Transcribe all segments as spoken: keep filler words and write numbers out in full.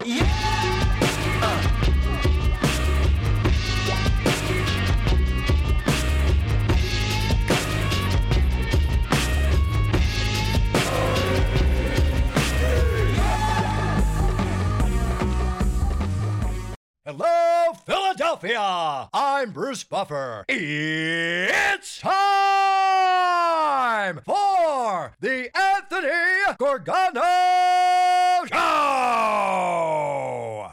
Hello, Philadelphia! I'm Bruce Buffer. It's time for the Anthony Gargano Show!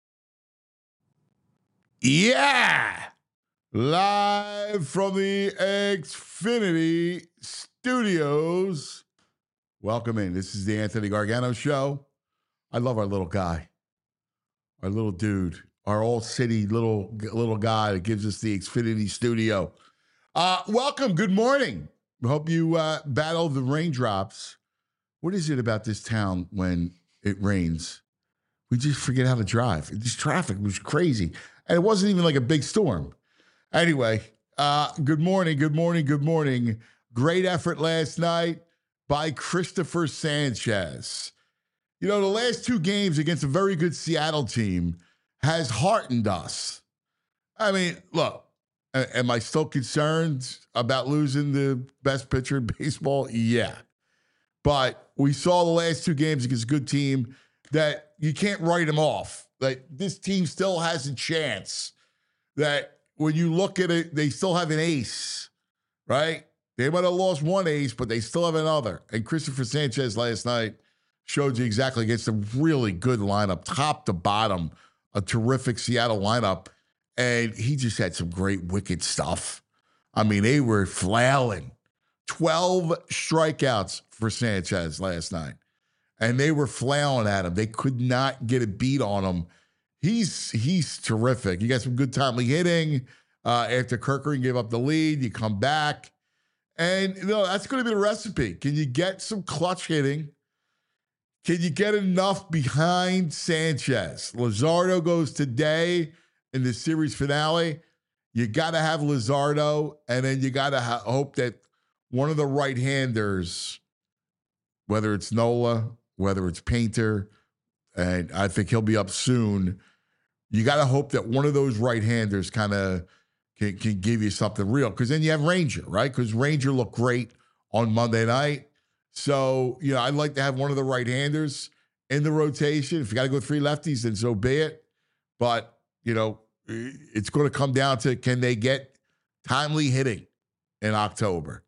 Yeah! Live from the Xfinity Studios. Welcome in. This is the Anthony Gargano Show. I love our little guy, our little dude. Our all city little little guy that gives us the Xfinity studio. Uh, welcome. Good morning. Hope you uh, battle the raindrops. What is it about this town when it rains? We just forget how to drive. This traffic was crazy. And it wasn't even like a big storm. Anyway, uh, good morning, good morning, good morning. Great effort last night by Christopher Sanchez. You know, the last two games against a very good Seattle team has heartened us. I mean, look, am I still concerned about losing the best pitcher in baseball? Yeah. But we saw the last two games against a good team that you can't write them off. Like, this team still has a chance. That when you look at it, they still have an ace, right? They might have lost one ace, but they still have another. And Christopher Sanchez last night showed you exactly against a really good lineup, top to bottom. A terrific Seattle lineup, and he just had some great wicked stuff. I mean, they were flailing. twelve strikeouts for Sanchez last night, and they were flailing at him. They could not get a beat on him. He's he's terrific. You got some good timely hitting. Uh, after Kirkering gave up the lead, you come back, and you know that's going to be the recipe. Can you get some clutch hitting? Can you get enough behind Sanchez? Luzardo goes today in the series finale. You got to have Luzardo, and then you got to ha- hope that one of the right-handers, whether it's Nola, whether it's Painter, and I think he'll be up soon, you got to hope that one of those right-handers kind of can, can give you something real. Because then you have Ranger, right? Because Ranger looked great on Monday night. So, you know, I'd like to have one of the right-handers in the rotation. If you got to go three lefties, then so be it. But, you know, it's going to come down to, can they get timely hitting in October?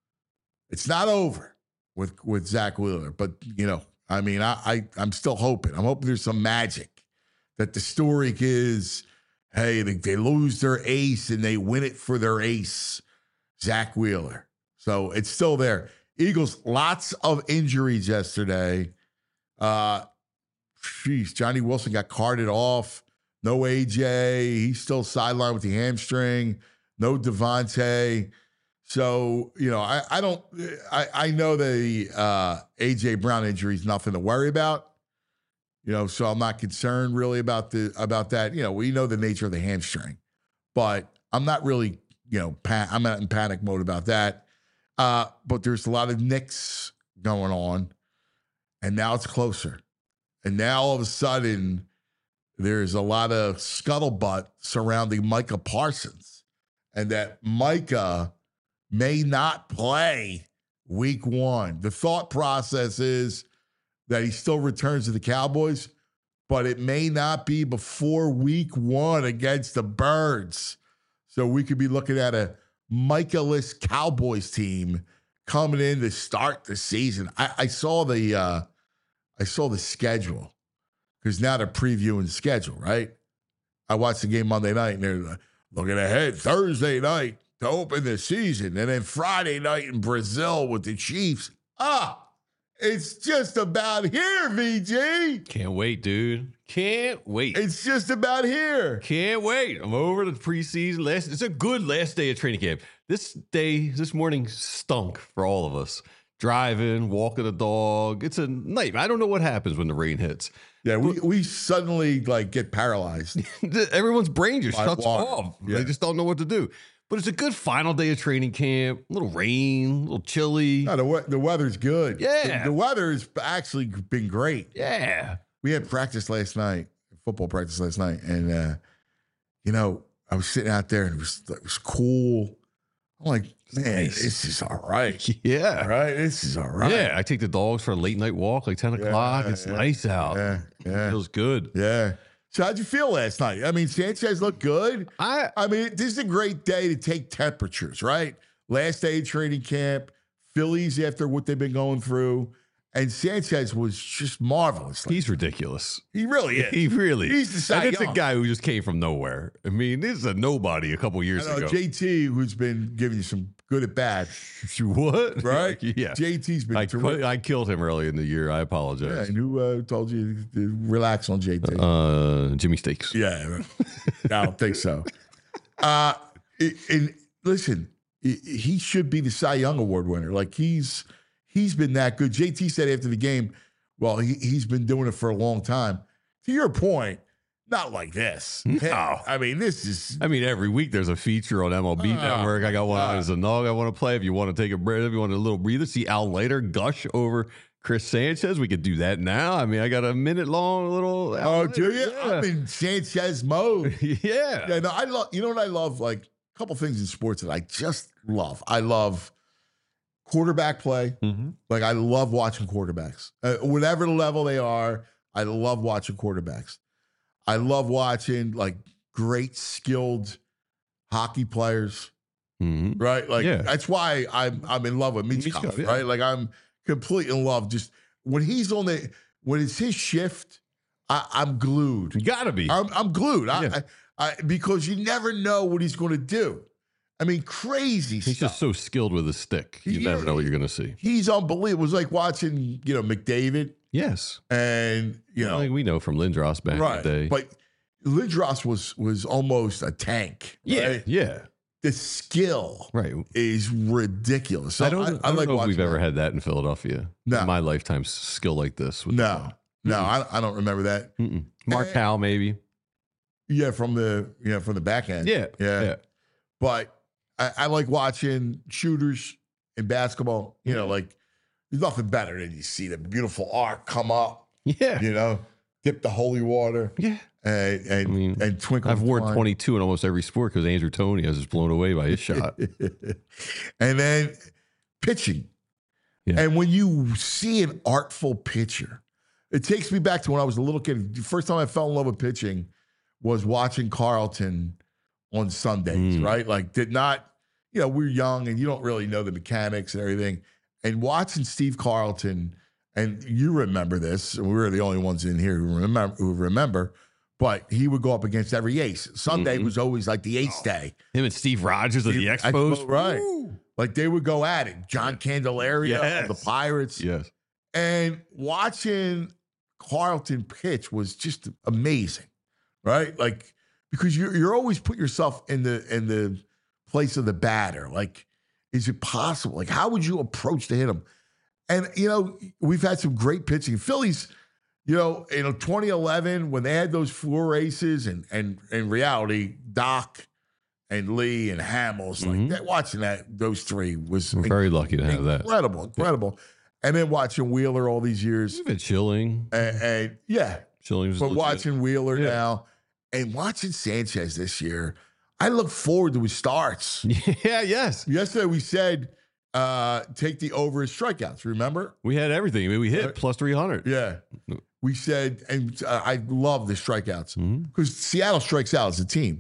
It's not over with, with Zach Wheeler. But, you know, I mean, I, I, I'm still hoping. I'm hoping there's some magic. That the story is, hey, they, they lose their ace and they win it for their ace, Zach Wheeler. So it's still there. Eagles, lots of injuries yesterday. Uh, geez, Johnny Wilson got carted off. No A J. He's still sidelined with the hamstring. No Devontae. So, you know, I, I don't I, I know the uh, A J Brown injury is nothing to worry about. You know, so I'm not concerned really about the about that. You know, we know the nature of the hamstring. But I'm not really, you know, pa- I'm not in panic mode about that. Uh, but there's a lot of nicks going on, and now it's closer. And now all of a sudden, there's a lot of scuttlebutt surrounding Micah Parsons, and that Micah may not play week one. The thought process is that he still returns to the Cowboys, but it may not be before week one against the Birds. So we could be looking at a Micah-less Cowboys team coming in to start the season. I, I saw the uh, I saw the schedule because now they're previewing the schedule, right? I watched the game Monday night and they're looking ahead Thursday night to open the season, and then Friday night in Brazil with the Chiefs. Ah, it's just about here, V G. Can't wait, dude. Can't wait. It's just about here. Can't wait. I'm over the preseason. Last, it's a good last day of training camp. This day, this morning stunk for all of us. Driving, walking the dog. It's a nightmare. I don't know what happens when the rain hits. Yeah, we, we suddenly like get paralyzed. Everyone's brain just By shuts water. off. Yeah. They just don't know what to do. But it's a good final day of training camp. A little rain, a little chilly. No, the, we- the weather's good. Yeah. The, the weather's actually been great. Yeah. we had practice last night, football practice last night, and uh, you know, I was sitting out there and it was it was cool. I'm like, man, Nice. this is all right. Yeah. All right, this is all right. Yeah. I take the dogs for a late night walk, like ten o'clock. Yeah, It's yeah, nice out. Yeah, It yeah, feels good. yeah. So how'd you feel last night? I mean, Sanchez looked good. I I mean, this is a great day to take temperatures, right? Last day of training camp, Phillies after what they've been going through, and Sanchez was just marvelous. Like, he's ridiculous. he really is. He really. He's the Cy And it's a Young. guy who just came from nowhere. I mean, this is a nobody a couple years I know, ago. J T, who's been giving you some good at bad, What? right? Yeah. J T's been I, terrific. qu- I killed him early in the year. I Yeah, apologize. and who uh, told you to relax on J T? Uh, Jimmy Steaks. Yeah, I don't think so. Uh, it- and listen, i- he should be the Cy Young Award winner. Like he's he's been that good. J T said after the game, well, he, he's been doing it for a long time. To your point, not like this. No. I mean, this is I mean, every week there's a feature on M L B Oh, Network. I got one God. as a nog I want to play. If you want to take a breath, if you want a little breather, see Al Leiter gush over Chris Sanchez. We could do that now. I mean, I got a minute long little. Al oh, Leiter. do you? Yeah. I'm in Sanchez mode. yeah. Yeah, no, I love. You know what I love? Like a couple things in sports that I just love. I love quarterback play. Mhm. Like I love watching quarterbacks, uh, whatever the level they are. I love watching quarterbacks. I love watching like great skilled hockey players. Mhm. Right, like Yeah. that's why I'm I'm in love with Michkov. Michkov, yeah. Right, like I'm completely in love. Just when he's on the when it's his shift, I, I'm glued. You gotta be. I'm, I'm glued. I, Yeah. I, I, because you never know what he's going to do. I mean, crazy He's stuff. just so skilled with his stick. You He never is. know what you're gonna see. He's unbelievable. It was like watching, you know, McDavid Yes. and you know, like we know from Lindros back right. in the day. But Lindros was was almost a tank. yeah, right? yeah, The skill right. is ridiculous. So I don't, I, I, don't like know if we've watching ever that. had that in Philadelphia. No. In my lifetime, s- skill like this. With No, no, I, I don't remember that. Mm-mm. Mark Eh. Howell, maybe. Yeah, from the you know from the back end. Yeah, yeah. yeah. But I, I like watching shooters in basketball. You know, like there's nothing better than you see the beautiful arc come up. Yeah, You know, dip the holy water yeah. and and, I mean, and twinkle. I've the worn twine. twenty-two in almost every sport because Andrew Toney I was just blown away by his shot. And then pitching. Yeah. And when you see an artful pitcher, it takes me back to when I was a little kid. The first time I fell in love with pitching was watching Carlton on Sundays, Mm. right? Like, did not, you know, we're young and you don't really know the mechanics and everything. And watching Steve Carlton, and you remember this, and we were the only ones in here who remember, who remember, but he would go up against every ace. Sunday Mhm. was always like the ace day. Him and Steve Rogers of the Steve- Expos, Expo, right. Woo! Like they would go at it. John Candelaria of the Yes. Pirates. Yes, And watching Carlton pitch was just amazing, right? Like because you're you're always put yourself in the in the place of the batter. Like, is it possible? Like, how would you approach to hit him? And you know, we've had some great pitching. Phillies, you know, in twenty eleven when they had those four aces, and and in reality, Doc and Lee and Hamels, like Mhm. that. Watching that those three was we're very lucky to have that. incredible, incredible. And then watching Wheeler all these years, We've had Chilling. and, and yeah, Chilling was but legit. watching Wheeler Yeah. now and watching Sanchez this year, I look forward to his starts. Yeah, yes. Yesterday we said uh, take the over his strikeouts. Remember? We had everything. I mean, we hit Right. plus three hundred. Yeah, we said, and uh, I love the strikeouts Mhm. because Seattle strikes out as a team.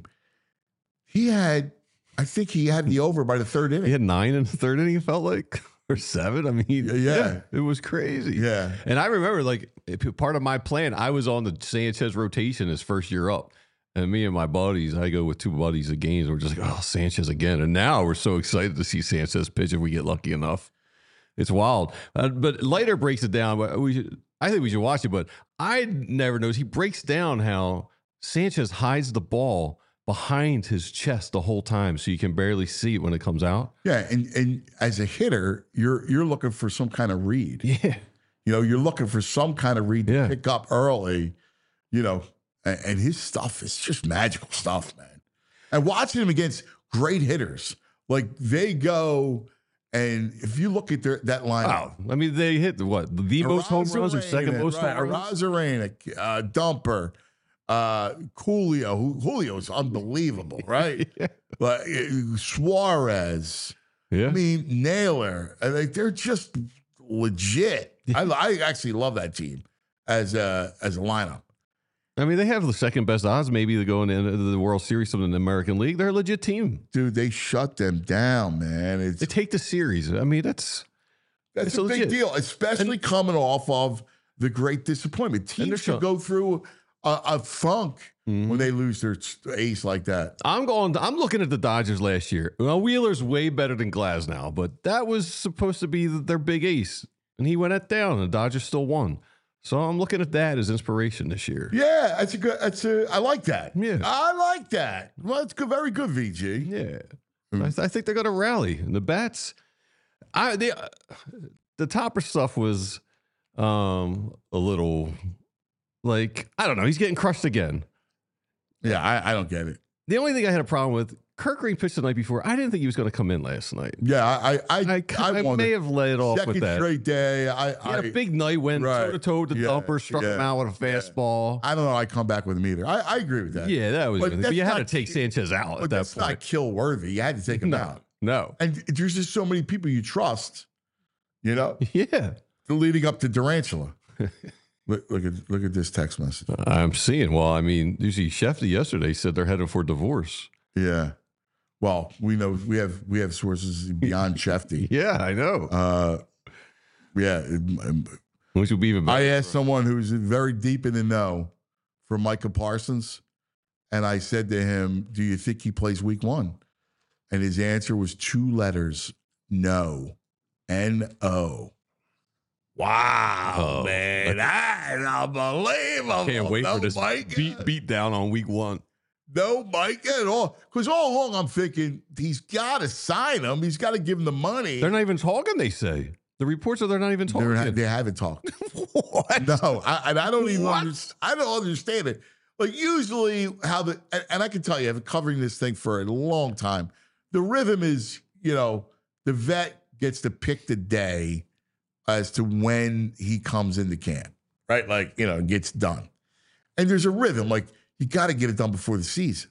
He had, I think he had the over by the third He inning. had nine in the third inning, it felt like, or seven. I mean, Yeah, yeah. it was crazy. Yeah. And I remember, like, if- part of my plan, I was on the Sanchez rotation his first year up. And me and my buddies, I go with two buddies at games. We're just like, oh, Sanchez again. And now we're so excited to see Sanchez pitch if we get lucky enough. It's wild. Uh, but later breaks it down. But we should, I think we should watch it. But I never noticed. He breaks down how Sanchez hides the ball behind his chest the whole time, so you can barely see it when it comes out. Yeah, and and as a hitter, you're you're looking for some kind of read. Yeah. You know, you're looking for some kind of read to Yeah. pick up early. You know, and, and his stuff is just magical stuff, man. And watching him against great hitters, like they go And if you look at their, that lineup, Wow. I mean, they hit what the most home runs or second most right, home runs. Arozarena, uh, Dumper, uh, Julio. Who, Julio is unbelievable, right? Yeah. But uh, Suarez. Yeah. I mean, Naylor. I think they're just legit. I, I actually love that team as a as a lineup. I mean, they have the second best odds maybe to go into the World Series of the American League. They're a legit team. Dude, they shut them down, man. It's, They take the series. I mean, that's that's it's a big legit. deal, especially And- coming off of the great disappointment. And they're Teams should shut- go through a, a funk Mhm. when they lose their ace like that. I'm going. I'm looking at the Dodgers last year. Well, Wheeler's way better than Glasnow, but that was supposed to be their big ace, and he went that down. And the Dodgers still won. So I'm looking at that as inspiration this year. Yeah, that's a good. That's a. I like that. Yeah. I like that. Well, it's good. Very good, V G. Yeah, Mm. I, th- I think they're going to rally. And the bats, I the uh, the Topper stuff was um a little like I don't know. He's getting crushed again. Yeah, I, I don't get it. The only thing I had a problem with, Kirk Green pitched the night before. I didn't think he was going to come in last night. Yeah, I I I, I, I, wondered. may have let it off Second with that. straight day. I He I, had a big night, went Right. toe to toe with the Yeah, dumper, struck him yeah, out with a fastball. I don't know. I come back with him either. I, I agree with that. Yeah, that was. But But, that's you had not- to take Sanchez out but at that that's not point. kill worthy. You had to take him No, out. no. And there's just so many people you trust. You know, Yeah, leading up to Durantula. look, look at look at this text message. I'm seeing. Well, I mean, you see, Shefty yesterday said they're headed for divorce. Yeah. Well, we know we have we have sources beyond Shefty. Yeah, I know. Uh, yeah. it- Which would be even I better. asked someone who's very deep in the know for Micah Parsons, and I said to him, "Do you think he plays Week One?" And his answer was two letters: no, N O. Wow, Oh, man, that's unbelievable. Can't wait no for this Micah. beat beat down on week one. No Micah at all. Because all along I'm thinking he's got to sign him. He's got to give him the money. They're not even talking. They say the reports are they're not even talking. They're- they haven't talked. What? No, I, and I don't even What? understand. I don't understand it. Like usually, how the and, and I can tell you, I've been covering this thing for a long time. The rhythm is, you know, the vet gets to pick the day as to when he comes into camp, right? Like you know, gets done, and there's a rhythm. Like you got to get it done before the season.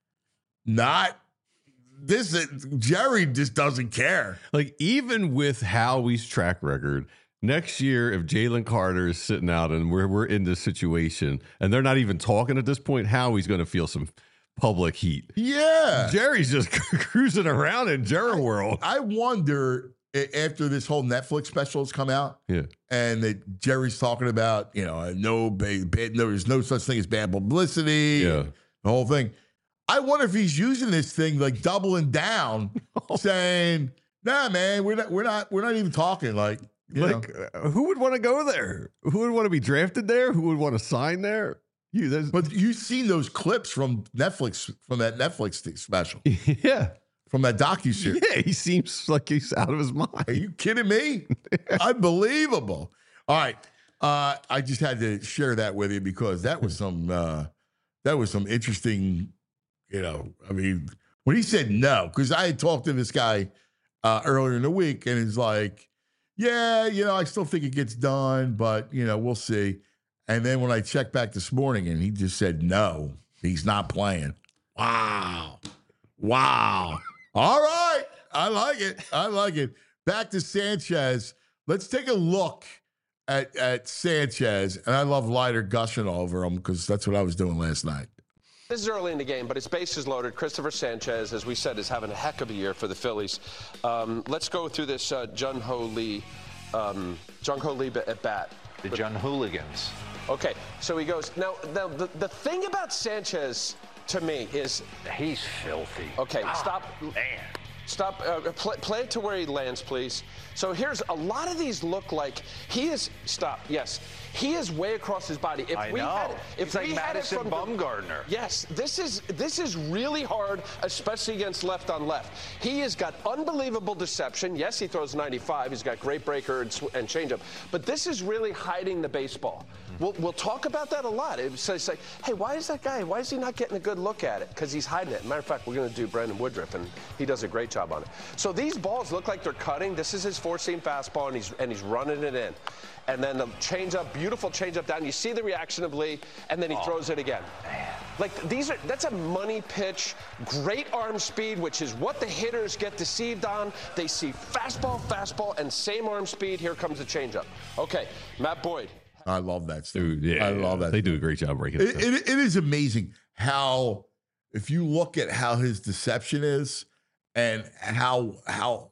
Not this. Jerry just doesn't care. Like, even with Howie's track record, next year, if Jalen Carter is sitting out and we're, we're in this situation and they're not even talking at this point, Howie's going to feel some public heat. Yeah. Jerry's just cruising around in Jerry world. I wonder a- after this whole Netflix special has come out Yeah. and that Jerry's talking about, you know, no, ba- ba- no, there's no such thing as bad publicity, Yeah. the whole thing. I wonder if he's using this thing like doubling down, saying, "Nah, man, we're not, we're not, we're not even talking." Like, you know. Like, uh, who would want to go there? Who would want to be drafted there? Who would want to sign there? You, there's, But you've seen those clips from Netflix, from that Netflix thing- special, yeah. from that docuseries. Yeah, he seems like he's out of his Are mind. you kidding me? Unbelievable. All right. Uh, I just had to share that with you because that was some uh, that was some interesting, you know, I mean, when he said no, because I had talked to this guy uh, earlier in the week and he's like, yeah, you know, I still think it gets done, but, you know, we'll see. And then when I checked back this morning and he just said no, he's not playing. Wow. Wow. All right. I like it. I like it. Back to Sanchez. Let's take a look at, at Sanchez. And I love Leiter gushing over him because that's what I was doing last night. This is early in the game, but it's bases loaded. Christopher Sanchez, as we said, is having a heck of a year for the Phillies. Um, let's go through this uh, Jung Ho Lee, um, Jung Ho Lee at bat. The Jung Hooligans. Okay, so he goes. Now, now the, the thing about Sanchez to me is, He's filthy. okay, Ah, stop. Man. Stop, uh, play, play it to where he lands, please. So here's, a lot of these look like he is, stop, yes. He is way across his body. If I we know. Had, if He's like we had it Madison from- Bumgarner. Yes, this is this is really hard, especially against left on left. He has got unbelievable deception. Yes, he throws ninety-five. He's got great breaker and, sw- and changeup. But this is really hiding the baseball. We'll, we'll talk about that a lot. It's, it's like, hey, why is that guy, why is he not getting a good look at it? Because he's hiding it. Matter of fact, we're going to do Brandon Woodruff, and he does a great job on it. So these balls look like they're cutting. This is his four-seam fastball, and he's, and he's running it in. And then the changeup, beautiful changeup down. You see the reaction of Lee, and then he oh, throws it again. Man. Like, these are, that's a money pitch, great arm speed, which is what the hitters get deceived on. They see fastball, fastball, and same arm speed. Here comes the changeup. Okay, Matt Boyd. I love that stuff. Dude, yeah, I love that. They stuff. do a great job breaking it. It, it. It is amazing how, if you look at how his deception is and how how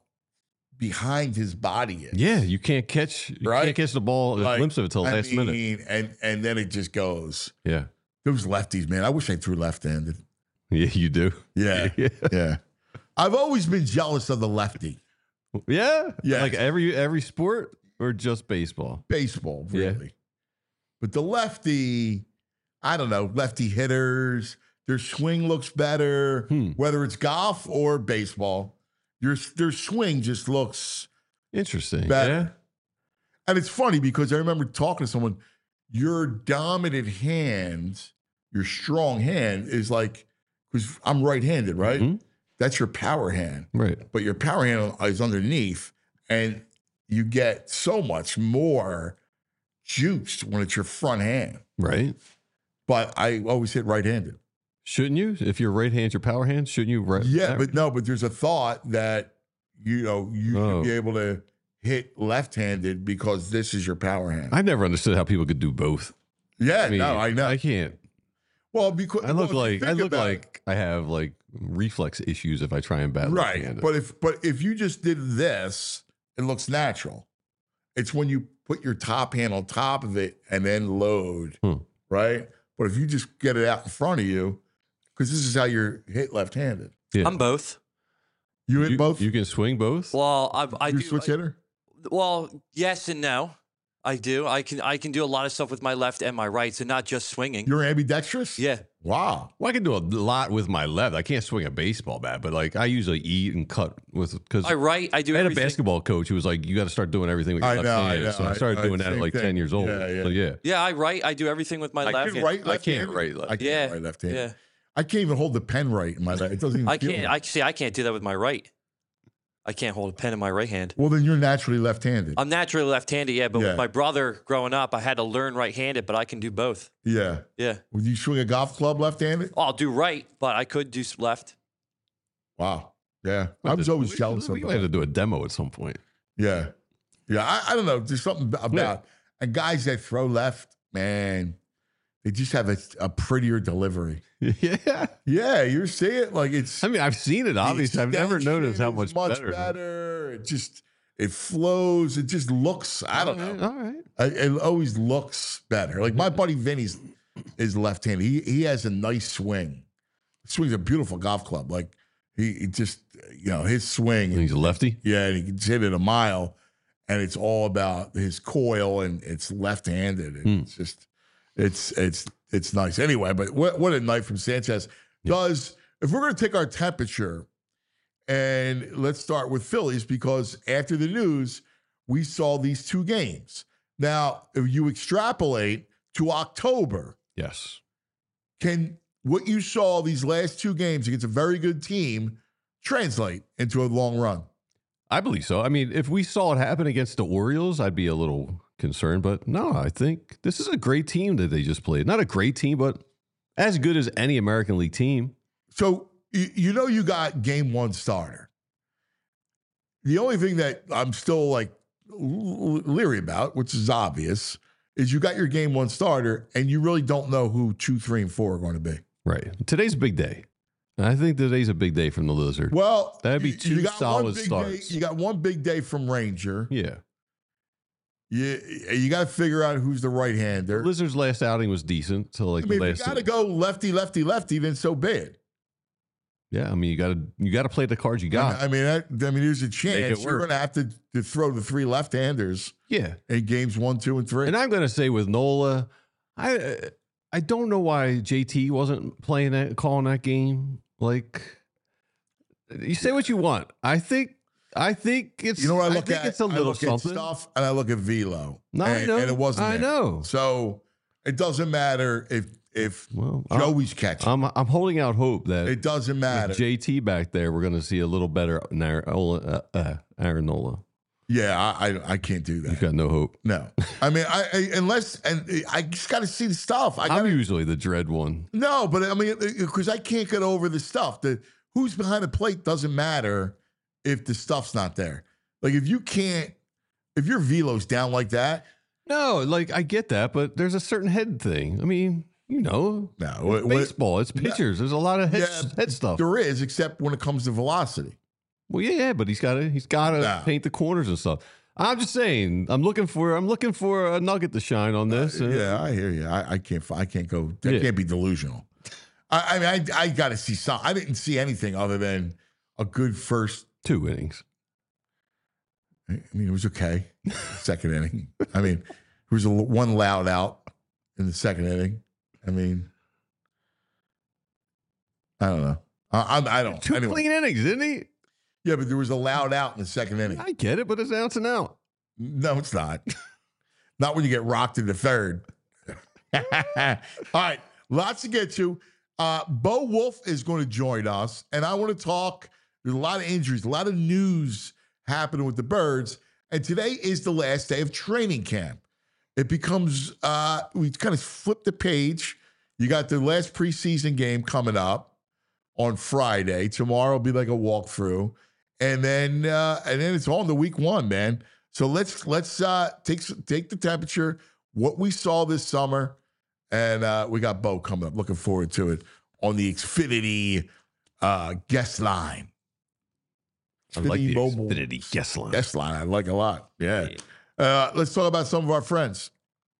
behind his body is. Yeah, you can't catch you right? can't catch the ball, a like, glimpse of it till the I last mean, minute. And and then it just goes. Yeah. Those lefties, man. I wish I threw left-handed. Yeah, you do. Yeah. yeah. Yeah. I've always been jealous of the lefty. Yeah. Yeah. Like every every sport or just baseball? Baseball, really. Yeah. But the lefty, I don't know, lefty hitters, their swing looks better, Hmm. whether it's golf or baseball. Your their swing just looks interesting. better. Yeah. And it's funny because I remember talking to someone, your dominant hand, your strong hand is like, because I'm right-handed, right? Mm-hmm. That's your power hand. Right. But your power hand is underneath, and you get so much more juiced when it's your front hand. Right. But I always hit right-handed. Shouldn't you? If your right hand's your power hand, shouldn't you? Right, Yeah, that- but no, but there's a thought that, you know, you Oh. should be able to hit left-handed because this is your power hand. I never understood how people could do both. yeah, I mean, no, I know. I can't. well, because I look well, if you like I think look about it- like I have like reflex issues if I try and bat right. left-handed. But if but if you just did this, it looks natural. It's when you put your top hand on top of it and then load, Hmm. right? But if you just get it out in front of you, because this is how you're hit left-handed. Yeah. I'm both. You hit you, both? you can swing both. Well, I, I you do. switch I- hitter? Well, yes and no. I do. I can. I can do a lot of stuff with my left and my right, so not just swinging. You're ambidextrous? yeah. Wow. Well, I can do a lot with my left. I can't swing a baseball bat, but like I usually eat and cut with because My right, I do. I had a everything. basketball coach who was like, "You got to start doing everything with your I left know, I hand." know. So I I- started I- doing that at same like thing. ten years old. Yeah, yeah. So yeah, Yeah, I right. I do everything with my I left. can hand. right I can't left-handed. right left. I can't Yeah, right left-handed. Yeah. I can't even hold the pen right in my left. It doesn't even I feel can't. right. I see. I can't do that with my right. I can't hold a pen in my right hand. Well, then you're naturally left-handed. I'm naturally left-handed, yeah. But Yeah. with my brother growing up, I had to learn right-handed, but I can do both. yeah. Yeah. Would you swing a golf club left-handed? I'll do right, but I could do s- left. Wow. Yeah. I was always we, jealous we, of we have to that. do a demo at some point. Yeah. Yeah. I, I don't know. There's something about and guys that throw left, man, they just have a, a prettier delivery. Yeah, Yeah, you're seeing it like it's. I mean, I've seen it. Obviously, I've never extension noticed how is much, much better. better. It just it flows. It just looks. I don't All right, know. All right. It it always looks better. Like my buddy Vinny's is left-handed. He he has a nice swing. Swings a beautiful golf club. Like he, he just you know his swing. He's a lefty. Yeah, and he can hit it a mile, and it's all about his coil, and it's left-handed. And Hmm. It's just, it's it's it's nice. Anyway, but what what a night from Sanchez. Does if we're going to take our temperature, and let's start with Phillies because after the news, we saw these two games. Now, if you extrapolate to October, Yes. can what you saw these last two games against a very good team translate into a long run? I believe so. I mean, if we saw it happen against the Orioles, I'd be a little concerned. But no, I think this is a great team that they just played. Not a great team, but as good as any American League team. So you, you know you got game one starter. The only thing that I'm still like l- leery about, which is obvious, is you got your game one starter and you really don't know who two, three, and four are going to be. Right. Today's a big day. I think today's a big day from the Lizard. Well, That'd be you- two you got one solid big starts. Day, you got one big day from Ranger. Yeah. You, you got to figure out who's the right hander. Lizard's last outing was decent till like I mean, the if last. you got to go lefty, lefty, lefty, then so be it. Yeah, I mean, you got to you got to play the cards you got. I mean, that, I mean, there's a it chance you're work. going to have to, to throw the three left-handers yeah, in games one, two, and three. and I'm going to say with Nola, I uh, I don't know why J T wasn't playing that, calling that game. Like, you say what you want. I think I think it's You know what I I look think at? it's a I little look something. at stuff, and I look at velo. No, and, I know. and it wasn't I there. know. So It doesn't matter if if Well, Joey's catching. I'm I'm holding out hope that It doesn't matter. with J T back there, we're going to see a little better Aaronola. Uh, uh, Aaronola. Yeah, I, I I can't do You've that. got no hope. No, I mean, I, I unless and I just got to see the stuff. I I'm got usually the dread one. no, but I mean, because I can't get over the stuff. The who's behind the plate doesn't matter if the stuff's not there. Like if you can't, if your velo's down like that, No, like I get that, but there's a certain head thing. I mean, you know, no, it's what- what- baseball. It's pitchers. There's a lot of head, Yeah, head stuff. there is, except when it comes to velocity. Well, yeah, yeah, but he's got to he's got to Nah. paint the corners and stuff. I'm just saying, I'm looking for I'm looking for a nugget to shine on this. Uh, Yeah, I hear you. I, I can't. I can't go. That Yeah. can't be delusional. I, I mean, I I got to see some. I didn't see anything other than a good first. Two innings. I mean, it was okay. Second inning. I mean, there was a, l- one loud out in the second inning. I mean, I don't know. I, I, I don't. Two Anyway, clean innings, didn't he? yeah, but there was a loud out in the second inning. I get it, but it's out and out. No, it's not. Not when you get rocked in the third. All right, lots to get to. Uh, Bo Wolf is going to join us, and I want to talk. There's a lot of injuries, a lot of news happening with the Birds, and today is the last day of training camp. It becomes, uh, we kind of flip the page. You got the last preseason game coming up on Friday. Tomorrow will be like a walkthrough. And then uh, and then it's on to week one, man. So let's let's uh, take take the temperature, what we saw this summer, and uh, we got Bo coming up. Looking forward to it on the Xfinity uh, guest line. I like the Mobile Xfinity guest line. guest line. I like a lot. Yeah. Uh, let's talk about some of our friends.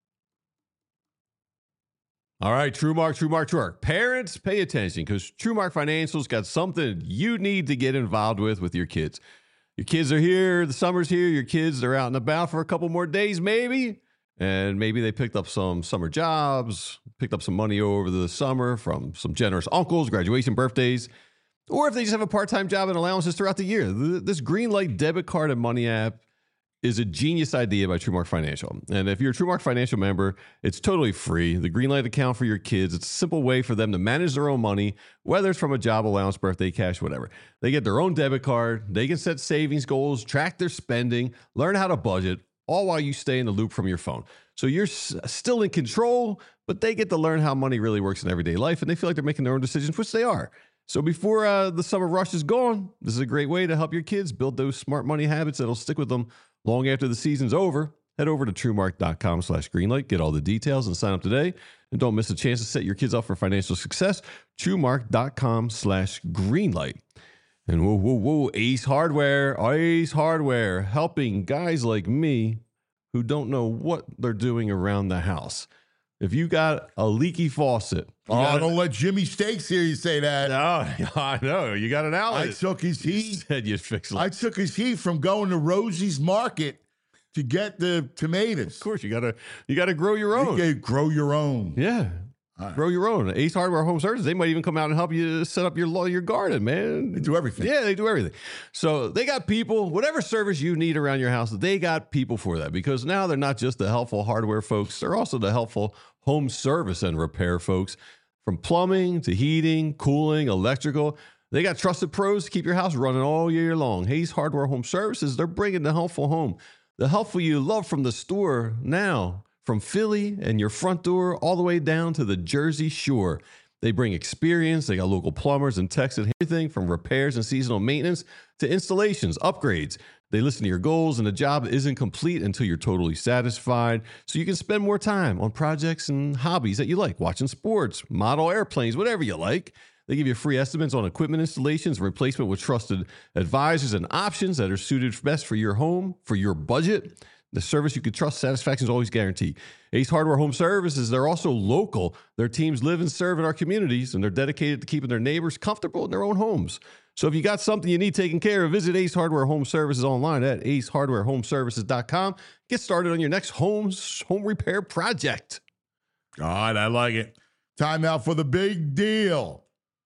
All right, TrueMark, TrueMark, TrueMark. Parents, pay attention because TrueMark Financial's got something you need to get involved with with your kids. Your kids are here, the summer's here, your kids are out and about for a couple more days maybe, and maybe they picked up some summer jobs, picked up some money over the summer from some generous uncles, graduation, birthdays, or if they just have a part-time job and allowances throughout the year. Th- This Greenlight debit card and money app is a genius idea by TrueMark Financial. And if you're a TrueMark Financial member, it's totally free. The Greenlight account for your kids, it's a simple way for them to manage their own money, whether it's from a job allowance, birthday cash, whatever. They get their own debit card. They can set savings goals, track their spending, learn how to budget, all while you stay in the loop from your phone. So you're s- still in control, but they get to learn how money really works in everyday life, and they feel like they're making their own decisions, which they are. So before uh, the summer rush is gone, this is a great way to help your kids build those smart money habits that'll stick with them long after the season's over. Head over to TrueMark.com slash Greenlight. Get all the details and sign up today. And don't miss a chance to set your kids up for financial success. TrueMark.com slash Greenlight. And whoa, whoa, whoa, Ace Hardware, Ace Hardware, helping guys like me who don't know what they're doing around the house. If you got a leaky faucet, you Oh, got don't let Jimmy Stakes hear you say that. no, I know. You got an outlet. I took his heat. Said you'd fix it. I took his heat from going to Rosie's Market to get the tomatoes. Of course, you gotta you gotta grow your You own. can grow your own. Yeah, All right. grow your own. Ace Hardware Home Services. They might even come out and help you set up your lo- your garden, man. They do everything. Yeah, they do everything. So they got people, whatever service you need around your house, they got people for that because now they're not just the helpful hardware folks, they're also the helpful home service and repair folks. From plumbing to heating, cooling, electrical, they got trusted pros to keep your house running all year long. Hayes Hardware Home Services, they're bringing the helpful home. The helpful you love from the store now, from Philly and your front door all the way down to the Jersey Shore. They bring experience. They got local plumbers and techs and everything from repairs and seasonal maintenance to installations, upgrades. They listen to your goals, and the job isn't complete until you're totally satisfied. So you can spend more time on projects and hobbies that you like, watching sports, model airplanes, whatever you like. They give you free estimates on equipment installations and replacement with trusted advisors and options that are suited best for your home, for your budget. The service you can trust, satisfaction is always guaranteed. Ace Hardware Home Services, they're also local. Their teams live and serve in our communities, and they're dedicated to keeping their neighbors comfortable in their own homes. So if you got something you need taken care of, visit Ace Hardware Home Services online at ace hardware home services dot com. Get started on your next home, home repair project. God, I like it. Time now for the big deal.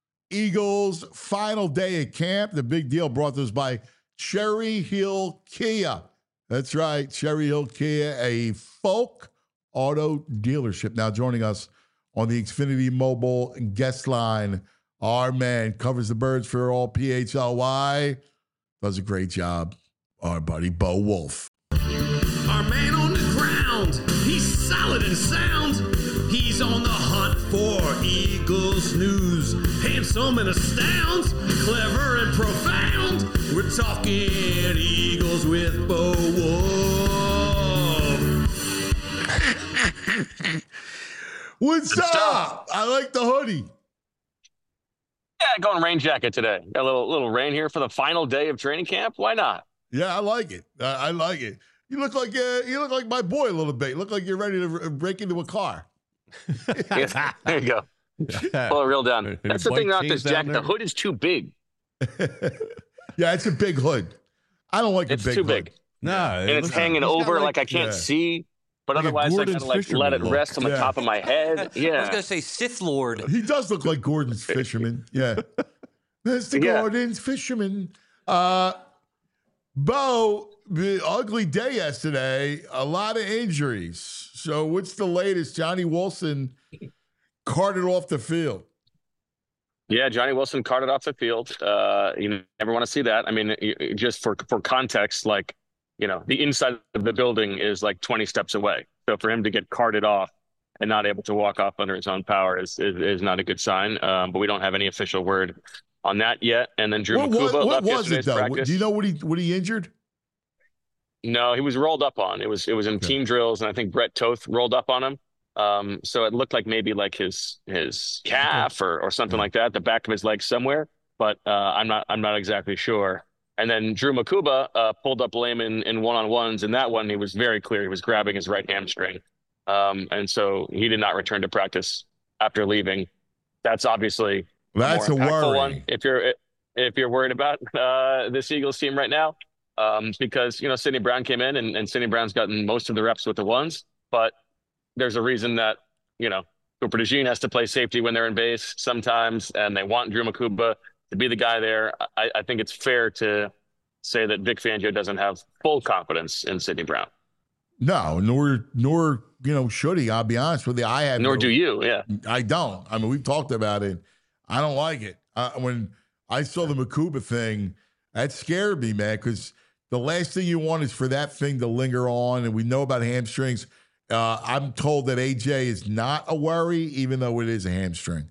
Eagles' final day at camp. The big deal brought to us by Cherry Hill Kia. That's right, Cherry Hill Kia, a folk Auto Dealership. Now joining us on the Xfinity Mobile guest line, our man covers the birds for all P H L Y. Does a great job. Our buddy Bo Wolf. Our man on the ground, he's solid and sound. He's on the hunt for Eagles news. Handsome and astounds, clever and profound. We're talking Eagles with Bo Wolf. What's up? I like the hoodie. Yeah, going rain jacket today. Got a little little rain here for the final day of training camp. Why not? Yeah, I like it. I, I like it. You look like uh, you look like my boy a little bit. You look like you're ready to r- break into a car. Yeah, there you go. Pull it real down. That's the thing about this jacket. The hood is too big. Yeah, it's a big hood. I don't like it's a big too hood. big. No, and it's hanging over like, like I can't yeah. see. But Like otherwise, I kind of like let it look. rest on the Yeah. top of my head. Yeah. I was gonna say Sith Lord. He does look like Gordon's fisherman. Yeah. Mister Yeah. Gordon's fisherman. Uh, Bo, the ugly day yesterday, a lot of injuries. So what's the latest? Johnny Wilson carted off the field. Yeah, Johnny Wilson carted off the field. Uh, you never want to see that. I mean, y- just for for context, like, you know, the inside of the building is like twenty steps away. So for him to get carted off and not able to walk off under his own power is is, is not a good sign. Um, but we don't have any official word on that yet. And then Drew What, Makuba what, what left was it yesterday's though? practice. Do you know what he what he injured? No, he was rolled up on. It was it was in Okay. team drills, and I think Brett Toth rolled up on him. Um, so it looked like maybe like his his calf or or something Yeah. like that, the back of his leg somewhere. But uh, I'm not I'm not exactly sure. And then Drew Makuba uh, pulled up lame in, in one-on-ones, and that one he was very clear. He was grabbing his right hamstring, um, and so he did not return to practice after leaving. That's obviously That's a more impactful worry. one if you're if you're worried about uh, this Eagles team right now, um, because you know Sidney Brown came in and, and Sidney Brown's gotten most of the reps with the ones, but there's a reason that you know Cooper DeJean has to play safety when they're in base sometimes, and they want Drew Makuba to be the guy there. I, I think it's fair to say that Vic Fangio doesn't have full confidence in Sidney Brown. No, nor nor you know should he. I'll be honest with you. I have Nor no- do you. Yeah. I don't. I mean, we've talked about it. I don't like it. Uh, when I saw the Makuba thing, that scared me, man, because the last thing you want is for that thing to linger on. And we know about hamstrings. Uh, I'm told that A J is not a worry, even though it is a hamstring.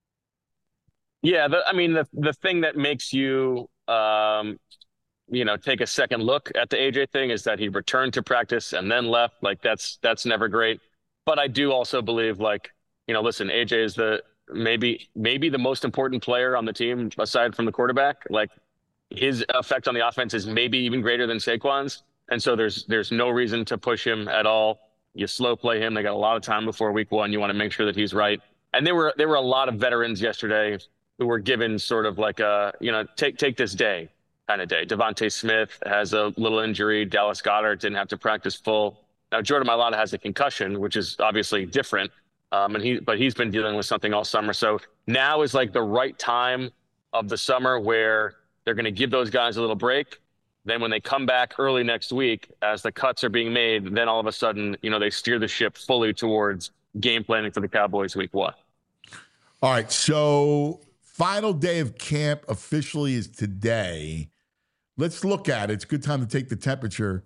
Yeah. The, I mean, the, the thing that makes you, um, you know, take a second look at the A J thing is that he returned to practice and then left. Like that's, that's never great. But I do also believe like, you know, listen, A J is the, maybe, maybe the most important player on the team aside from the quarterback. Like his effect on the offense is maybe even greater than Saquon's. And so there's, there's no reason to push him at all. You slow play him. They got a lot of time before week one. You want to make sure that he's right. And there were, there were a lot of veterans yesterday who were given sort of like a, you know, take, take this day kind of day. Devontae Smith has a little injury. Dallas Goedert didn't have to practice full. Now, Jordan Mailata has a concussion, which is obviously different. Um, and he, but he's been dealing with something all summer. So now is like the right time of the summer where they're going to give those guys a little break. Then when they come back early next week, as the cuts are being made, then all of a sudden, you know, they steer the ship fully towards game planning for the Cowboys week one. All right. So final day of camp officially is today. Let's look at it. It's a good time to take the temperature.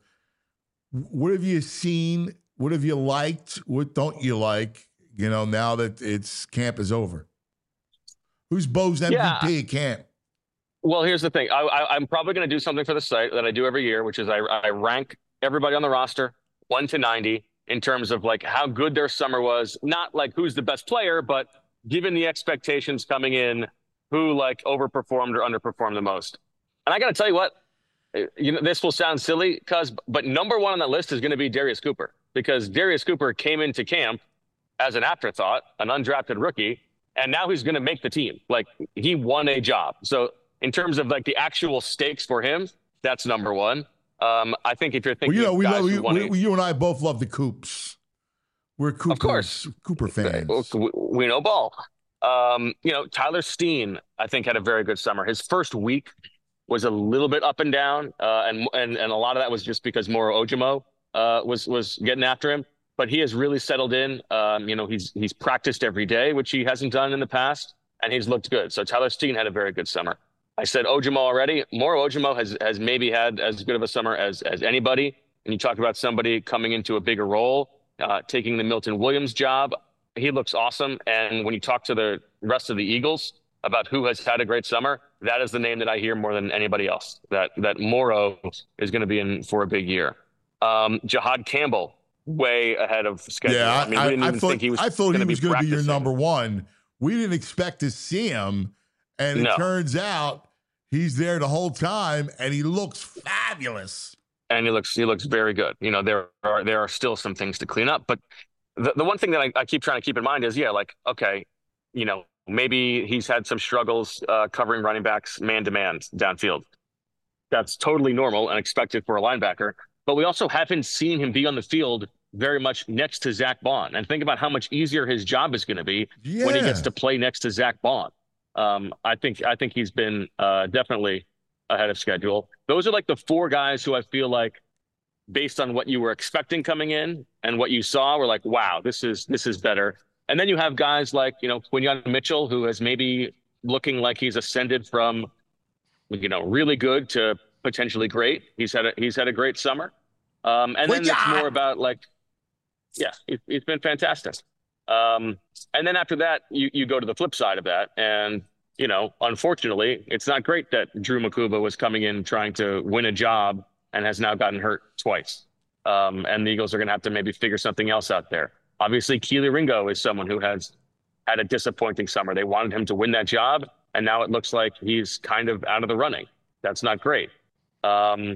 What have you seen? What have you liked? What don't you like? You know, now that it's camp is over. Who's Bo's M V P Yeah. at camp? Well, here's the thing. I, I, I'm probably going to do something for the site that I do every year, which is I, I rank everybody on the roster one to ninety in terms of like how good their summer was. Not like who's the best player, but given the expectations coming in, who like overperformed or underperformed the most. And I got to tell you what, you know, this will sound silly, cuz, but number one on that list is going to be Darius Cooper, because Darius Cooper came into camp as an afterthought, an undrafted rookie, and now he's going to make the team. Like he won a job. So in terms of like the actual stakes for him, that's number one. Um, I think if you're Well, thinking, you know, of we guys love, who we, won we, a- we- you and I both love the Coops. We're Cooper, course. Cooper fans. We, we know ball. Um, you know, Tyler Steen, I think, had a very good summer. His first week was a little bit up and down, uh, and and and a lot of that was just because Moro Ojimo uh, was was getting after him. but he has really settled in. Um, you know, he's he's practiced every day, which he hasn't done in the past, and he's looked good. So Tyler Steen had a very good summer. I said Ojimo already. Moro Ojimo has has maybe had as good of a summer as as anybody. And you talk about somebody coming into a bigger role, uh, taking the Milton Williams job. He looks awesome. And when you talk to the rest of the Eagles about who has had a great summer, that is the name that I hear more than anybody else, that that Moro is going to be in for a big year. Um, Jihad Campbell, way ahead of schedule. Yeah, I, I mean, we didn't I, even I thought, think he was I thought he was going to be your number practicing. one. We didn't expect to see him, and it No. turns out he's there the whole time, and he looks fabulous. And he looks he looks very good. You know, there are there are still some things to clean up, but the, the one thing that I, I keep trying to keep in mind is, yeah, like, okay, you know, maybe he's had some struggles uh, covering running backs man-to-man downfield. That's totally normal and expected for a linebacker. But we also haven't seen him be on the field very much next to Zach Bond. And think about how much easier his job is going to be Yeah. when he gets to play next to Zach Bond. Um, I think I think he's been uh, definitely ahead of schedule. Those are like the four guys who I feel like, based on what you were expecting coming in and what you saw, were like, wow, this is this is better. And then you have guys like, you know, Quinyon Mitchell, who is maybe looking like he's ascended from, you know, really good to potentially great. He's had a, he's had a great summer. Um, and then it's more about like, yeah, it, it's been fantastic. Um, and then after that, you, you go to the flip side of that. And, you know, unfortunately, it's not great that Drew Makuba was coming in trying to win a job and has now gotten hurt twice. Um, and the Eagles are going to have to maybe figure something else out there. Obviously, Keely Ringo is someone who has had a disappointing summer. They wanted him to win that job, and now it looks like he's kind of out of the running. That's not great. Um,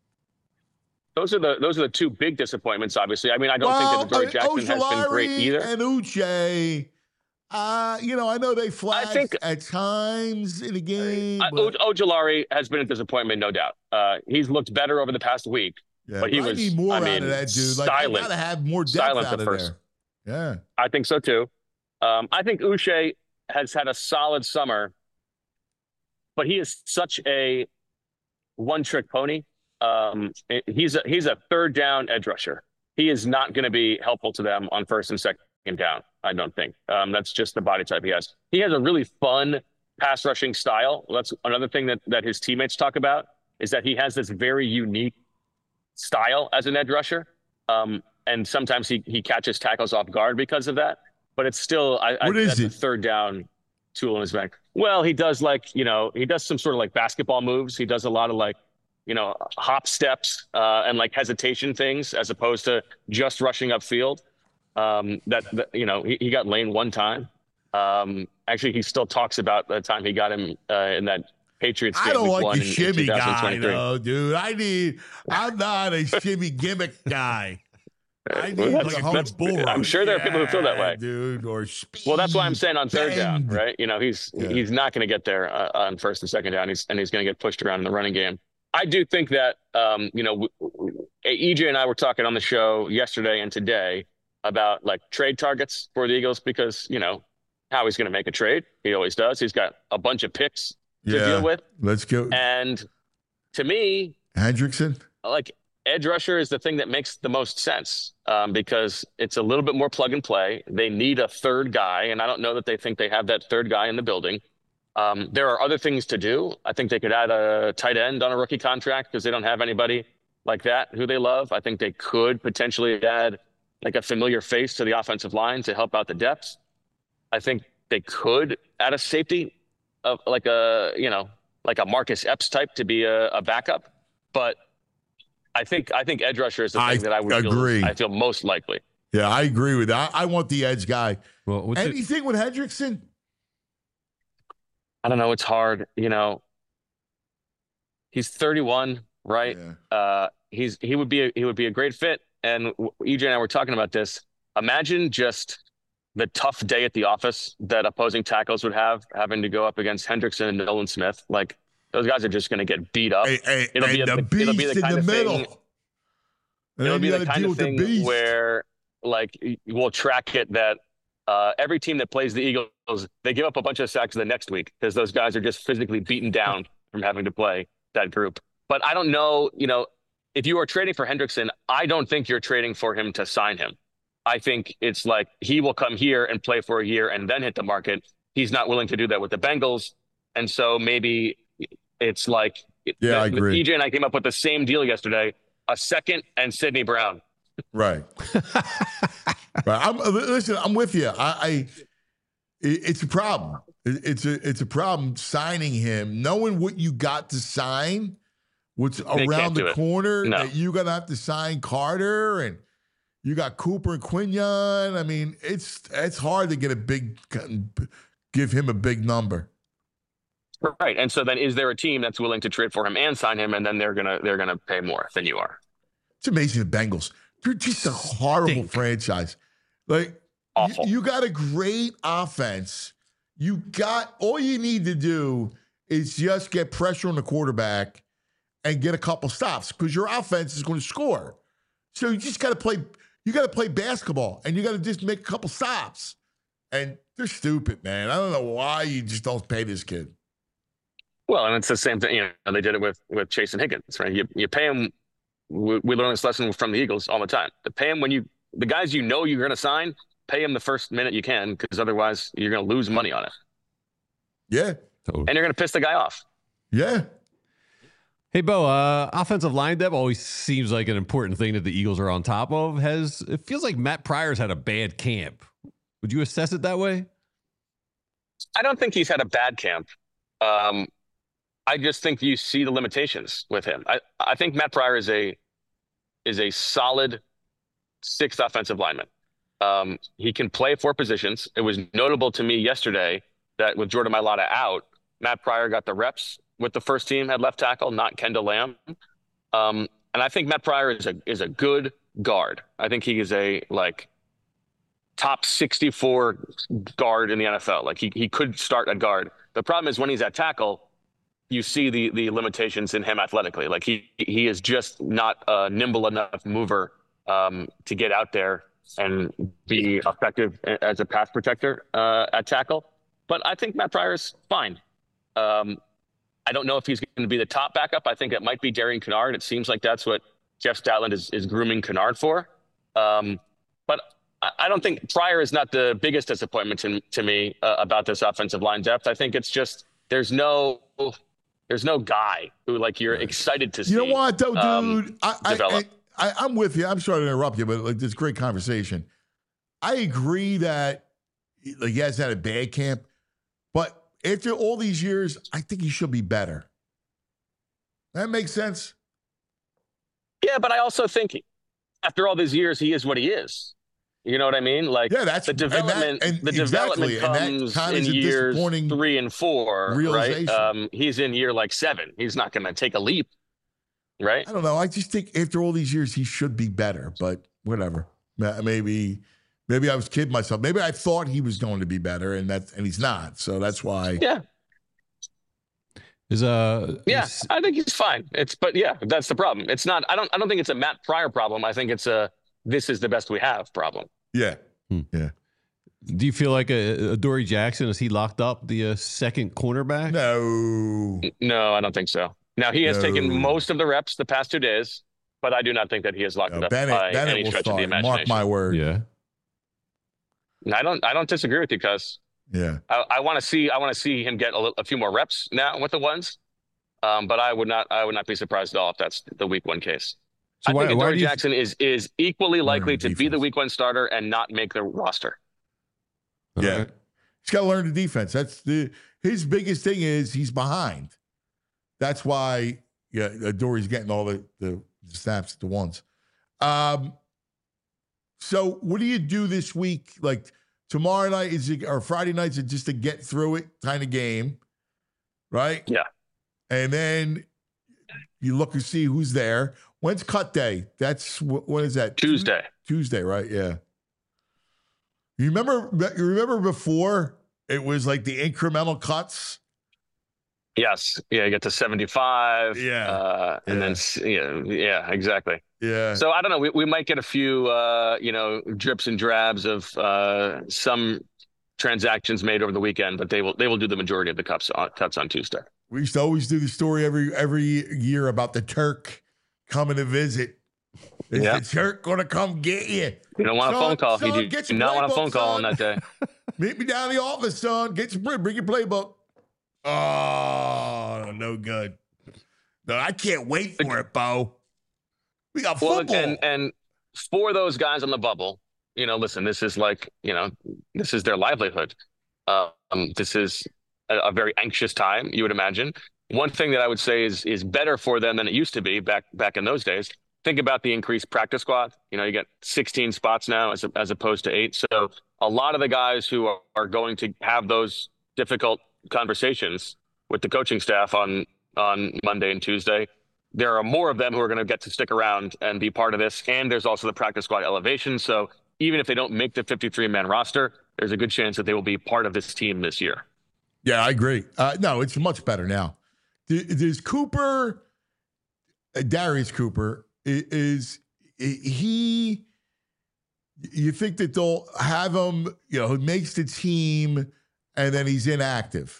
those are the those are the two big disappointments, obviously. I mean, I don't well, think that Adoree Jackson has been great either. And Uche, uh, you know, I know they flashed think- at times in the game. Uh, but, O- Ojulari has been a disappointment, no doubt. Uh, he's looked better over the past week. yeah, but he I was, need more I out mean, of that dude. Like, I silent. gotta have more depth Silent out at of first. there. Yeah. I think so too. Um, I think Uche has had a solid summer, but he is such a one-trick pony. Um, he's a he's a third down edge rusher. He is not going to be helpful to them on first and second down. I don't think. Um, that's just the body type he has. He has a really fun pass rushing style. That's another thing that that his teammates talk about, is that he has this very unique style as an edge rusher. Um, and sometimes he he catches tackles off guard because of that. But it's still I, What I, is that's a it? third down tool in his bag. Well, he does like, you know, he does some sort of like basketball moves. He does a lot of like, you know, hop steps uh, and like hesitation things, as opposed to just rushing upfield. Um, that, that you know, he, he got Lane one time. Um, actually, he still talks about the time he got him uh, in that Patriots game. I don't week like one the in- in shimmy guy, twenty twenty-three. though, dude. I need. I'm not a shimmy gimmick guy. I need Well, like that's- a hard that's- bull I'm rush. sure there are people who feel that way. Yeah, dude. Or speed. Well, that's why I'm saying on third down, bend. right? You know, he's Yeah. he's not going to get there uh, on first and second down. He's and he's going to get pushed around in the running game. I do think that, um, you know, w- w- E J and I were talking on the show yesterday and today about like trade targets for the Eagles, because, you know, how he's going to make a trade. He always does. He's got a bunch of picks to Yeah. deal with. Let's go. And to me, Hendrickson. like edge rusher is the thing that makes the most sense, um, because it's a little bit more plug and play. They need a third guy, and I don't know that they think they have that third guy in the building. Um, there are other things to do. I think they could add a tight end on a rookie contract because they don't have anybody like that who they love. I think they could potentially add like a familiar face to the offensive line to help out the depth. I think they could add a safety of like a, you know, like a Marcus Epps type to be a, a backup. But I think I think edge rusher is the thing I that I would agree. feel I feel most likely. Yeah, I agree with that. I, I want the edge guy. Well, what's it- Anything with Hendrickson? I don't know. It's hard. You know, he's thirty-one, right? Yeah. Uh, he's he would be a, he would be a great fit. And E J and I were talking about this. Imagine just the tough day at the office that opposing tackles would have, having to go up against Hendrickson and Nolan Smith. Like, those guys are just going to get beat up. Hey, hey, It'll and be a- the it'll beast be the in kind the of thing- middle. And It'll then be you the gotta kind deal of with the thing beast. where, like, we'll track it that uh, every team that plays the Eagles, they give up a bunch of sacks the next week because those guys are just physically beaten down from having to play that group. But I don't know, you know, if you are trading for Hendrickson, I don't think you're trading for him to sign him. I think it's like he will come here and play for a year and then hit the market. He's not willing to do that with the Bengals. And so maybe it's like Yeah, the, I agree. E J and I came up with the same deal yesterday, a second and Sidney Brown. Right. Right. I'm listen, I'm with you. I, I it, it's a problem. It, it's a it's a problem signing him, knowing what you got to sign, what's They around can't do the it. corner. No. That you're gonna have to sign Carter, and you got Cooper and Quinion. I mean, it's it's hard to get a big give him a big number. Right. And so then is there a team that's willing to trade for him and sign him, and then they're gonna they're gonna pay more than you are? It's amazing the Bengals. They're just a horrible Stink. franchise. Like Awful. You, you got a great offense. You got all you need to do is just get pressure on the quarterback and get a couple stops because your offense is going to score. So you just got to play. You got to play basketball and you got to just make a couple stops. And they're stupid, man. I don't know why you just don't pay this kid. Well, and it's the same thing. You know, they did it with with Chase and Higgins, right? You you pay him. We, we learn this lesson from the Eagles all the time. To pay him when you the guys you know you're going to sign, pay him the first minute you can, because otherwise you're going to lose money on it, Yeah. Totally. and you're going to piss the guy off. Yeah. Hey, Bo, uh, offensive line depth always seems like an important thing that the Eagles are on top of. Has it feels like Matt Pryor's had a bad camp. Would you assess it that way? I don't think he's had a bad camp. Um, I just think you see the limitations with him. I, I think Matt Pryor is a is a solid sixth offensive lineman. Um, he can play four positions. It was notable to me yesterday that with Jordan Mailata out, Matt Pryor got the reps with the first team at left tackle, not Kendall Lamb. Um, and I think Matt Pryor is a is a good guard. I think he is a like top sixty-four guard in the N F L. Like he he could start at guard. The problem is when he's at tackle, you see the the limitations in him athletically. Like he he is just not a nimble enough mover um, to get out there and be effective as a pass protector uh, at tackle. But I think Matt Pryor is fine. Um, I don't know if he's going to be the top backup. I think it might be Darian Kennard. It seems like that's what Jeff Statland is, is grooming Kennard for. Um, but I, I don't think Pryor is not the biggest disappointment to, to me uh, about this offensive line depth. I think it's just there's no there's no guy who like you're excited to see. You know what, though, dude? um, I, I, develop. I, I, I'm with you. I'm sorry to interrupt you, but like this great conversation. I agree that like he hasn't had a bad camp, but after all these years, I think he should be better. That makes sense. Yeah, but I also think after all these years, he is what he is. You know what I mean? Like Yeah, that's the development. and that, and the development exactly, and that comes kind of in is a years disappointing three and four, right? realization. Um, he's in year like seven. He's not going to take a leap, right? I don't know. I just think after all these years, he should be better, but whatever. Ma- Maybe, maybe I was kidding myself. Maybe I thought he was going to be better, and that, and he's not. So that's why. Yeah, Is uh yeah. is- I think he's fine. It's but yeah, that's the problem. It's not. I don't. I don't think it's a Matt Pryor problem. I think it's a this is the best we have problem. Yeah. Hmm. Yeah. do you feel like a, a Dory Jackson, is he locked up the uh, second cornerback? No. No, I don't think so. Now he has No. taken most of the reps the past two days, but I do not think that he has locked No, it up Bennett, by Bennett any will stretch of the start. Mark imagination. my word. Yeah. I don't. I don't disagree with you, Cuz. Yeah. I, I want to see. I want to see him get a, li- a few more reps now with the ones. Um, but I would not. I would not be surprised at all if that's the week one case. So I why- think why Adoree do you- Jackson is is equally likely to be the defense. week one starter and not make the roster. Yeah. All right. He's got to learn the defense. That's the his biggest thing is he's behind. That's why yeah, Dory's getting all the, the snaps at the once. Um, so what do you do this week? Like tomorrow night is it, or Friday nights is just to get through it kind of game, right? Yeah. And then you look and see who's there. When's cut day? That's wh- when is that? Tuesday. Tuesday, right? Yeah. You remember? You remember before it was like the incremental cuts. Yes. Yeah. You get to seventy-five. Yeah. Uh, and Yeah. then s- yeah. Yeah. Exactly. Yeah. So I don't know. We we might get a few uh, you know drips and drabs of uh, some transactions made over the weekend, but they will they will do the majority of the cuts on cuts on Tuesday. We used to always do the story every every year about the Turk coming to visit Is Yeah. the jerk going to come get you? You don't want a Son, phone call. son, You do get your not want a playbook, phone call son. on that day. Meet me down in the office, son. Get your bring your playbook. Oh, no good. No, I can't wait for it, Bo. We got Well, football. and and for those guys on the bubble, you know, listen, this is like, you know, this is their livelihood. Um, this is a, a very anxious time, you would imagine. One thing that I would say is is better for them than it used to be back back in those days. Think about the increased practice squad. You know, you got sixteen spots now as as opposed to eight. So a lot of the guys who are, are going to have those difficult conversations with the coaching staff on on Monday and Tuesday, there are more of them who are going to get to stick around and be part of this. And there's also the practice squad elevation. So even if they don't make the fifty-three man roster, there's a good chance that they will be part of this team this year. Yeah, I agree. Uh, no, it's much better now. There's Cooper, uh, Darius Cooper, is, is he, you think that they'll have him, you know, who makes the team and then he's inactive?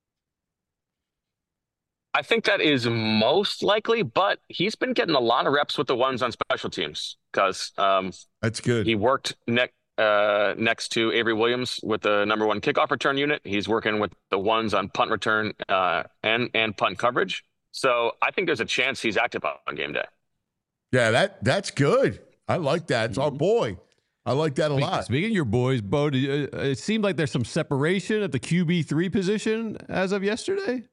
I think that is most likely, but he's been getting a lot of reps with the ones on special teams because um, that's good. He worked next uh, next to Avery Williams with the number one kickoff return unit. He's working with the ones on punt return uh, and and punt coverage. So I think there's a chance he's active on game day. Yeah, that that's good. I like that. It's our boy. I like that a lot. Speaking of your boys, Bo, do you, uh, it seemed like there's some separation at the Q B three position as of yesterday.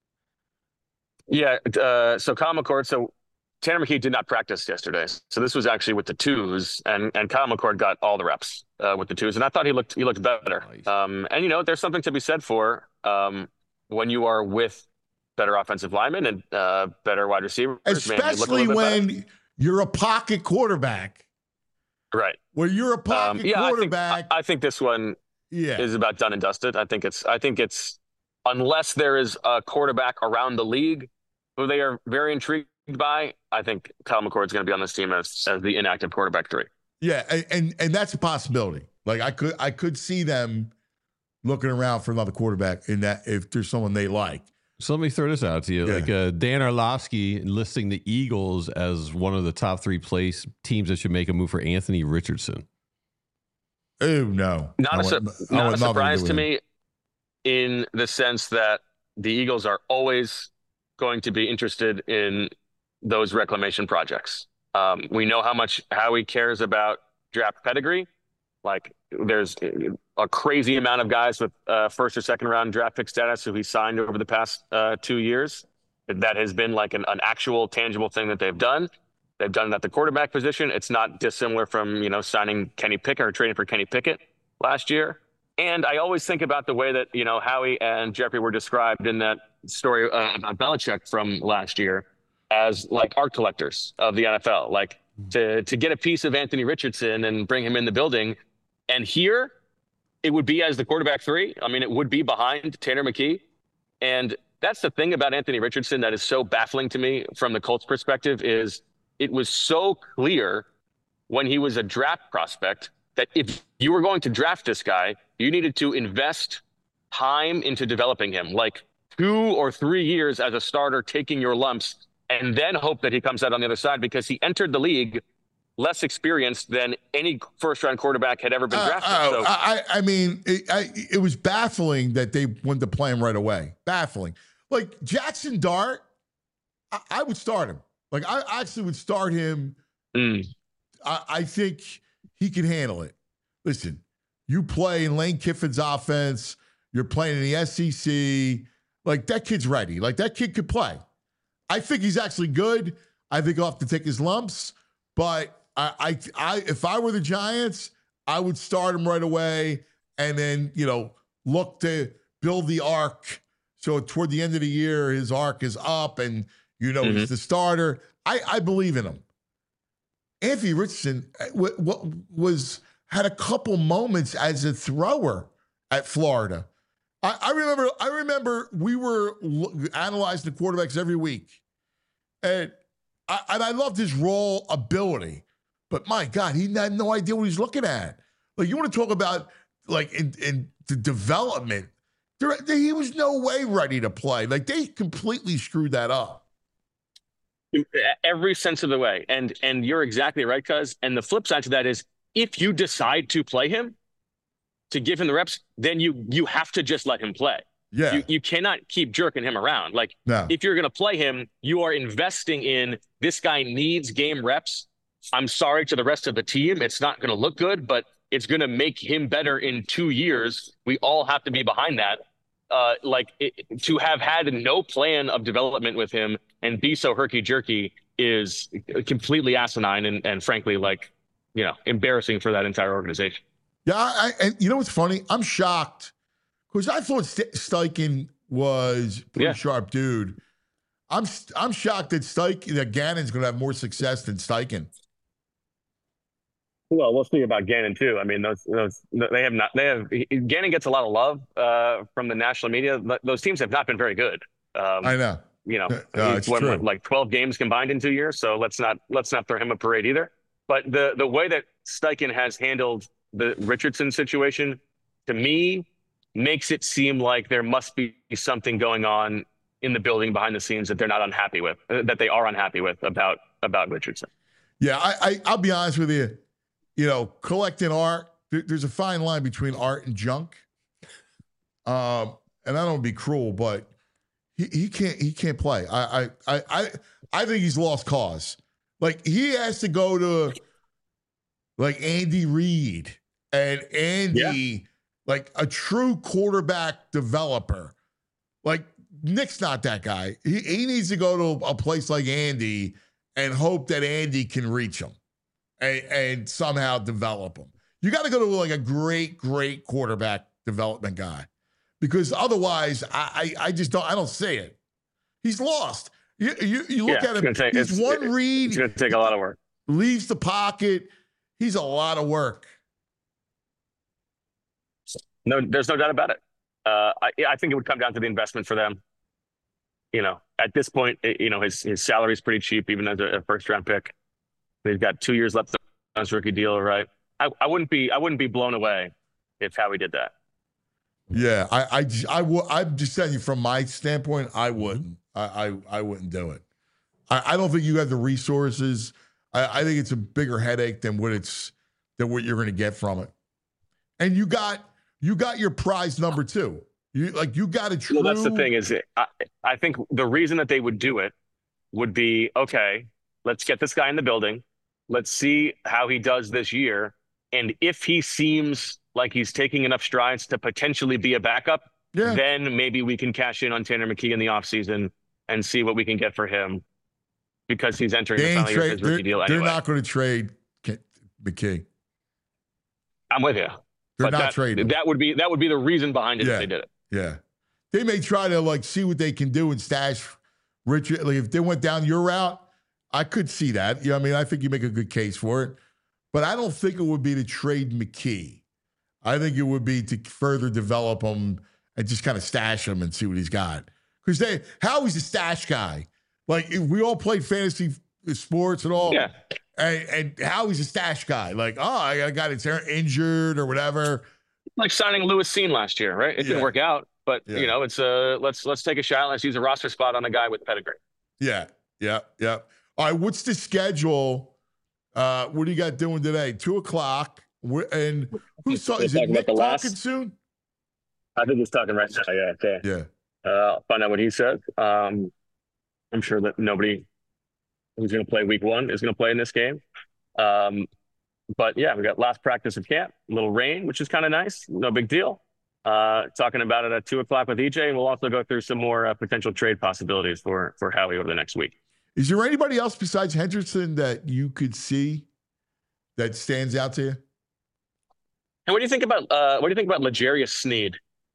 Yeah. Uh, so Kyle McCord, so Tanner McKee did not practice yesterday. So this was actually with the twos, and and Kyle McCord got all the reps uh, with the twos, and I thought he looked he looked better. Nice. Um, and you know, there's something to be said for um, when you are with better offensive linemen and uh, better wide receivers, especially man, you when better. You're a pocket quarterback, right? Where you're a pocket um, yeah, quarterback. I think, I, I think this one yeah. is about done and dusted. I think it's I think it's unless there is a quarterback around the league who they are very intrigued by, I think Kyle McCord is going to be on this team as, as the inactive quarterback three. Yeah, and, and and that's a possibility. Like I could I could see them looking around for another quarterback in that if there's someone they like. So let me throw this out to you. Yeah. Like uh, Dan Orlovsky listing the Eagles as one of the top three place teams that should make a move for Anthony Richardson. Oh no, not I a, su- want, not a surprise to, to to me, in the sense that the Eagles are always going to be interested in those reclamation projects. Um, we know how much Howie cares about draft pedigree. Like there's a crazy amount of guys with uh, first or second round draft pick status who he signed over the past uh, two years. That has been like an, an actual tangible thing that they've done. They've done it at the quarterback position. It's not dissimilar from, you know, signing Kenny Pickett or trading for Kenny Pickett last year. And I always think about the way that, you know, Howie and Jeffrey were described in that story uh, about Belichick from last year as like art collectors of the N F L. Like to to get a piece of Anthony Richardson and bring him in the building. And here it would be as the quarterback three. I mean, it would be behind Tanner McKee. And that's the thing about Anthony Richardson that is so baffling to me from the Colts perspective is it was so clear when he was a draft prospect that if you were going to draft this guy, you needed to invest time into developing him, like two or three years as a starter, taking your lumps, and then hope that he comes out on the other side because he entered the league less experienced than any first-round quarterback had ever been drafted. Uh, so, I, I mean, it, I, it was baffling that they wanted to play him right away. Baffling. Like Jackson Dart, I, I would start him. Like I actually would start him. mm. I, I think he can handle it. Listen, you play in Lane Kiffin's offense. You're playing in the S E C. Like that kid's ready. Like that kid could play. I think he's actually good. I think he'll have to take his lumps, but I, I, I, if I were the Giants, I would start him right away, and then you know look to build the arc. So toward the end of the year, his arc is up, and you know mm-hmm. he's the starter. I, I believe in him. Anthony Richardson w- w- was had a couple moments as a thrower at Florida. I, I remember. I remember we were l- analyzing the quarterbacks every week, and I, and I loved his raw ability. But my God, he had no idea what he's looking at. Like you want to talk about like in, in the development, there, there, he was no way ready to play. Like they completely screwed that up. every sense of the way. And and you're exactly right, cuz. And the flip side to that is if you decide to play him, to give him the reps, then you you have to just let him play. Yeah. You, you cannot keep jerking him around. Like, no. if you're going to play him, you are investing in this guy needs game reps. I'm sorry to the rest of the team. It's not going to look good, but it's going to make him better in two years. We all have to be behind that. Uh, like it, to have had no plan of development with him and be so herky-jerky is completely asinine and, and frankly, like, you know, embarrassing for that entire organization. Yeah, I, and you know what's funny? I'm shocked because I thought St- Steichen was a pretty Yeah. sharp dude. I'm I'm shocked that Steichen, that Gannon's going to have more success than Steichen. Well, we'll see about Gannon too. I mean, those those they have not. They have Gannon gets a lot of love uh, from the national media. Those teams have not been very good. Um, I know. You know, Uh, it's what, true. what, like twelve games combined in two years. So let's not let's not throw him a parade either. But the the way that Steichen has handled the Richardson situation, to me, makes it seem like there must be something going on in the building behind the scenes that they're not unhappy with, uh, that they are unhappy with about about Richardson. Yeah, I, I I'll be honest with you. You know, collecting art, there, there's a fine line between art and junk. Um, and I don't want to be cruel, but he, he can't he can't play. I, I I I I think he's lost cause. Like he has to go to like Andy Reid and Andy, Yeah. like a true quarterback developer. Like Nick's not that guy. He he needs to go to a place like Andy and hope that Andy can reach him. And, and somehow develop them. You got to go to like a great, great quarterback development guy, because otherwise, I, I, I just don't. I don't see it. He's lost. You, you, you look Yeah, at it's him. gonna take- he's it's- one it- read. It's going to take a lot of work. Leaves the pocket. He's a lot of work. No, there's no doubt about it. Uh, I, I think it would come down to the investment for them. You know, at this point, it, you know, his his salary is pretty cheap, even as a, a first round pick. They've got two years left on his rookie deal, right? I, I wouldn't be I wouldn't be blown away if Howie did that. Yeah, I, I, j- I w- I'm just telling you from my standpoint, I wouldn't. I, I, I wouldn't do it. I, I don't think you have the resources. I, I think it's a bigger headache than what it's than what you're going to get from it. And you got you got your prize number two. You like you got a true. Well, that's the thing is, I, I think the reason that they would do it would be, okay, let's get this guy in the building. Let's see how he does this year. And if he seems like he's taking enough strides to potentially be a backup, Yeah. then maybe we can cash in on Tanner McKee in the offseason and see what we can get for him, because he's entering They the ain't final year of trade, his they're, rookie deal they're anyway. not going to trade K- McKee. I'm with you. They're But not that, trading. that would be that would be the reason behind it Yeah. if they did it. Yeah. They may try to like see what they can do and stash Richard. Like if they went down your route, I could see that. You know, what I mean, I think you make a good case for it. But I don't think it would be to trade McKee. I think it would be to further develop him and just kind of stash him and see what he's got. Because they Howie's a stash guy. Like if we all played fantasy sports and all. Yeah. And, and Howie's a stash guy. Like, oh, I got a guy that's injured or whatever. Like signing Lewis Seen last year, right? It Yeah. didn't work out, but Yeah. you know, it's uh let's let's take a shot. Let's use a roster spot on a guy with pedigree. Yeah, yeah, yeah. All right, what's the schedule? Uh, what do you got doing today? Two o'clock. Wh- And who's talking? Is it Talking about Nick the last- talking soon? I think he's talking right now. Yeah, okay. Yeah. Uh, I'll find out what he says. Um, I'm sure that nobody who's going to play week one is going to play in this game. Um, but yeah, we got last practice of camp, a little rain, which is kind of nice. No big deal. Uh, talking about it at two o'clock with E J, and we'll also go through some more uh, potential trade possibilities for for Howie over the next week. Is there anybody else besides Henderson that you could see that stands out to you? And what do you think about uh, what do you think about L'Jarius Sneed?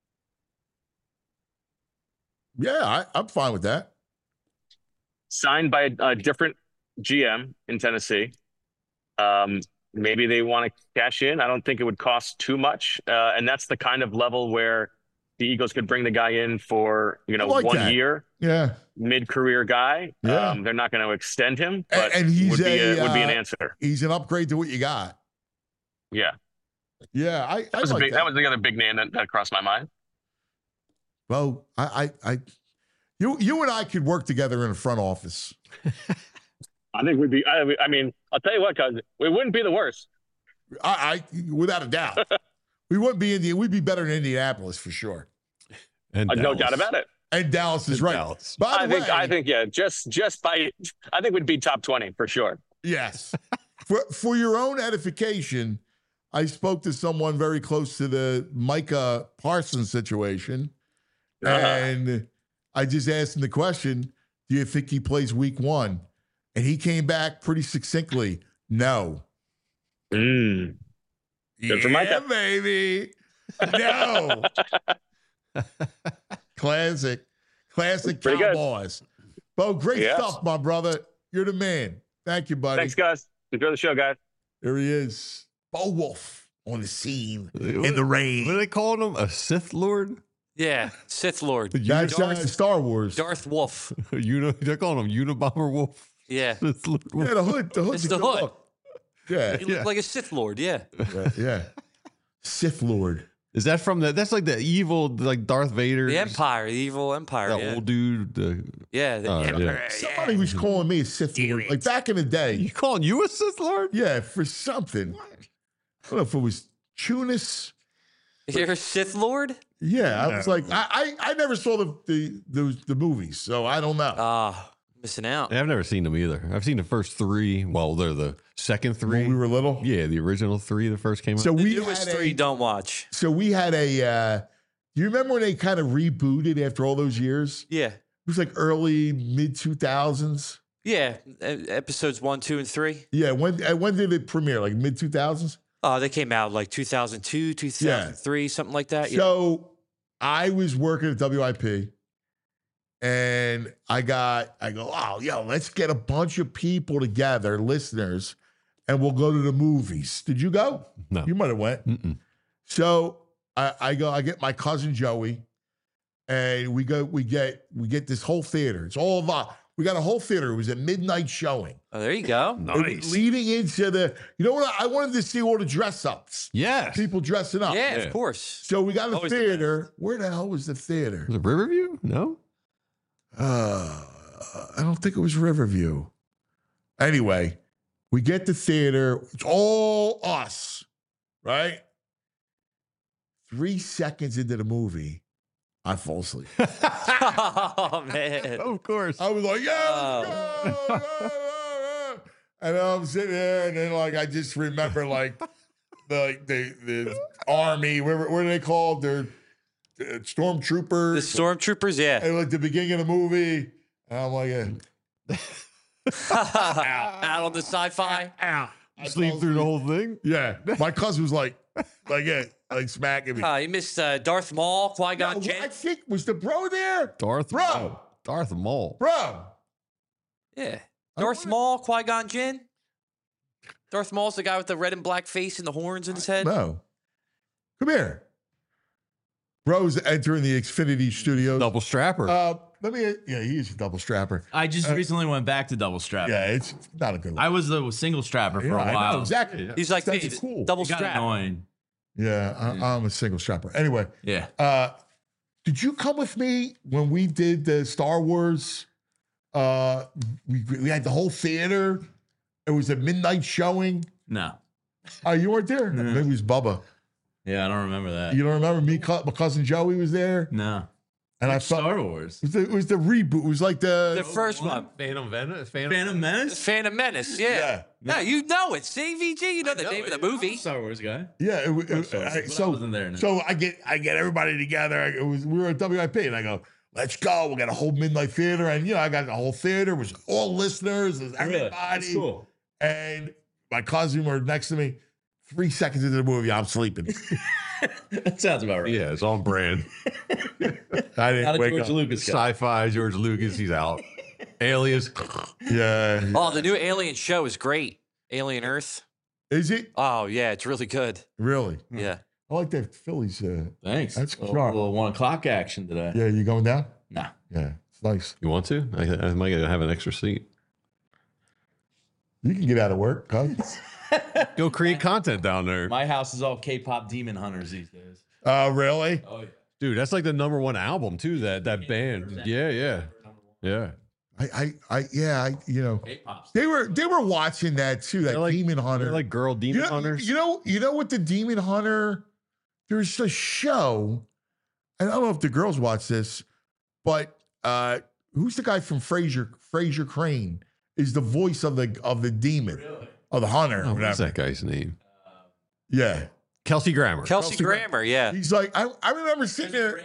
Yeah, I, I'm fine with that. Signed by a, a different G M in Tennessee. Um, maybe they want to cash in. I don't think it would cost too much. Uh, and that's the kind of level where the Eagles could bring the guy in for, you know, I like one that. year, Yeah, mid-career guy. Yeah. Um, they're not going to extend him, And- but and he's would be a, a, would be an uh, answer. he's an upgrade to what you got. Yeah. Yeah, I, I That was a like big, that. that was the other big name that, that crossed my mind. Well, I, I, I, You you and I could work together in the front office. I think we'd be. I, I mean, I'll tell you what, cuz we wouldn't be the worst. I, I without a doubt, we wouldn't be Indian. We'd be better than Indianapolis for sure. And Uh, no doubt about it. And Dallas is And right. Dallas. By I the think. way, I think. Yeah. Just. Just by. I think we'd be top twenty for sure. yes. for for your own edification, I spoke to someone very close to the Micah Parsons situation, Uh-huh. and I just asked him the question: do you think he plays week one? And he came back pretty succinctly, no. Mm. Good for yeah, Micah. baby. No. Classic. Classic Pretty good. Cowboys. Bo, great Yes. stuff, my brother. You're the man. Thank you, buddy. Thanks, guys. Enjoy the show, guys. There he is. Bo Wolf on the scene in What- the rain. What are they calling him? A Sith Lord? Yeah, Sith Lord. That's uh, Star Wars. Darth Wolf. Uni- they're calling him Unabomber Wolf. Yeah. Sith Lord Wolf. Yeah, the hood. The hood's It's a the good hood. look. Yeah, He looked like a Sith Lord, yeah. yeah, yeah. Sith Lord. Is that from the? That's like the evil, like Darth Vader. The Empire, the evil Empire. That yeah. old dude. The, yeah, the Oh, yeah. Emperor. Somebody was calling me a Sith Lord. Like back in the day. you calling you a Sith Lord? Yeah, for something. I don't know if it was Tunis. You're a Sith Lord? Yeah, I was like, I, I, I never saw the, the the the movies, so I don't know. Ah, missing out. Yeah, I've never seen them either. I've seen the first three. Well, they're the second three. When we were little. Yeah, the original three that first came out. So The we newest had three a, don't watch. so we had a. Uh, do you remember when they kind of rebooted after all those years? Yeah. It was like early mid two thousands. Yeah. e- Episodes one, two, and three. Yeah, when uh, when did it premiere? Like mid two thousands. Oh, they came out like two thousand two, two thousand three, something like that. Yeah. So I was working at W I P, and I got I go, oh, yo, let's get a bunch of people together, listeners, and we'll go to the movies. Did you go? No. You might have went. Mm-mm. So I, I go, I get my cousin Joey, and we go, we get we get this whole theater. It's all of us. We got a whole theater. It was a midnight showing. Oh, there you go. It was leading into the, you know what? I wanted to see all the dress ups. Yes. People dressing up. Yeah, Yeah. of course. So we got a Always the theater. Where the hell was the theater? Was it Riverview? No. Uh, I don't think it was Riverview. Anyway, we get the theater. It's all us, right? Three seconds into the movie, I fall asleep. Oh, man. Of course. I was like, yeah, let's Oh. go. And then I'm sitting there, and then like I just remember like the the the army. Where what are they called? They're uh, stormtroopers. The stormtroopers, yeah. And like the beginning of the movie, and I'm like, eh. Out on the sci-fi. I Sleep fell through the asleep. whole thing. Yeah, my cousin was like, like, yeah, like smacking me. Uh, you missed uh, Darth Maul, Qui-Gon No, Jinn. I think was the bro there, Darth Bro. Maul. Darth Maul. bro. Yeah. I Darth wanna- Maul, Qui-Gon Jinn. Darth Maul's the guy with the red and black face and the horns in his head. No, come here. Bro's entering the Xfinity Studios. Double strapper. Uh, let me. Yeah, he's a double strapper. I just Uh, recently went back to double strap. Yeah, it's not a good. I was the single strapper for Yeah, a I while. know, exactly. He's like, That's hey, cool. double It got strap. annoying. Yeah, I, I'm a single strapper. Anyway, Yeah. uh, did you come with me when we did the Star Wars? Uh, we we had the whole theater. It was a midnight showing. No. Oh, you weren't there? No. Maybe it was Bubba. Yeah, I don't remember that. You don't remember me? cou- My cousin Joey was there, No. and I Which felt Star Wars. it was, the, it was the reboot. It was like the, The first one. Phantom Menace. Phantom, Phantom Menace? Phantom Menace, yeah. Yeah. No, you know it. C V G, you know the No, name of the I'm a movie. Star Wars guy. yeah. It, it, Star Wars, I- but I so wasn't there. No. so I get I get everybody together. I, it was we were at W I P, and I go, let's go. We got a whole midnight theater, and you know I got the whole theater. It was all listeners. It was Really? everybody. That's cool. And my cousin were next to me. Three seconds into the movie, I'm sleeping. That sounds about right. Yeah, it's on brand. I didn't Not a wake George up. Lucas guy. Sci-fi. George Lucas. He's out. Alias. Yeah. Oh, the new Alien show is great. Alien Earth. Is it Oh, yeah, it's really good. really? Yeah. I like that Phillies. Uh, Thanks. That's a little, sharp. little one o'clock action today. yeah, you going down? Nah. Yeah, it's nice. You want to? I, I might have an extra seat. You can get out of work, cuz. Go create content down there. My house is all K-pop demon hunters these days. Oh, really? Oh yeah. Dude, that's like the number one album too. That that band. Yeah, yeah, yeah. I, I, I, yeah, I, you know, they were they were watching that too. That like, Demon Hunter, like girl demon you know, hunters. You know, you know what the Demon Hunter? There's a show, and I don't know if the girls watch this, but uh, who's the guy from Frasier? Frasier Crane is the voice of the of the demon, really? Of the hunter. Oh, what's that guy's name? Yeah, Kelsey Grammer. Kelsey, Kelsey Grammer, Grammer, yeah. He's like, I, I remember sitting there.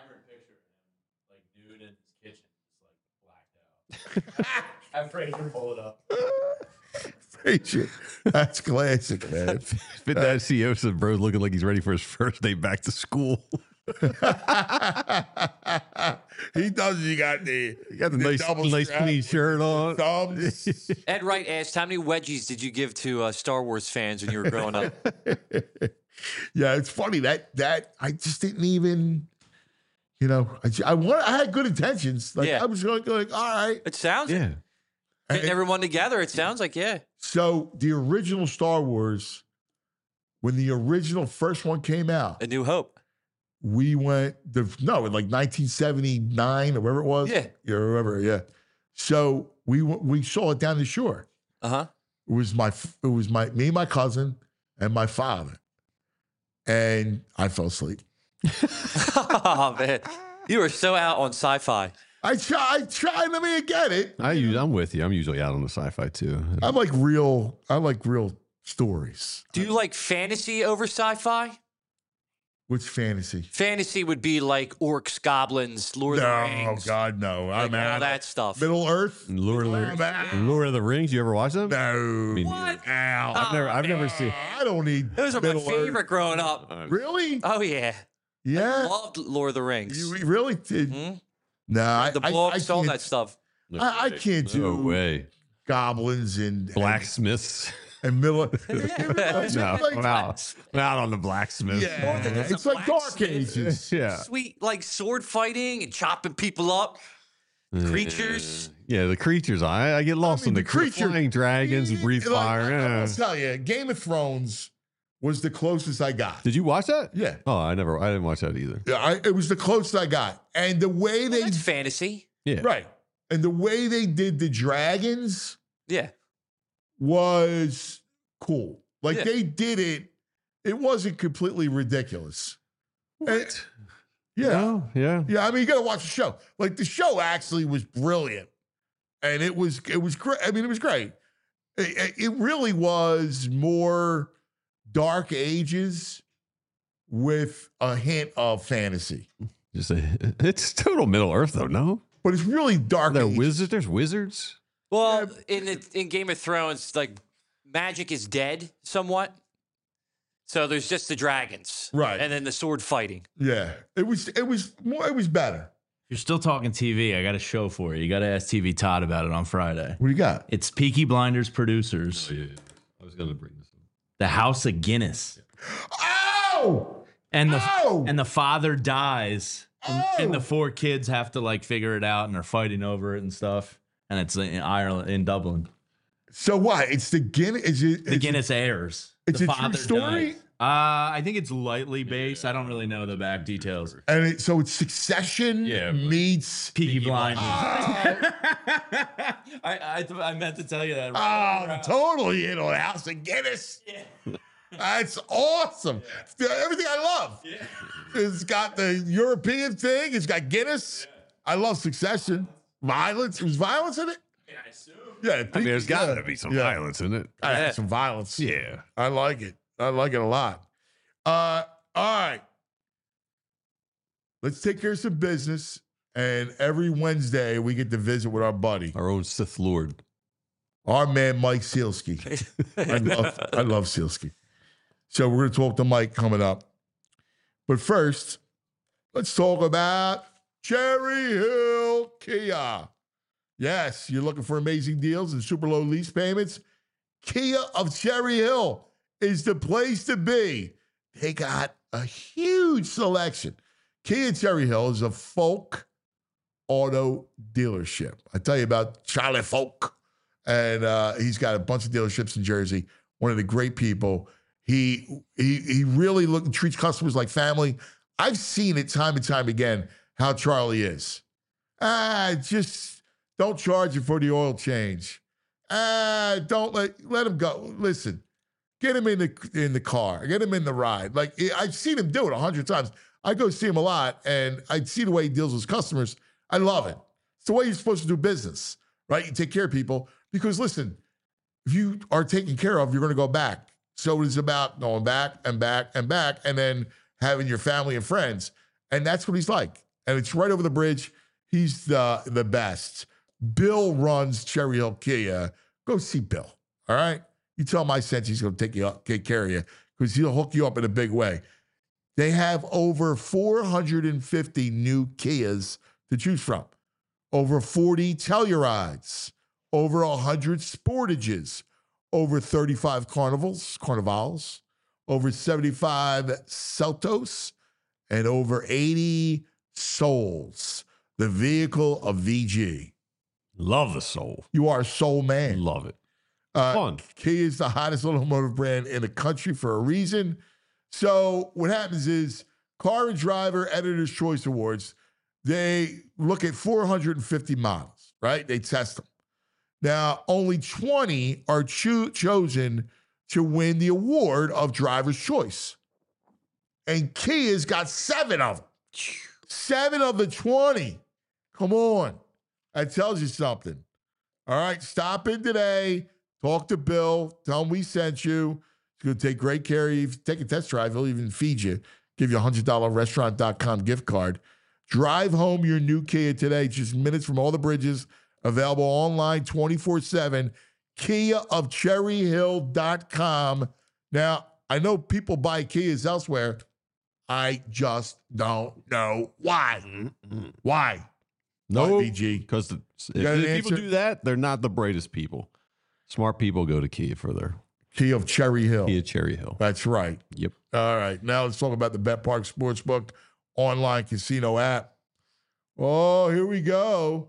Have Fraser pull it up. Frasier. That's classic, man. Fit that C E O said, bro, looking like he's ready for his first day back to school. He does. He got the, he got the, the nice, nice clean shirt on. Thumbs. Ed Wright asked, how many wedgies did you give to uh, Star Wars fans when you were growing up? Yeah, it's funny that that I just didn't even. You know, I, I want. I had good intentions. Like yeah. I was going, like, all right. It sounds yeah. Getting everyone together. It sounds like yeah. So the original Star Wars, when the original first one came out, A New Hope, we went the no in like nineteen seventy-nine or whatever it was. Yeah, you remember? Yeah. So we we saw it down the shore. Uh huh. It was my it was my me, my cousin, and my father, and I fell asleep. Oh man, you were so out on sci-fi. I try, I try. Let me get it. I use, I'm with you. I'm usually out on the sci-fi too. I like real. I like real stories. Do you like fantasy over sci-fi? Which fantasy? Fantasy would be like orcs, goblins, Lord no, of the Rings. Oh God, no! Like I'm out. All that stuff. Middle Earth. Lord of the Lord of the Rings. You ever watch them? No. I mean, what? Ow. I've never. I've never seen. I don't need. Those are my favorite Earth. growing up. Really? Oh yeah. Yeah. I loved Lord of the Rings. You really did? Mm-hmm. No, I, the I, books, I all can't- that stuff. I, I can't do No way. goblins and Blacksmiths. and Miller. No, I'm out. I'm out on the blacksmith. Yeah, There's it's a like Dark blacksmith. Ages. Yeah. Sweet, like sword fighting and chopping people up. Creatures. Yeah, the creatures. I, I get lost I mean, in the, the creature- flying dragons and breathe Like, fire. I, Yeah. I'll tell you, Game of Thrones was the closest I got. Did you watch that? Yeah. Oh, I never. I didn't watch that either. Yeah, I, it was the closest I got, and the way Well, they that's fantasy. Yeah. right, and the way they did the dragons Yeah. was cool. Like Yeah. they did it. It wasn't completely ridiculous. What? Yeah. Oh, yeah. Yeah, I mean, you got to watch the show. Like the show actually was brilliant, and it was it was great. I mean, it was great. It, it really was more Dark Ages with a hint of fantasy, Just a, it's total Middle Earth, though. No, but it's really Dark. there Ages. wizards. There's wizards. Well, in the, in Game of Thrones, like magic is dead somewhat. So there's just the dragons, Right. and then the sword fighting. Yeah, it was it was more. It was better. You're still talking T V. I got a show for you. You got to ask T V Todd about it on Friday. What do you got? It's Peaky Blinders producers, Oh, yeah. I was gonna bring this up. the House of Guinness, Oh, and the Oh! and the father dies, and, Oh! and the four kids have to like figure it out, and they're fighting over it and stuff. And it's in Ireland, in Dublin. so what? It's the Guinness. Is it, The is Guinness heirs. it's the a true father story? dies. Uh, I think it's lightly based. I don't really know the back details. And it, so it's Succession Yeah, but- meets. Peaky Blinders. Oh, I, I I meant to tell you that. oh, totally in on House of Guinness. That's awesome. Everything I love. Yeah. It's got the European thing. It's got Guinness. I love Succession. Violence. Was violence in it? Yeah, I assume. Yeah, I mean, there's got to yeah. be some Yeah. violence in it. I had some violence. Yeah. I like it. I like it a lot. Uh, all right. Let's take care of some business. And every Wednesday, we get to visit with our buddy, Our own Sith Lord. our man, Mike Sealski. I love, I love Sealski. So we're going to talk to Mike coming up. But first, let's talk about Cherry Hill Kia. Yes, you're looking for amazing deals and super low lease payments? Kia of Cherry Hill is the place to be. They got a huge selection. Kia Cherry Hill is a folk auto dealership. I tell you about Charlie Folk. And uh, he's got a bunch of dealerships in Jersey. One of the great people. He he he really look, treats customers like family. I've seen it time and time again how Charlie is. Ah, just don't charge him for the oil change. Ah, don't let let him go. Listen, get him in the in the car. Get him in the ride. Like I've seen him do it a hundred times. I go see him a lot, and I see the way he deals with customers. I love it. It's the way you're supposed to do business, right? You take care of people because listen, if you are taken care of, you're going to go back. So it's about going back and back and back, and then having your family and friends, and that's what he's like. And it's right over the bridge. He's the the best. Bill runs Cherry Hill Kia. Go see Bill. All right. You tell him I sent you. He's going to take you up, take care of you because he'll hook you up in a big way. They have over four hundred fifty new Kias to choose from, over forty Tellurides, over one hundred Sportages, over thirty-five Carnivals, Carnivals, over seventy-five Celtos, and over eighty Souls, the vehicle of V G. Love the Soul. You are a Soul man. Love it. Uh, Fun. Kia is the hottest automotive brand in the country for a reason. So what happens is Car and Driver Editor's Choice Awards, they look at four hundred fifty models, right? They test them. Now, only twenty are cho- chosen to win the award of Driver's Choice. And Kia's got seven of them. Seven of the twenty. Come on. That tells you something. All right, stop in today. Talk to Bill. Tell him we sent you. He's going to take great care of you. If you take a test drive, he'll even feed you. Give you a one hundred dollars restaurant dot com gift card. Drive home your new Kia today. Just minutes from all the bridges. Available online twenty-four seven. Kia of Cherry Hill dot com. Now, I know people buy Kias elsewhere. I just don't know why. Mm-hmm. Why? No, B G. Because if, got an if people answer? do that, they're not the brightest people. Smart people go to Kia for their Kia of Cherry Hill. Kia Cherry Hill. That's right. Yep. All right. Now let's talk about the Bet Park Sportsbook online casino app. Oh, here we go.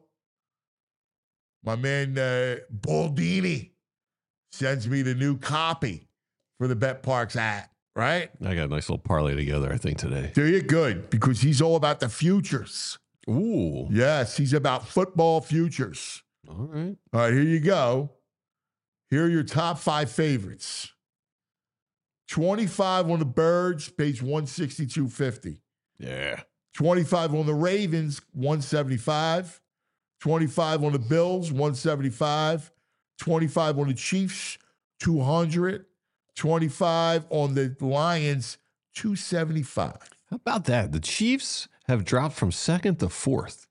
My man uh, Baldini sends me the new copy for the Bet Parks app, right? I got a nice little parlay together, I think, today. There you good, because he's all about the futures. Ooh. Yes, he's about football futures. All right. All right, here you go. Here are your top five favorites. twenty-five on the Birds, pays one sixty-two fifty. Yeah. twenty-five on the Ravens, one seventy-five. twenty-five on the Bills, one seventy-five. twenty-five on the Chiefs, two hundred. twenty-five on the Lions, two seventy-five. How about that? The Chiefs have dropped from second to fourth.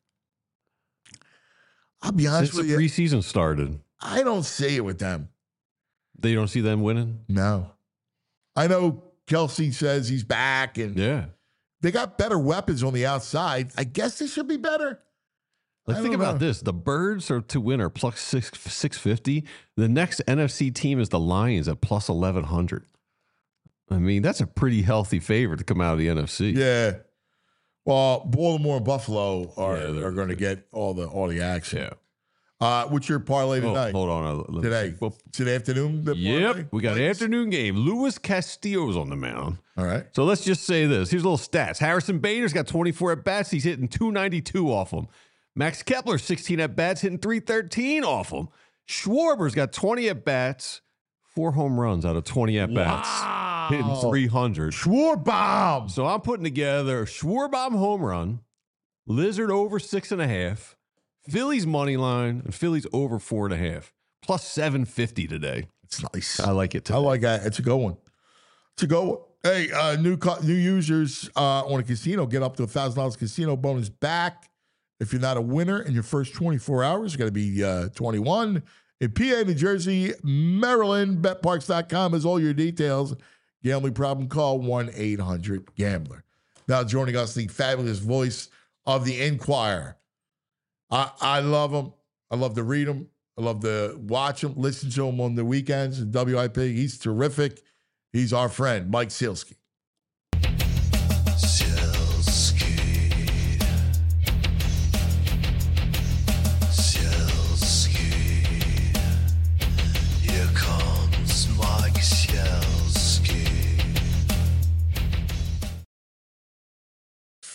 I'll be honest Since with the you. preseason started. I don't see it with them. They don't see them winning? No. I know Kelsey says he's back, and Yeah. they got better weapons on the outside. I guess they should be better. Like, I think don't about know. this. The Birds are to win are plus six, 650. The next N F C team is the Lions at plus eleven hundred. I mean, that's a pretty healthy favorite to come out of the N F C. Yeah. Well, Baltimore and Buffalo are, Yeah, they're- are going to get all the all the action. Yeah. Uh, what's your parlay Oh, tonight? hold on. uh, let me Today. see. Well, Today afternoon? the parlay? yep. We got an afternoon game. Luis Castillo's on the mound. All right. So let's just say this. Here's a little stats. Harrison Bader's got twenty-four at bats. He's hitting two ninety-two off them. Max Kepler, sixteen at bats, hitting three thirteen off them. Schwarber's got twenty at bats, four home runs out of twenty at bats, hitting three hundred. Schwarbaum. So I'm putting together a Schwarbaum home run, Lizard over six and a half, Phillies money line, and Phillies over four and a half, plus seven fifty today. It's nice. I like it. I Today. like that. It's a good one. It's a good one. Hey, uh, new co- new users uh, on a casino get up to one thousand dollars casino bonus back. If you're not a winner in your first twenty-four hours, you got to be uh, twenty-one. In P A, New Jersey, Maryland, bet parks dot com has all your details. Gambling problem, call one eight hundred gambler. Now joining us, the fabulous voice of the Enquirer. I, I love him. I love to read him. I love to watch him, listen to him on the weekends in W I P. He's terrific. He's our friend, Mike Sealski.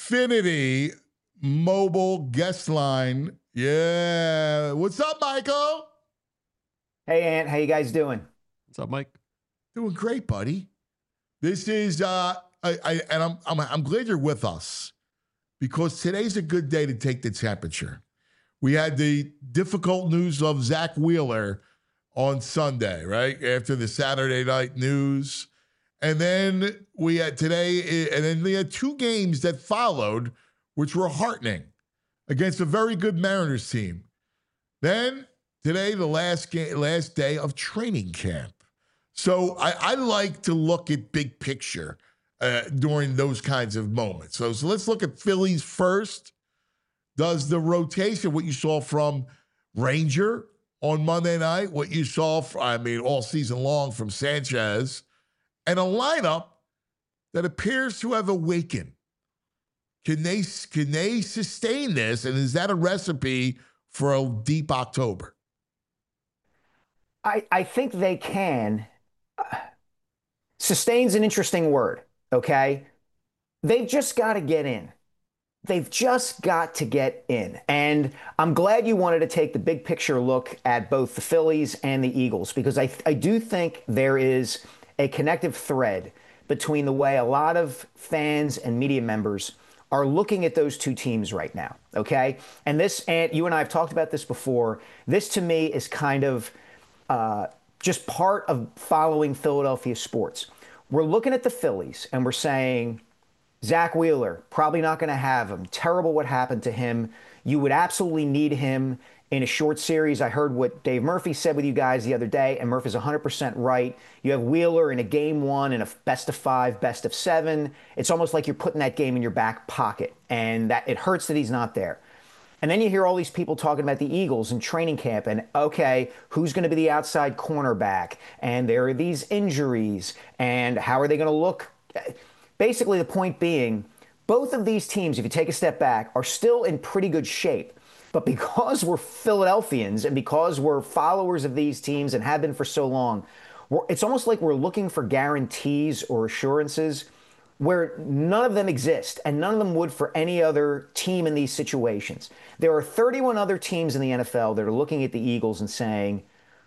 Xfinity mobile guest line. Yeah. What's up, Michael? Hey, Ant. How you guys doing? What's up, Mike? Doing great, buddy. This is, uh, I, I and I'm, I'm, I'm glad you're with us because today's a good day to take the temperature. We had the difficult news of Zach Wheeler on Sunday, right? After the Saturday night news. And then we had today, and then we had two games that followed, which were heartening against a very good Mariners team. Then today, the last game, last day of training camp. So I, I like to look at big picture uh, during those kinds of moments. So, so let's look at Phillies first. Does the rotation, what you saw from Ranger on Monday night, what you saw, from, I mean, all season long from Sanchez, and a lineup that appears to have awakened. Can they, can they sustain this? And is that a recipe for a deep October? I, I think they can. Sustain's an interesting word, okay? They've just got to get in. They've just got to get in. And I'm glad you wanted to take the big picture look at both the Phillies and the Eagles, because I, I do think there is a connective thread between the way a lot of fans and media members are looking at those two teams right now, okay? And this, and you and I have talked about this before, this to me is kind of uh, just part of following Philadelphia sports. We're looking at the Phillies and we're saying, Zach Wheeler, probably not going to have him. Terrible what happened to him. You would absolutely need him in a short series. I heard what Dave Murphy said with you guys the other day, and Murphy's one hundred percent right. You have Wheeler in a game one, in a best of five, best of seven. It's almost like you're putting that game in your back pocket, and that it hurts that he's not there. And then you hear all these people talking about the Eagles in training camp, and okay, who's going to be the outside cornerback? And there are these injuries, and how are they going to look? Basically, the point being, both of these teams, if you take a step back, are still in pretty good shape. But because we're Philadelphians and because we're followers of these teams and have been for so long, we're, it's almost like we're looking for guarantees or assurances where none of them exist, and none of them would for any other team in these situations. There are thirty-one other teams in the N F L that are looking at the Eagles and saying,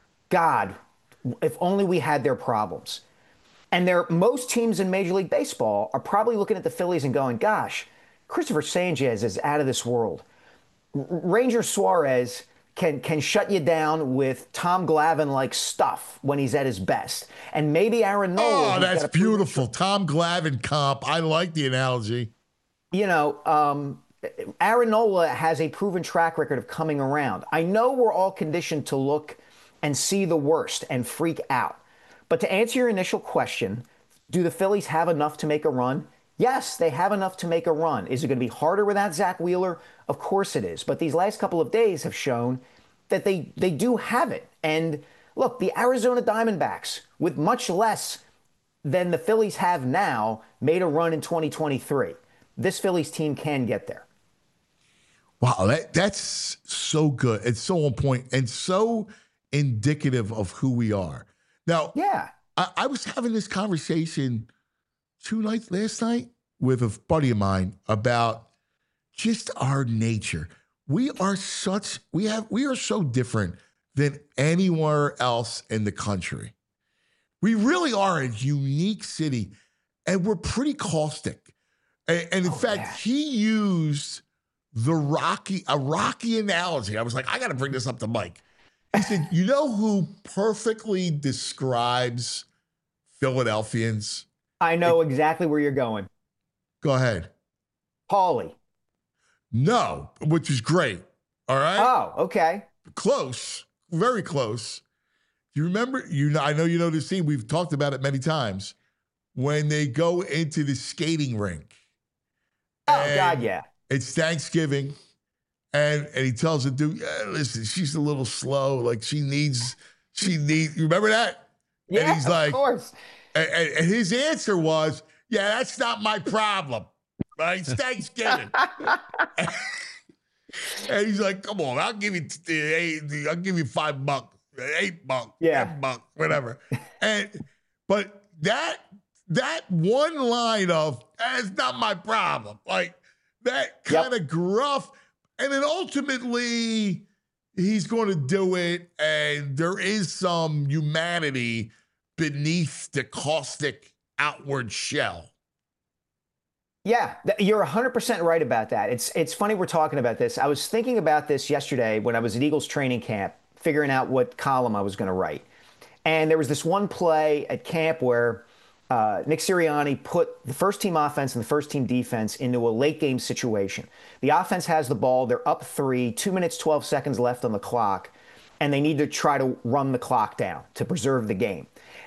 God, if only we had their problems. And there, most teams in Major League Baseball are probably looking at the Phillies and going, gosh, Christopher Sanchez is out of this world. R- Ranger Suarez can can shut you down with Tom Glavine-like stuff when he's at his best. And maybe Aaron Nola. Oh, that's beautiful. Tom Glavine comp. I like the analogy. You know, um, Aaron Nola has a proven track record of coming around. I know we're all conditioned to look and see the worst and freak out. But to answer your initial question, do the Phillies have enough to make a run? Yes, they have enough to make a run. Is it going to be harder without Zach Wheeler? Of course it is. But these last couple of days have shown that they, they do have it. And look, the Arizona Diamondbacks, with much less than the Phillies have now, made a run in twenty twenty-three. This Phillies team can get there. Wow, that, that's so good. It's so on point and so indicative of who we are. Now, yeah, I, I was having this conversation two nights last night with a buddy of mine about just our nature. We are such we have we are so different than anywhere else in the country. We really are a unique city, and we're pretty caustic. And, and in oh, fact, yeah. he used the Rocky a Rocky analogy. I was like, I got to bring this up to Mike. He said, you know who perfectly describes Philadelphians? I know it, exactly where you're going. Go ahead. Paulie. No, which is great. All right? Oh, okay. Close. Very close. You remember, you know, I know you know the scene. We've talked about it many times. When they go into the skating rink. Oh, God, yeah. It's Thanksgiving. And and he tells the dude, yeah, listen, she's a little slow. Like she needs, she needs, you remember that? Yeah, and he's like, of course. And, and his answer was, yeah, that's not my problem. Right? It's Thanksgiving. and, and he's like, come on, I'll give you, eight, I'll give you five bucks, eight bucks, yeah. ten bucks, whatever. and, but that, that one line of, that's not my problem. Like, that kind of gruff. And then ultimately, he's going to do it. And there is some humanity beneath the caustic outward shell. Yeah, you're one hundred percent right about that. It's it's funny we're talking about this. I was thinking about this yesterday when I was at Eagles training camp, figuring out what column I was going to write. And there was this one play at camp where uh, Nick Sirianni put the first team offense and the first team defense into a late game situation. The offense has the ball. They're up three, two minutes, twelve seconds left on the clock, and they need to try to run the clock down to preserve the game.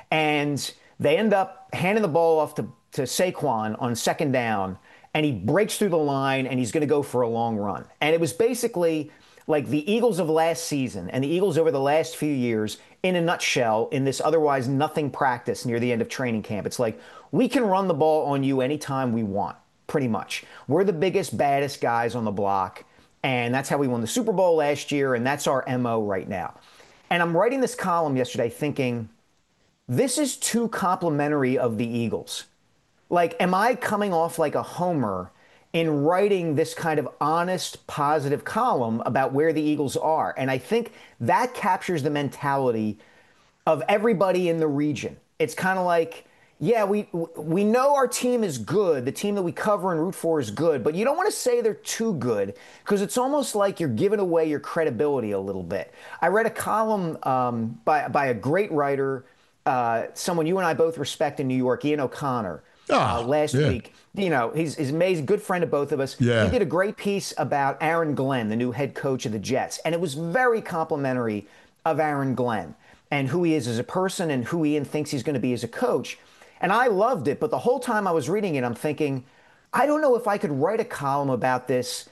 And they end up handing the ball off to to Saquon on second down, and he breaks through the line, and he's going to go for a long run. And it was basically like the Eagles of last season and the Eagles over the last few years in a nutshell in this otherwise nothing practice near the end of training camp. It's like, we can run the ball on you anytime we want, pretty much. We're the biggest, baddest guys on the block, and that's how we won the Super Bowl last year, and that's our M O right now. And I'm writing this column yesterday thinking, this is too complimentary of the Eagles. Like, am I coming off like a homer in writing this kind of honest, positive column about where the Eagles are? And I think that captures the mentality of everybody in the region. It's kind of like, yeah, we we know our team is good. The team that we cover and root for is good. But you don't want to say they're too good because it's almost like you're giving away your credibility a little bit. I read a column um, by, by a great writer, uh, someone you and I both respect in New York, Ian O'Connor. Oh, uh, last yeah. week, you know, he's, he's amazing, good friend of both of us. Yeah. He did a great piece about Aaron Glenn, the new head coach of the Jets. And it was very complimentary of Aaron Glenn and who he is as a person and who Ian thinks he's going to be as a coach. And I loved it. But the whole time I was reading it, I'm thinking, I don't know if I could write a column about this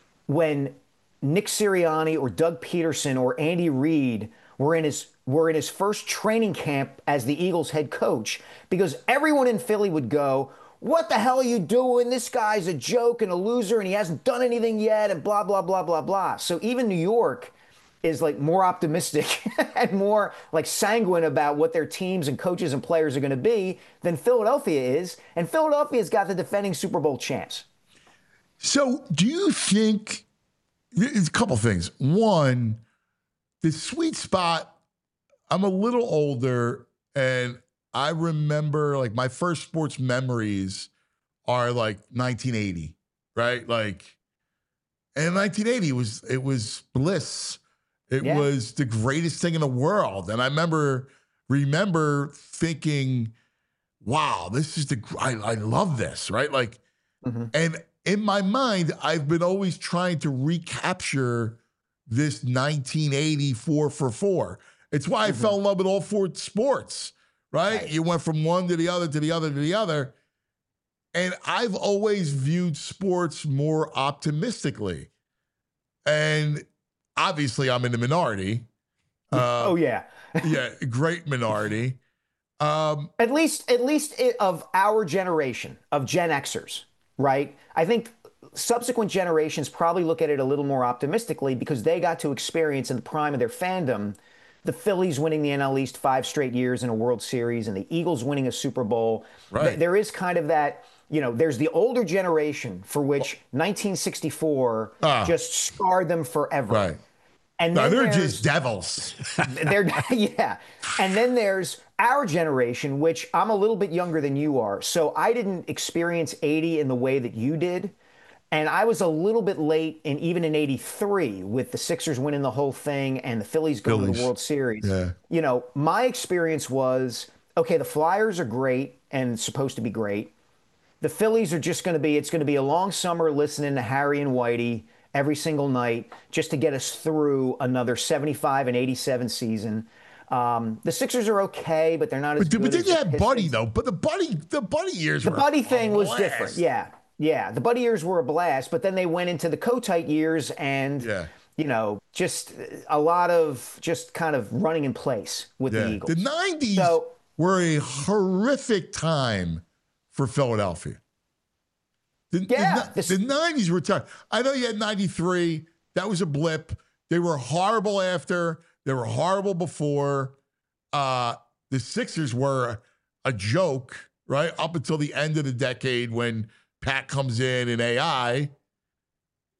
when Nick Sirianni or Doug Peterson or Andy Reid were in his were in his first training camp as the Eagles head coach, because everyone in Philly would go, what the hell are you doing? This guy's a joke and a loser and he hasn't done anything yet and blah, blah, blah, blah, blah. So even New York is like more optimistic and more like sanguine about what their teams and coaches and players are going to be than Philadelphia is. And Philadelphia's got the defending Super Bowl champs. So do you think, there's a couple things. One, the sweet spot, I'm a little older, and I remember, like, my first sports memories are, like, nineteen eighty, right? Like, and nineteen eighty was, it was bliss. It Yeah. was the greatest thing in the world. And I remember, remember thinking, wow, this is the, I, I love this, right? Like, Mm-hmm. and in my mind, I've been always trying to recapture this nineteen eighty four for four. It's why I Mm-hmm. fell in love with all four sports, right? Right. You went from one to the other, to the other, to the other. And I've always viewed sports more optimistically. And obviously, I'm in the minority. Uh, oh, yeah. yeah, great minority. Um, At least, at least it, of our generation, of Gen Xers, right? I think subsequent generations probably look at it a little more optimistically because they got to experience in the prime of their fandom the Phillies winning the N L East five straight years in a World Series and the Eagles winning a Super Bowl. Right. Th- There is kind of that, you know, there's the older generation for which nineteen sixty-four Ah. just scarred them forever. right. And No, then they're there's- just devils. they're yeah. And then there's our generation, which I'm a little bit younger than you are. So I didn't experience eighty in the way that you did. And I was a little bit late, and even in eighty-three, with the Sixers winning the whole thing and the Phillies going to Phillies. the World Series. Yeah. You know, my experience was, okay, the Flyers are great and supposed to be great. The Phillies are just going to be, it's going to be a long summer listening to Harry and Whitey every single night just to get us through another seventy-five and eighty-seven season. Um, the Sixers are okay, but they're not as But, good but then as you the had Pistons. Buddy, though. But the Buddy, the Buddy years The were Buddy a thing was blast. different. Yeah. Yeah. The Buddy years were a blast, but then they went into the Kotite years and, Yeah. you know, just a lot of just kind of running in place with Yeah. the Eagles. The nineties So- were a horrific time for Philadelphia. The, Yeah, the, this- the nineties were tough. I know you had ninety-three. That was a blip. They were horrible after. They were horrible before. Uh, the Sixers were a joke, right? Up until the end of the decade when Pat comes in and A I.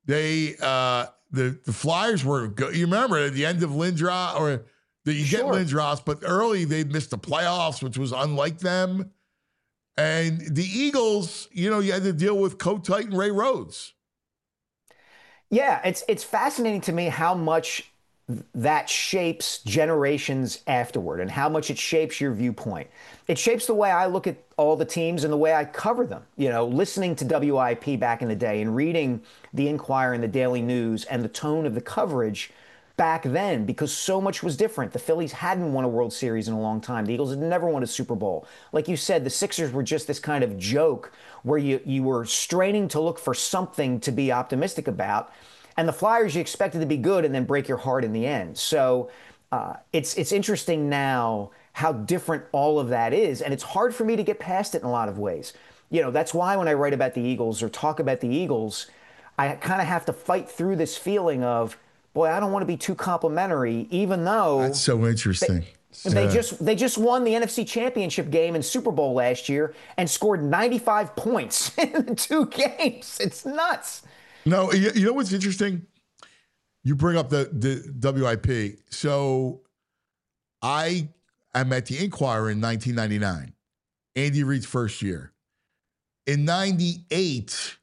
They uh, the the Flyers were good. You remember at the end of Lindros, or that you Sure. get Lindros, but early they missed the playoffs, which was unlike them. And the Eagles, you know, you had to deal with Coach Titan Ray Rhodes. Yeah, it's it's fascinating to me how much that shapes generations afterward and how much it shapes your viewpoint. It shapes the way I look at all the teams and the way I cover them. You know, listening to W I P back in the day and reading the Inquirer and the Daily News and the tone of the coverage back then, because so much was different. The Phillies hadn't won a World Series in a long time. The Eagles had never won a Super Bowl. Like you said, the Sixers were just this kind of joke where you, you were straining to look for something to be optimistic about. And the Flyers, you expected to be good and then break your heart in the end. So uh, it's it's interesting now how different all of that is. And it's hard for me to get past it in a lot of ways. You know, that's why when I write about the Eagles or talk about the Eagles, I kind of have to fight through this feeling of, boy, I don't want to be too complimentary, even though That's so interesting. They, they Yeah. just they just won the N F C Championship game and Super Bowl last year and scored ninety-five points in the two games. It's nuts. No, you, you know what's interesting? You bring up the, the W I P. So I am at the Inquirer in nineteen ninety-nine, Andy Reid's first year. In ninety-eight,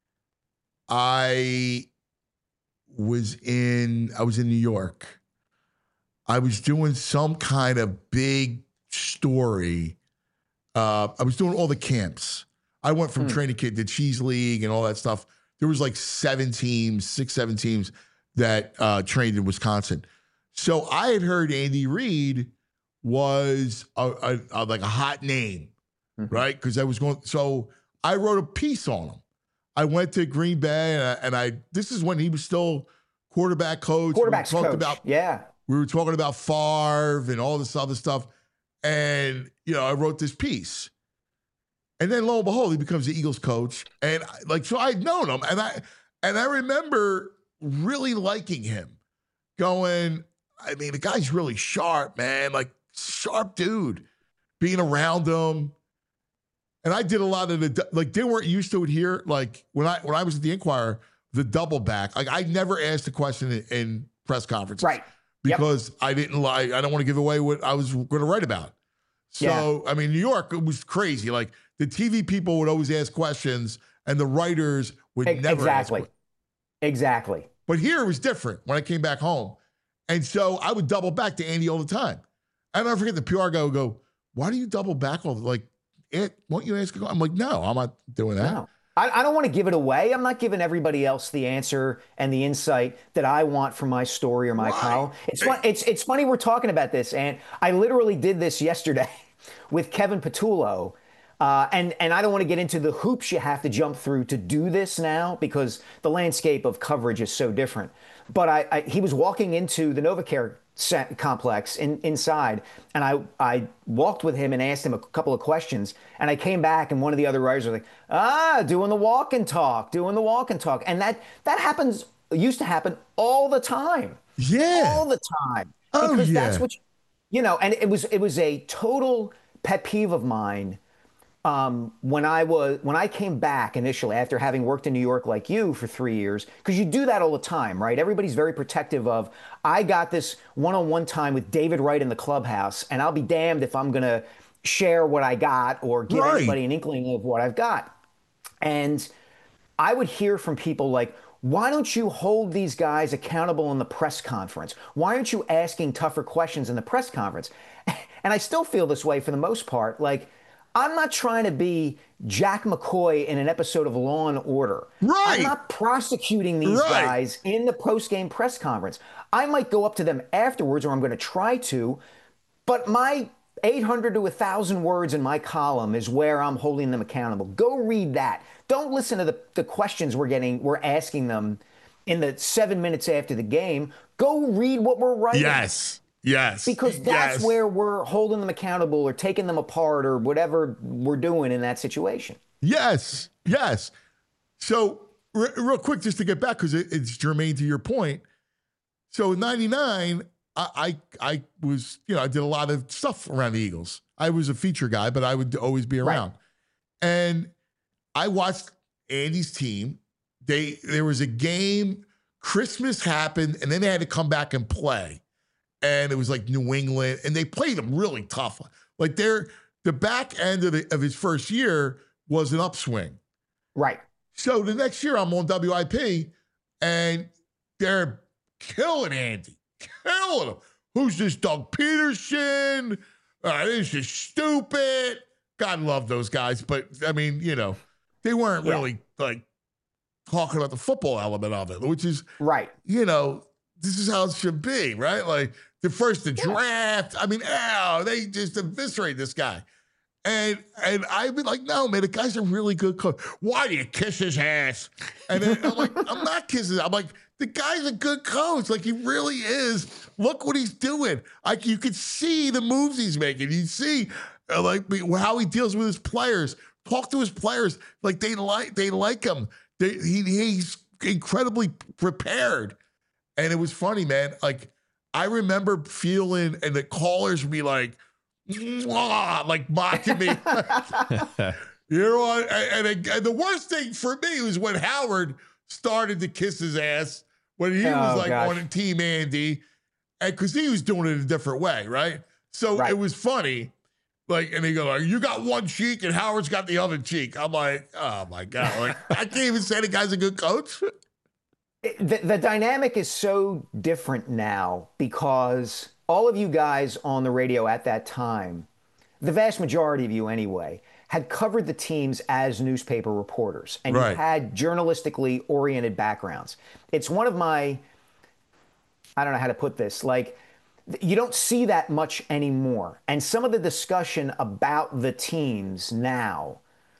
I was in I was in New York. I was doing some kind of big story. Uh, I was doing all the camps. I went from Hmm. training camp to Cheese League and all that stuff. There was like seven teams, six, seven teams that uh, trained in Wisconsin. So I had heard Andy Reid was a, a, a, like a hot name, Mm-hmm. right? Because I was going. So I wrote a piece on him. I went to Green Bay, and I, and I this is when he was still quarterback coach. Quarterback's we talked coach. about Yeah. we were talking about Favre and all this other stuff, and you know I wrote this piece. And then lo and behold, he becomes the Eagles coach. And I- like, so I'd known him. And I and I remember really liking him. Going, I mean, the guy's really sharp, man. Like, sharp dude. Being around him. And I did a lot of the, like, they weren't used to it here. Like, when I when I was at the Inquirer, the double back. Like, I never asked a question in, in press conferences. Right. Yep. Because I didn't like, I don't want to give away what I was going to write about. So, I mean, New York, it was crazy. Like, the T V people would always ask questions, and the writers would Ex- never exactly. ask. Exactly. But here it was different when I came back home. And so I would double back to Andy all the time. I never forget the P R guy would go, why do you double back all the, like, it, won't you ask? I'm like, no, I'm not doing that. No. I, I don't want to give it away. I'm not giving everybody else the answer and the insight that I want from my story or my Right. column. It's fun, it's it's funny we're talking about this, and I literally did this yesterday with Kevin Patullo. Uh, and and I don't want to get into the hoops you have to jump through to do this now because the landscape of coverage is so different. But I, I he was walking into the NovaCare set complex in, inside, and I I walked with him and asked him a couple of questions, and I came back and one of the other writers was like, ah, doing the walk and talk, doing the walk and talk, and that that happens used to happen all the time, Yeah. all the time, Oh, because yeah. that's what you, you know, and it was it was a total pet peeve of mine. Um, when I was when I came back initially after having worked in New York like you for three years, because you do that all the time, right? Everybody's very protective of. I got this one-on-one time with David Wright in the clubhouse, and I'll be damned if I'm going to share what I got or give Right. anybody an inkling of what I've got. And I would hear from people like, why don't you hold these guys accountable in the press conference? Why aren't you asking tougher questions in the press conference? And I still feel this way for the most part. Like, I'm not trying to be Jack McCoy in an episode of Law and Order. Right. I'm not prosecuting these Right. guys in the post-game press conference. I might go up to them afterwards, or I'm going to try to, but my eight hundred to one thousand words in my column is where I'm holding them accountable. Go read that. Don't listen to the, the questions we're getting, we're asking them in the seven minutes after the game. Go read what we're writing. Yes. Yes. Because that's Yes. where we're holding them accountable or taking them apart or whatever we're doing in that situation. Yes, yes. So, re- real quick, just to get back, because it, it's germane to your point. So, in ninety-nine, I, I I was, you know, I did a lot of stuff around the Eagles. I was a feature guy, but I would always be around. And I watched Andy's team they there was a game, Christmas happened, and then they had to come back and play. And it was like New England, and they played them really tough. Like they're the back end of, the, of his first year was an upswing. Right. So the next year I'm on W I P, and they're killing Andy, killing him. Who's this Doug Peterson? Uh, this is stupid. God love those guys, but I mean, you know, they weren't Yeah. really like talking about the football element of it, which is Right. you know, this is how it should be, right? Like the first the draft. I mean, ow, they just eviscerate this guy. And and I'd be like, no, man, the guy's a really good coach. Why do you kiss his ass? And then I'm like, I'm not kissing. I'm like, the guy's a good coach. Like he really is. Look what he's doing. Like you could see the moves he's making. You see, uh, like how he deals with his players. Talk to his players. Like they like they like him. They, he he's incredibly prepared. And it was funny, man. Like I remember feeling, and the callers would be like, "Mwah," like mocking me. You know what? And, and, and the worst thing for me was when Howard started to kiss his ass when he Oh, was like gosh. on Team Andy, and because he was doing it a different way, right? So Right. it was funny. Like, and they go, like, you got one cheek and Howard's got the other cheek. I'm like, oh my God. Like, I can't even say the guy's a good coach. The, the dynamic is so different now because all of you guys on the radio at that time, the vast majority of you anyway, had covered the teams as newspaper reporters and Right. you had journalistically oriented backgrounds. It's one of my, I don't know how to put this, like, you don't see that much anymore. And some of the discussion about the teams now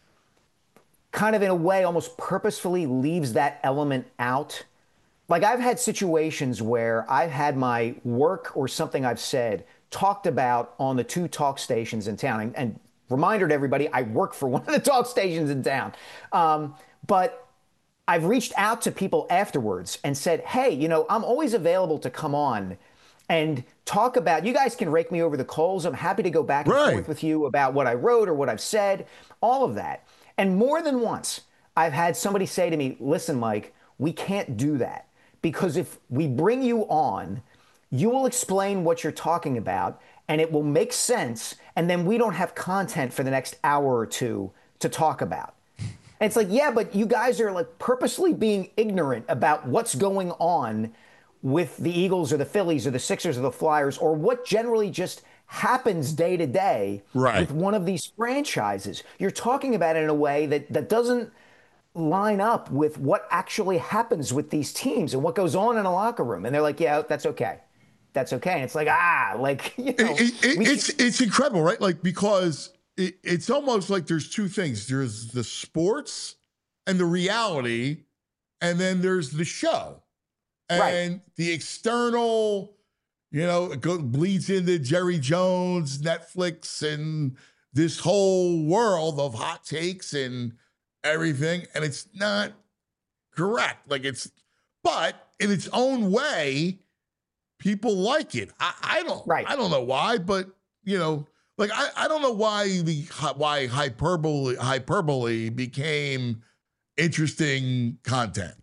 kind of in a way almost purposefully leaves that element out. Like I've had situations where I've had my work or something I've said talked about on the two talk stations in town. And, and reminder to everybody, I work for one of the talk stations in town. Um, but I've reached out to people afterwards and said, hey, you know, I'm always available to come on and talk about, you guys can rake me over the coals. I'm happy to go back and Right. forth with you about what I wrote or what I've said, all of that. And more than once, I've had somebody say to me, listen, Mike, we can't do that because if we bring you on, you will explain what you're talking about and it will make sense. And then we don't have content for the next hour or two to talk about. And it's like, yeah, but you guys are like purposely being ignorant about what's going on with the Eagles or the Phillies or the Sixers or the Flyers or what generally just happens day to day Right. with one of these franchises. You're talking about it in a way that, that doesn't line up with what actually happens with these teams and what goes on in a locker room. And they're like, yeah, that's okay. That's okay. And it's like, ah, like, you know. It- it- we- it's it's incredible, right? Like because it, it's almost like there's two things. There's the sports and the reality, and then there's the show. And Right. the external, you know, it go, bleeds into Jerry Jones, Netflix, and this whole world of hot takes and everything. And it's not correct. Like it's, but in its own way, people like it. I, I don't, Right. I don't know why, but you know, like I, I don't know why the why hyperbole hyperbole became interesting content.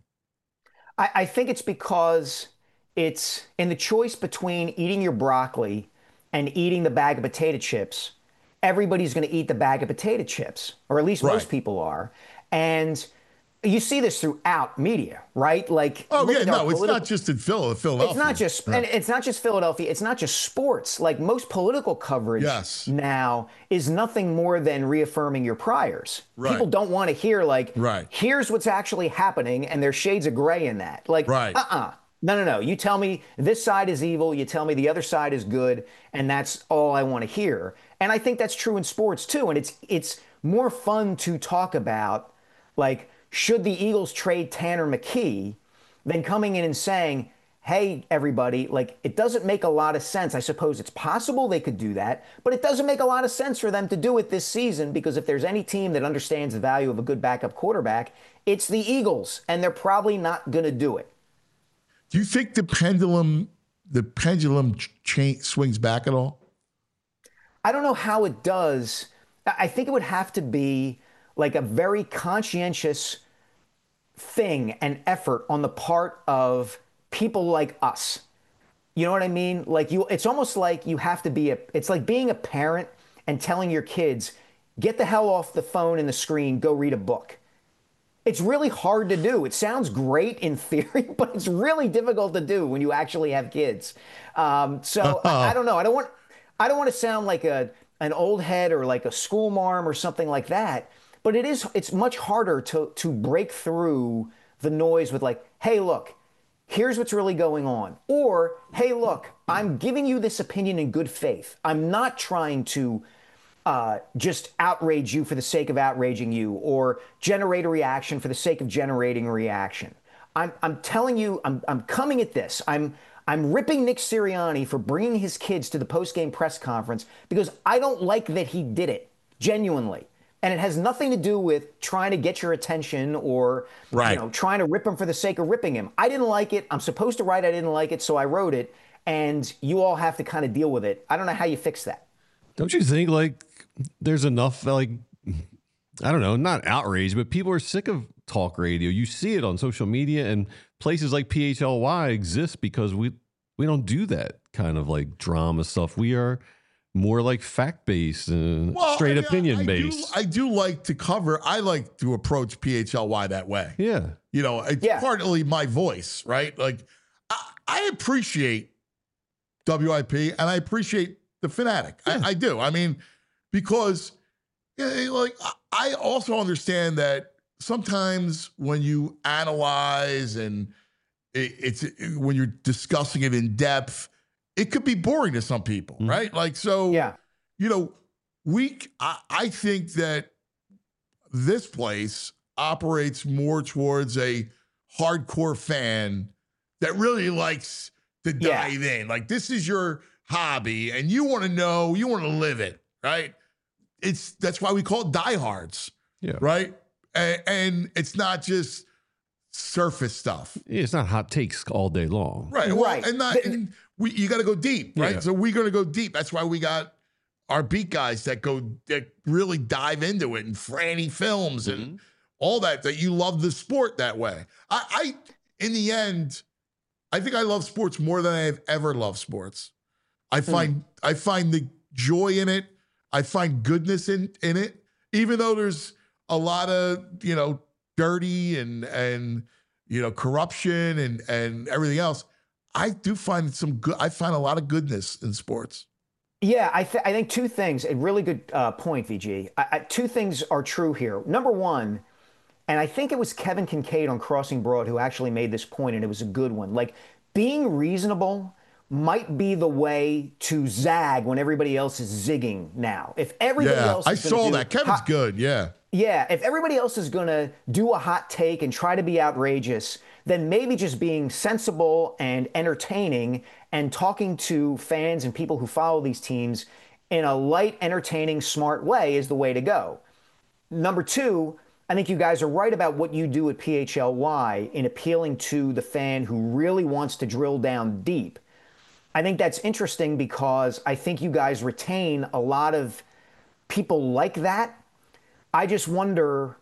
I, I think it's because it's in the choice between eating your broccoli and eating the bag of potato chips. Everybody's going to eat the bag of potato chips, or at least Right. most people are. And you see this throughout media, right? Like, Oh look yeah, at our no, it's political- not just in Phil- Philadelphia. It's not just, and it's not just Philadelphia. It's not just sports. Like most political coverage Yes. now is nothing more than reaffirming your priors. Right. People don't want to hear like, Right. here's what's actually happening, and there's shades of gray in that. Like, Right. uh-uh. No, no, no. You tell me this side is evil. You tell me the other side is good, and that's all I want to hear. And I think that's true in sports too. And it's it's more fun to talk about, like, should the Eagles trade Tanner McKee than coming in and saying, hey, everybody, like, it doesn't make a lot of sense. I suppose it's possible they could do that, but it doesn't make a lot of sense for them to do it this season because if there's any team that understands the value of a good backup quarterback, it's the Eagles, and they're probably not going to do it. Do you think the pendulum, the pendulum ch- cha- swings back at all? I don't know how it does. I I think it would have to be like a very conscientious thing and effort on the part of people like us. You know what I mean? Like you, it's almost like you have to be a, it's like being a parent and telling your kids, get the hell off the phone and the screen, go read a book. It's really hard to do. It sounds great in theory, but it's really difficult to do when you actually have kids. Um, so I, I don't know. I don't want, I don't want to sound like a an old head or like a school marm or something like that. But it is. It's much harder to to break through the noise with like, hey, look, here's what's really going on, or hey, look, I'm giving you this opinion in good faith. I'm not trying to Uh, just outrage you for the sake of outraging you, or generate a reaction for the sake of generating a reaction. I'm, I'm telling you, I'm, I'm coming at this. I'm, I'm ripping Nick Sirianni for bringing his kids to the post-game press conference because I don't like that he did it, genuinely. And it has nothing to do with trying to get your attention or right. you know, trying to rip him for the sake of ripping him. I didn't like it. I'm supposed to write I didn't like it, so I wrote it. And you all have to kind of deal with it. I don't know how you fix that. Don't you think, like, there's enough, like, I don't know, not outrage, but people are sick of talk radio. You see it on social media, and places like P H L Y exist because we we don't do that kind of like drama stuff. We are more like fact-based and well, straight I mean, opinion-based. I do, I do like to cover, I like to approach P H L Y that way. Yeah. You know, it's yeah. partly my voice, right? Like, I, I appreciate W I P and I appreciate the Fanatic. Yeah. I, I do. I mean, because, you know, like, I also understand that sometimes when you analyze and it, it's it, when you're discussing it in depth, it could be boring to some people, mm-hmm. right? Like, so, yeah. you know, we, I, I think that this place operates more towards a hardcore fan that really likes to dive yeah. in. Like, this is your hobby and you want to know, you want to live it, right? It's that's why we call it diehards, yeah, right? And, and it's not just surface stuff. Yeah, it's not hot takes all day long, right? Well, right, and not and we you got to go deep, right? Yeah. So we're going to go deep. That's why we got our beat guys that go that really dive into it, and Franny Films and mm-hmm. all that. That you love the sport that way. I, I in the end, I think I love sports more than I have ever loved sports. I find mm. I find the joy in it. I find goodness in, in it, even though there's a lot of, you know, dirty and and you know corruption and and everything else. I do find some good. I find a lot of goodness in sports. Yeah, I, th- I think two things. A really good uh, point, V G. I, I, two things are true here. Number one, and I think it was Kevin Kincaid on Crossing Broad who actually made this point, and it was a good one. Like, being reasonable might be the way to zag when everybody else is zigging now. If everybody yeah, else is I saw do that. Kevin's hot, good, yeah. Yeah, if everybody else is going to do a hot take and try to be outrageous, then maybe just being sensible and entertaining and talking to fans and people who follow these teams in a light, entertaining, smart way is the way to go. Number two, I think you guys are right about what you do at P H L Y in appealing to the fan who really wants to drill down deep. I think that's interesting because I think you guys retain a lot of people like that. I just wonder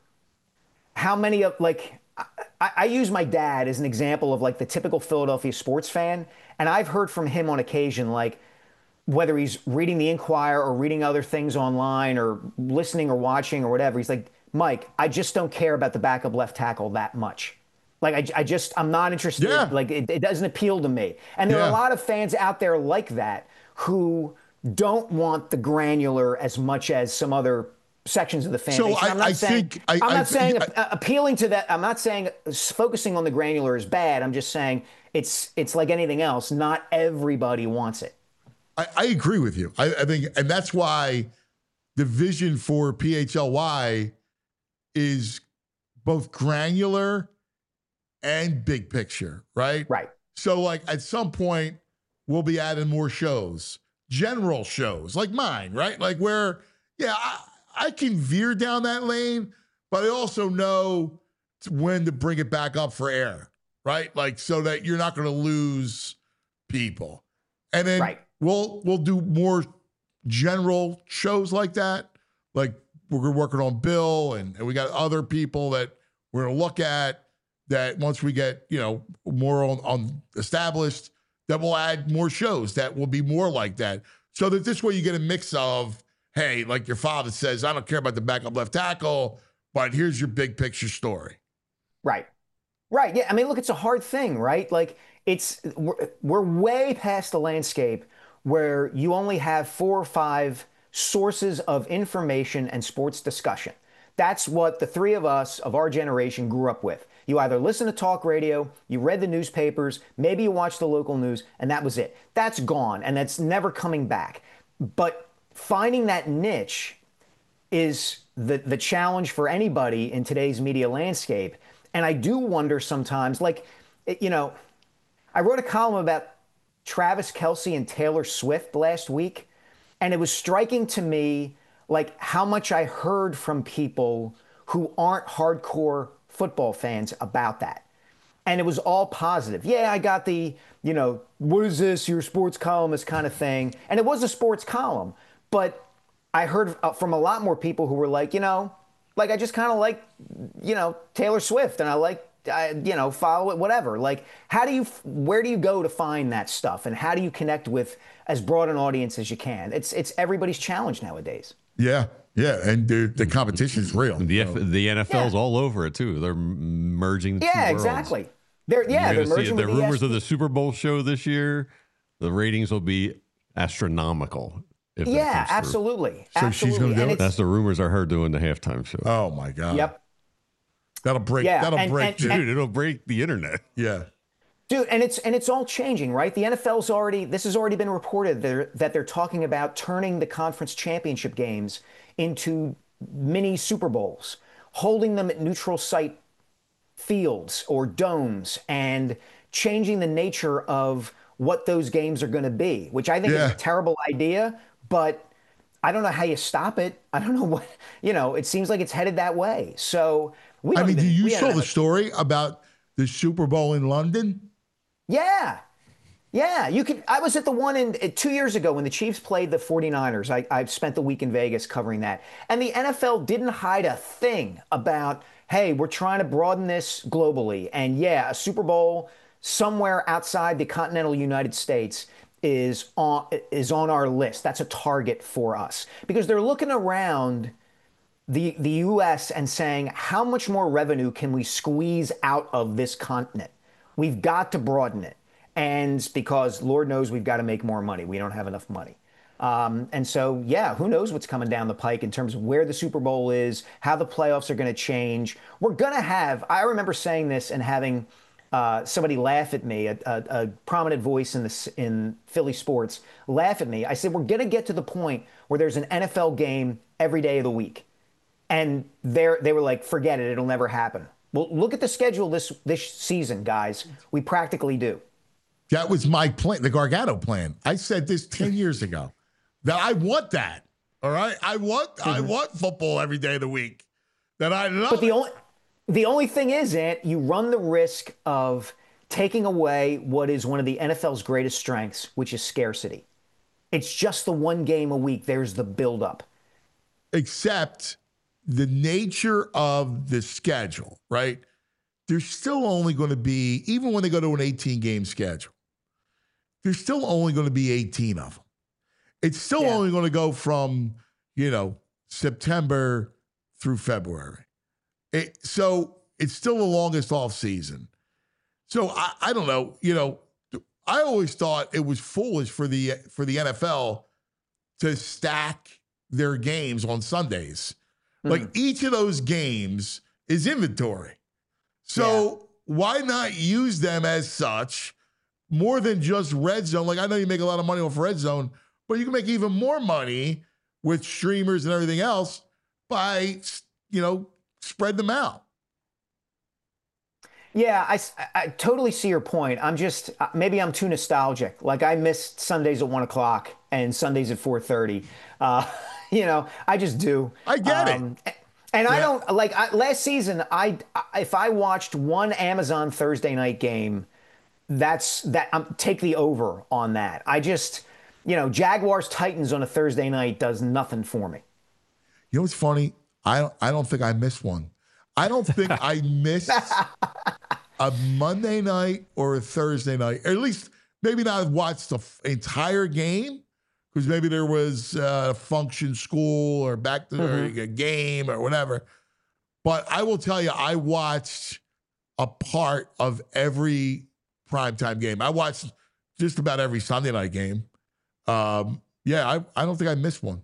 how many of, like, I, I use my dad as an example of like the typical Philadelphia sports fan. And I've heard from him on occasion, like, whether he's reading the Inquirer or reading other things online or listening or watching or whatever, he's like, Mike, I just don't care about the backup left tackle that much. Like, I, I just, I'm not interested. Yeah. Like, it, it doesn't appeal to me. And there yeah. are a lot of fans out there like that who don't want the granular as much as some other sections of the fan so base. I, I'm not I saying, think, I, I'm not I, saying I, uh, appealing to that. I'm not saying focusing on the granular is bad. I'm just saying it's it's like anything else. Not everybody wants it. I, I agree with you. I, I think, and that's why the vision for P H L Y is both granular and big picture, right? Right. So, like, at some point, we'll be adding more shows, general shows like mine, right? Like, where, yeah, I, I can veer down that lane, but I also know when to bring it back up for air, right? Like, so that you're not going to lose people. And then right. we'll we'll do more general shows like that. Like, we're working on Bill, and, and we got other people that we're going to look at. that once we get, you know, more on, on established, that we'll add more shows that will be more like that. So that this way you get a mix of, hey, like your father says, I don't care about the backup left tackle, but here's your big picture story. Right. Right. Yeah. I mean, look, it's a hard thing, right? Like it's, we're, we're way past the landscape where you only have four or five sources of information and sports discussion. That's what the three of us of our generation grew up with. You either listen to talk radio, you read the newspapers, maybe you watched the local news, and that was it. That's gone, and that's never coming back. But finding that niche is the, the challenge for anybody in today's media landscape. And I do wonder sometimes, like, you know, I wrote a column about Travis Kelce and Taylor Swift last week, and it was striking to me, like, how much I heard from people who aren't hardcore football fans about that. And it was all positive. Yeah, I got the, you know, what is this, your sports columnist kind of thing. And it was a sports column. But I heard from a lot more people who were like, you know, like I just kind of like, you know, Taylor Swift and I like, I, you know, follow it, whatever. Like, how do you, where do you go to find that stuff? And how do you connect with as broad an audience as you can? It's, it's everybody's challenge nowadays. Yeah. Yeah, and the, the competition is real. The F, so. the N F L's Yeah. all over it too. They're merging. The Yeah, two worlds. exactly. They're yeah, You're they're gonna see merging the with E S rumors P N. of the Super Bowl show this year. The ratings will be astronomical. If that Yeah, comes through. absolutely. So absolutely. she's gonna do And it? it's- That's the rumors I heard doing the halftime show. Oh my God. Yep. That'll break. Yeah, that'll and- break. and- the- Dude, it'll break the internet. yeah. Dude, and it's and it's all changing, right? The N F L's already this has already been reported that that they're talking about turning the conference championship games into mini Super Bowls, holding them at neutral site fields or domes, and changing the nature of what those games are going to be, which I think Yeah. is a terrible idea, but I don't know how you stop it. I don't know what, you know, it seems like it's headed that way. So we I don't mean, even- do you we saw don't the have a- story about the Super Bowl in London? Yeah. Yeah, you could. I was at the one in uh, two years ago when the Chiefs played the forty-niners. I, I've spent the week in Vegas covering that. And the N F L didn't hide a thing about, hey, we're trying to broaden this globally. And yeah, a Super Bowl somewhere outside the continental United States is on is on our list. That's a target for us. Because they're looking around the the U S and saying, how much more revenue can we squeeze out of this continent? We've got to broaden it. And because Lord knows we've got to make more money. We don't have enough money. Um, and so, yeah, who knows what's coming down the pike in terms of where the Super Bowl is, how the playoffs are going to change. We're going to have, I remember saying this and having uh, somebody laugh at me, a, a, a prominent voice in, the, in Philly sports, laugh at me. I said, we're going to get to the point where there's an N F L game every day of the week. And they're, they were like, forget it, it'll never happen. Well, look at the schedule this, this season, guys. We practically do. That was my plan, the Gargano plan. I said this ten years ago that I want that. All right. I want mm-hmm. I want football every day of the week. That I love. But the it. only the only thing is, Ant, you run the risk of taking away what is one of the N F L's greatest strengths, which is scarcity. It's just the one game a week. There's the buildup. Except the nature of the schedule, right? There's still only going to be, even when they go to an eighteen game schedule, there's still only going to be eighteen of them. It's still Yeah. only going to go from, you know, September through February. It, so it's still the longest off season. So I, I don't know, you know, I always thought it was foolish for the for the N F L to stack their games on Sundays. Mm. Like each of those games is inventory. So yeah. why not use them as such? More than just red zone. Like I know you make a lot of money off red zone, but you can make even more money with streamers and everything else by, you know, spread them out. Yeah, I, I totally see your point. I'm just, maybe I'm too nostalgic. Like I missed Sundays at one o'clock and Sundays at four thirty. Uh, you know, I just do. I get um, it. And yeah. I don't, like I, last season, I if I watched one Amazon Thursday night game, that's that. Um, take the over on that. I just, you know, Jaguars Titans on a Thursday night does nothing for me. You know what's funny? I don't. I don't think I missed one. I don't think I missed. a Monday night or a Thursday night, or at least maybe not watch the f- entire game, because maybe there was a function, school, or back to Mm-hmm. or a game or whatever. But I will tell you, I watched a part of every primetime game. I watched just about every Sunday night game. Um, yeah, I, I don't think I missed one.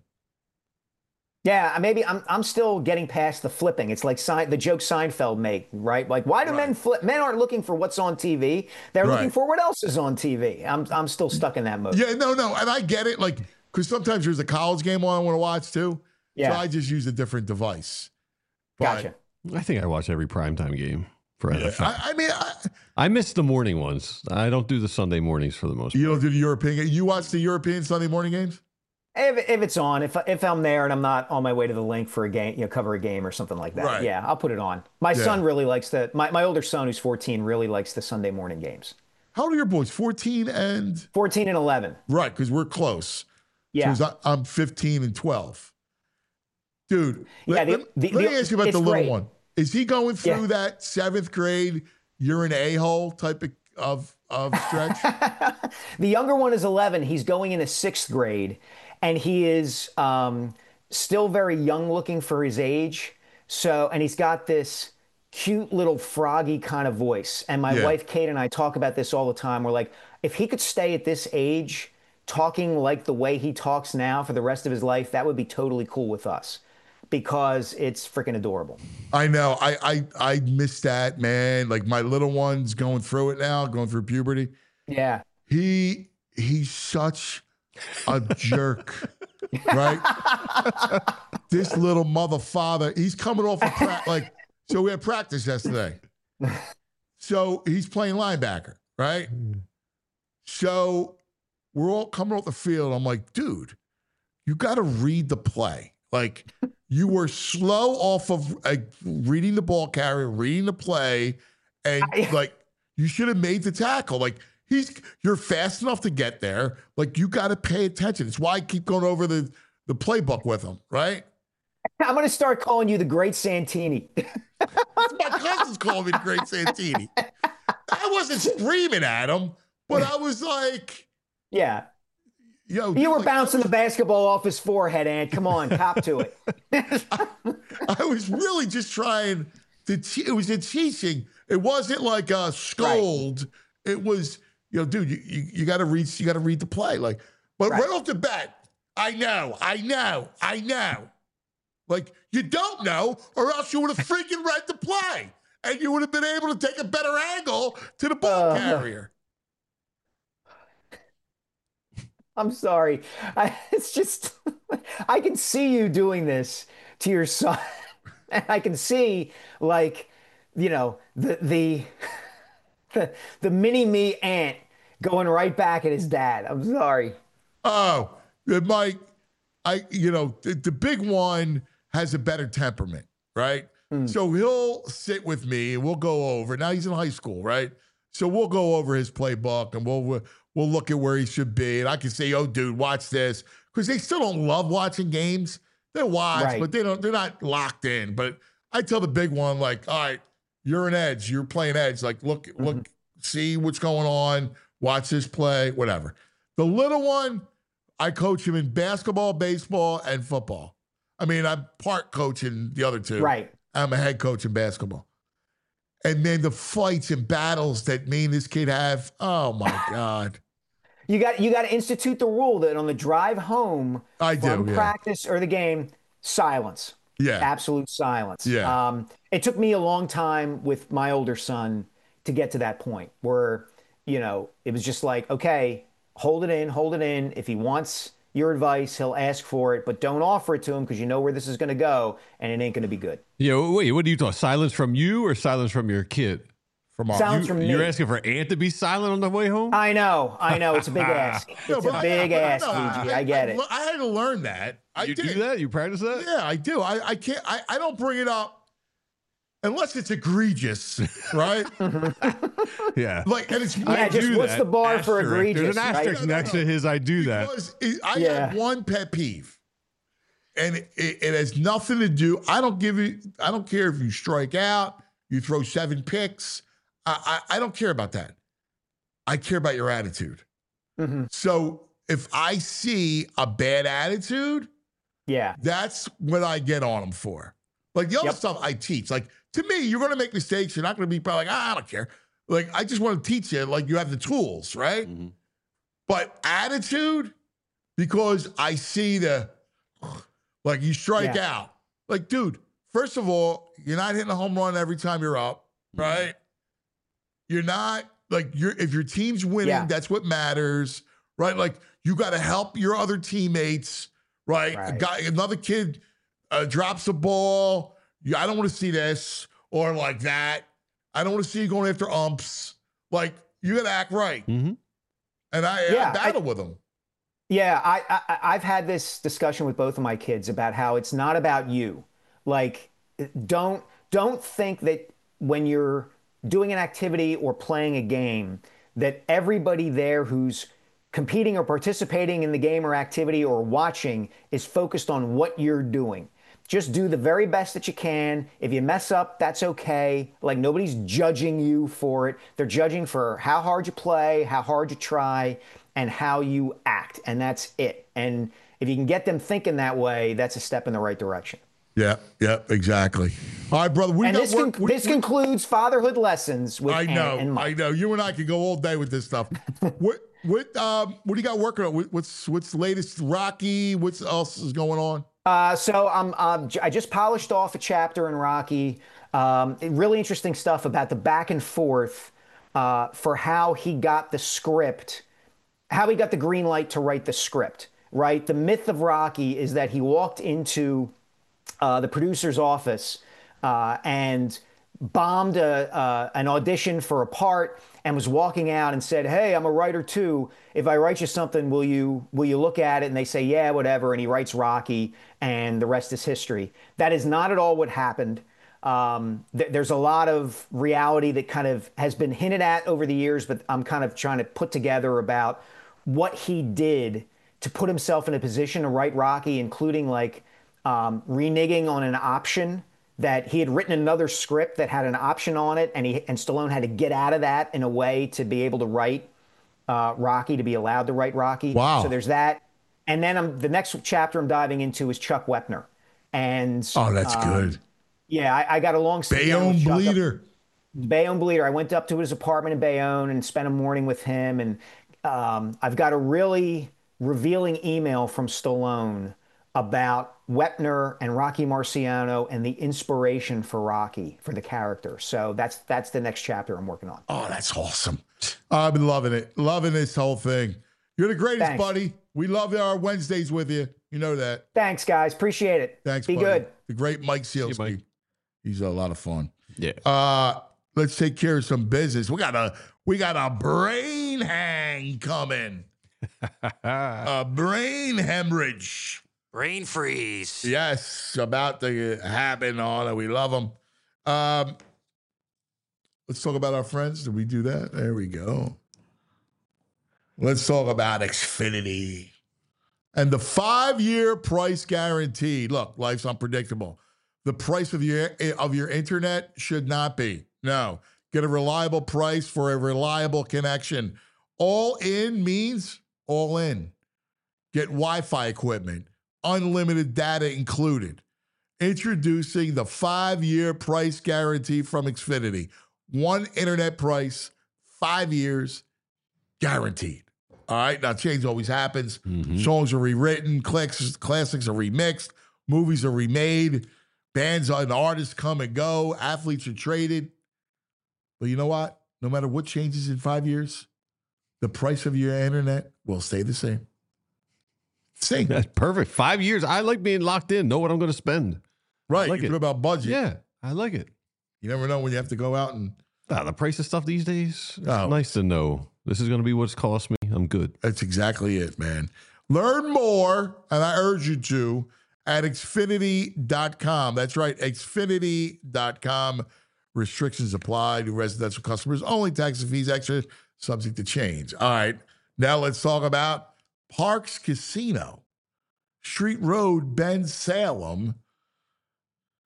Yeah, maybe I'm I'm still getting past the flipping. It's like Se- the joke Seinfeld make, right? Like, why do Right. men flip? Men aren't looking for what's on T V. They're looking Right. for what else is on T V. I'm I'm still stuck in that mode. Yeah, no, no, and I get it. Like, because sometimes there's a college game on I want to watch too. Yeah. So I just use a different device. But, Gotcha. I think I watch every primetime game for N F L. I, I mean, I, I miss the morning ones. I don't do the Sunday mornings for the most part. you don't do the European. You watch the European Sunday morning games? If, if it's on, if if I'm there and I'm not on my way to the link for a game, you know, cover a game or something like that, Right. yeah, I'll put it on. My Yeah. son really likes the. My, my older son, who's fourteen, really likes the Sunday morning games. How old are your boys? fourteen and fourteen and eleven. right, because we're close. Yeah. So I- I'm fifteen and twelve. Dude, Yeah, let, the- let- the- let me the- ask you about it's the little great. one. Is he going through Yeah. that seventh grade, you're an a-hole type of, of, of stretch? The younger one is eleven. He's going into sixth grade, and he is um, still very young looking for his age. So, and he's got this cute little froggy kind of voice. And my Yeah. wife Kate and I talk about this all the time. We're like, if he could stay at this age, talking like the way he talks now for the rest of his life, that would be totally cool with us, because it's freaking adorable. I know. I, I I miss that, man. Like my little one's going through it now, going through puberty. Yeah. He he's such a jerk, right? This little mother father, he's coming off of pra- like so we had practice yesterday. So he's playing linebacker, right? So we're all coming off the field. I'm like, dude, you got to read the play. Like you were slow off of like, reading the ball carrier, reading the play, and like you should have made the tackle. Like he's, you're fast enough to get there. Like you got to pay attention. It's why I keep going over the the playbook with him, right? I'm going to start calling you the Great Santini. My cousin's calling me the Great Santini. I wasn't screaming at him, but I was like, Yeah. yo, You were like, bouncing the basketball off his forehead, Ant. Come on, cop to it. I was really just trying to, te- it was a teaching. It wasn't like a scold. It was, you know, dude, you, you, you got to read, you got to read the play. Like, but right. right off the bat, I know, I know, I know. Like, you don't know, or else you would have freaking read the play and you would have been able to take a better angle to the ball Uh, carrier. I'm sorry. I, it's just, I can see you doing this to your son. And I can see, like, you know, the, the, the, the mini me Ant going right back at his dad. I'm sorry. Oh, Mike, I, you know, the, the big one has a better temperament, right? Mm. So he'll sit with me and we'll go over. Now he's in high school, right? So we'll go over his playbook and we'll we'll look at where he should be. And I can say, oh, dude, watch this. Because they still don't love watching games. They watch, right. but they don't, they're not locked in. But I tell the big one, like, all right, you're an edge. You're playing edge. Like, look, mm-hmm. look, see what's going on. Watch this play, whatever. The little one, I coach him in basketball, baseball, and football. I mean, I'm part coaching the other two. Right. I'm a head coach in basketball. And then the fights and battles that me and this kid have, oh my God. You got you got to institute the rule that on the drive home I from do, yeah. practice or the game, silence. Yeah. Absolute silence. Yeah. Um, it took me a long time with my older son to get to that point where, you know, it was just like, okay, hold it in, hold it in. If he wants your advice, he'll ask for it, but don't offer it to him because you know where this is going to go and it ain't going to be good. Yeah, wait, what do you talk? Silence from you or silence from your kid? From all, silence you, from me. You're asking for Ant to be silent on the way home? I know, I know. It's a big ask. It's no, a big I, ask, no, Luigi. I, I get I, it. I had to learn that. I you did. do that? You practice that? Yeah, I do. I, I can't, I, I don't bring it up unless it's egregious, right? Yeah. Like, and it's Yeah, I just do what's that. the bar for Asterisk. egregious? There's an asterisk right? next to his I do that. Because it, I Yeah. have one pet peeve, and it, it, it has nothing to do. I don't give you. I don't care if you strike out, you throw seven picks. I, I, I don't care about that. I care about your attitude. Mm-hmm. So if I see a bad attitude, yeah, that's what I get on them for. Like the other Yep. stuff I teach, like to me, you're going to make mistakes. You're not going to be probably like, ah, I don't care. Like I just want to teach you, like you have the tools, right? Mm-hmm. But attitude, because I see the, like you strike Yeah. out. Like, dude, first of all, you're not hitting a home run every time you're up, right? You're not, like, you're if your team's winning, Yeah. that's what matters, right? Like, you got to help your other teammates, right? Right. A guy, another kid uh, drops the ball. You, I don't want to see this or like that. I don't want to see you going after umps. Like, you got to act right. Mm-hmm. And I, Yeah, I battle I- with them. Yeah, I, I I've had this discussion with both of my kids about how it's not about you. Like, don't don't think that when you're doing an activity or playing a game that everybody there who's competing or participating in the game or activity or watching is focused on what you're doing. Just do the very best that you can. If you mess up, that's okay. Like, nobody's judging you for it. They're judging for how hard you play, how hard you try, and how you act. And that's it. And if you can get them thinking that way, that's a step in the right direction. Yeah, yeah, exactly. All right, brother. We and got this, work. con- we- this we- concludes Fatherhood Lessons with I Ann know, and Mike. I know. You and I could go all day with this stuff. what, what, um, what do you got working on? What- What's, what's the latest? Rocky? What else is going on? Uh, so um, um, j- I just polished off a chapter in Rocky. Um, really interesting stuff about the back and forth uh, for how he got the script, how he got the green light to write the script, right? The myth of Rocky is that he walked into uh, the producer's office uh, and bombed a, uh, an audition for a part and was walking out and said, "Hey, I'm a writer too. If I write you something, will you will you look at it?" And they say, "Yeah, whatever." And he writes Rocky, and the rest is history. That is not at all what happened. Um, th- there's a lot of reality that kind of has been hinted at over the years, but I'm kind of trying to put together about what he did to put himself in a position to write Rocky, including like um, reneging on an option that he had written another script that had an option on it, and he and Stallone had to get out of that in a way to be able to write uh, Rocky, to be allowed to write Rocky. Wow. So there's that. And then I'm, the next chapter I'm diving into is Chuck Wepner. And Oh, that's um, good. Yeah, I, I got a long sit down Bayonne with Chuck up- Bleeder. Bayonne Bleeder. I went up to his apartment in Bayonne and spent a morning with him. And um, I've got a really revealing email from Stallone about Wepner and Rocky Marciano and the inspiration for Rocky, for the character. So that's that's the next chapter I'm working on. Oh, that's awesome. I've been loving it. Loving this whole thing. You're the greatest, Thanks. buddy. We love our Wednesdays with you. You know that. Thanks, guys. Appreciate it. Thanks, Be buddy. good. The great Mike Sealski. Mike. He's a lot of fun. Yeah. Uh, let's take care of some business. We got a we got a brain hang coming. A brain hemorrhage. Brain freeze. Yes, about to happen on it. We love them. Um, let's talk about our friends. Did we do that? There we go. Let's talk about Xfinity and the five-year price guarantee. Look, life's unpredictable. The price of your of your internet should not be. No. Get a reliable price for a reliable connection. All in means all in. Get Wi-Fi equipment, unlimited data included. Introducing the five-year price guarantee from Xfinity. One internet price, five years, guaranteed. All right, now change always happens. Mm-hmm. Songs are rewritten, classics, classics are remixed, movies are remade, bands and artists come and go, athletes are traded. But you know what? No matter what changes in five years, the price of your internet will stay the same. Same. That's perfect. Five years. I like being locked in. Know what I'm going to spend. Right. like You it. talk about budget. Yeah, I like it. You never know when you have to go out and Ah, the price of stuff these days. It's Oh. nice to know. This is going to be what's cost me. I'm good. that's exactly it, man. Learn more, and I urge you to, at Xfinity dot com. That's right, Xfinity dot com. Restrictions apply to residential customers. Only tax and fees extra, subject to change. All right, now let's talk about Parks Casino. Street Road, Ben Salem.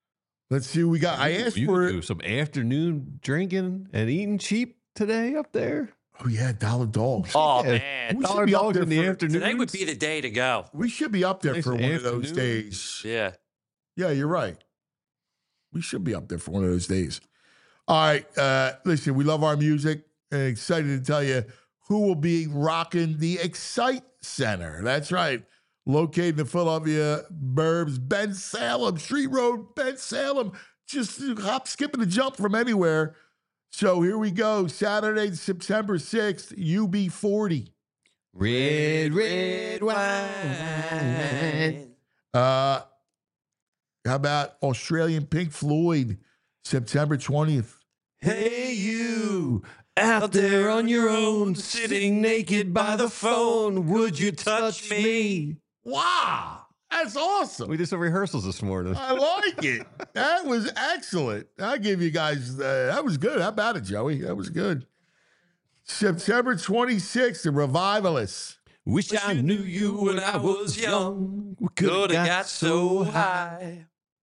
Let's see what we got. I asked you for do some afternoon drinking and eating cheap today up there. Oh yeah, dollar dogs. Oh Yeah, man, we should dollar be up dogs there in the for- afternoon. today would be the day to go. We should be up there Nice for one of those afternoon. days. Yeah. Yeah, you're right. We should be up there for one of those days. All right. Uh, listen, we love our music and excited to tell you who will be rocking the Excite Center. That's right. Located in the Philadelphia burbs, Ben Salem, Street Road, Ben Salem. Just hop, skip, and a jump from anywhere. So here we go. Saturday, September sixth, U B forty. Red, red wine. Uh, how about Australian Pink Floyd, September twentieth? Hey, you out there on your own, sitting naked by the phone. Would you touch me? Wow, that's awesome. We did some rehearsals this morning. I like it. That was excellent. I give you guys, uh, that was good. How about it, Joey? That was good. September twenty-sixth, the Revivalists. Wish I knew you when I was young. We could have got so high.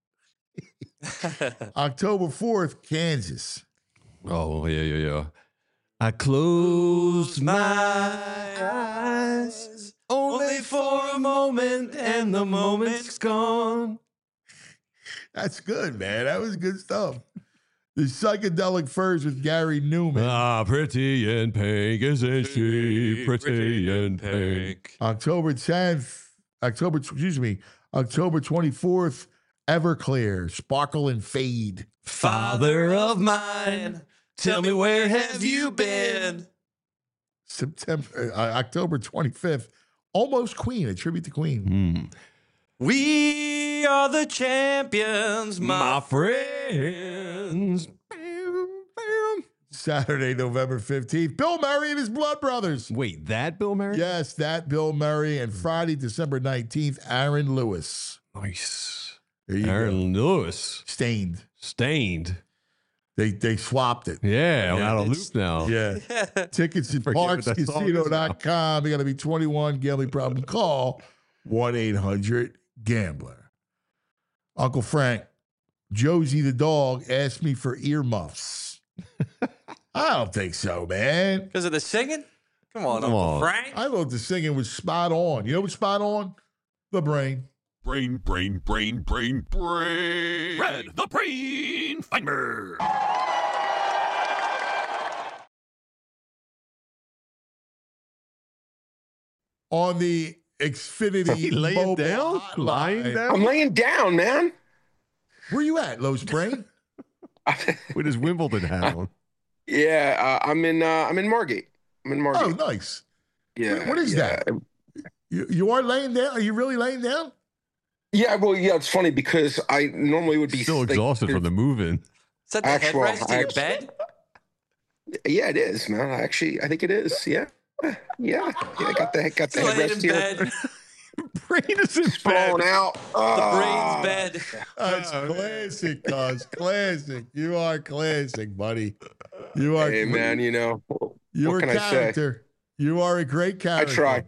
October fourth, Kansas. Oh, yeah, yeah, yeah. I closed my eyes only for a moment, and the moment's gone. That's good, man. That was good stuff. The Psychedelic Furs with Gary Newman. Ah, pretty in pink, isn't she? Pretty in pink. October tenth, October, excuse me, October twenty-fourth, Everclear, Sparkle and Fade. Father of mine, tell me where have you been? September, uh, October twenty-fifth, Almost Queen, a tribute to Queen. Hmm. We are the champions, my friends. Saturday, November fifteenth, Bill Murray and his Blood Brothers. Wait, that Bill Murray? Yes, that Bill Murray. And Friday, December nineteenth, Aaron Lewis. Nice. There you Aaron go. Lewis. Stained. Stained. They they swapped it. Yeah, I'm Yeah, out of it's- loop now. Yeah. Tickets at Forget what that song is parks casino dot com. You got to be twenty-one. Gambling problem. Call one eight hundred gambler. Uncle Frank, Josie the dog asked me for earmuffs. I don't think so, man. Because of the singing? Come on, Come Uncle on. Frank. I thought the singing was spot on. You know what's spot on? The brain. Brain, brain, brain, brain, brain. Red, the brain finder. On the Xfinity He laying mobile down? hotline. Lying down? I'm laying down, man. Where you at, Lowe's Brain? With his Wimbledon hat on. Yeah, uh, I'm in. Uh, I'm in Margate. I'm in Oh, Margate. nice. yeah. what is yeah. that? You, you are laying down? Are you really laying down? Yeah. Well, yeah. It's funny because I normally would be Still like, exhausted from the move-in. Is that the Actual- headrest of your actual- bed? Yeah, it is, man. I actually, I think it is. Yeah. Yeah. Yeah. I got the got the Laying headrest in here. bed. Brain is in Blown out. The Ah. brain's bed. That's classic, cuz. Classic. You are classic, buddy. You are Hey, man. You know, You're what a can I say? character. You are a great I character. try.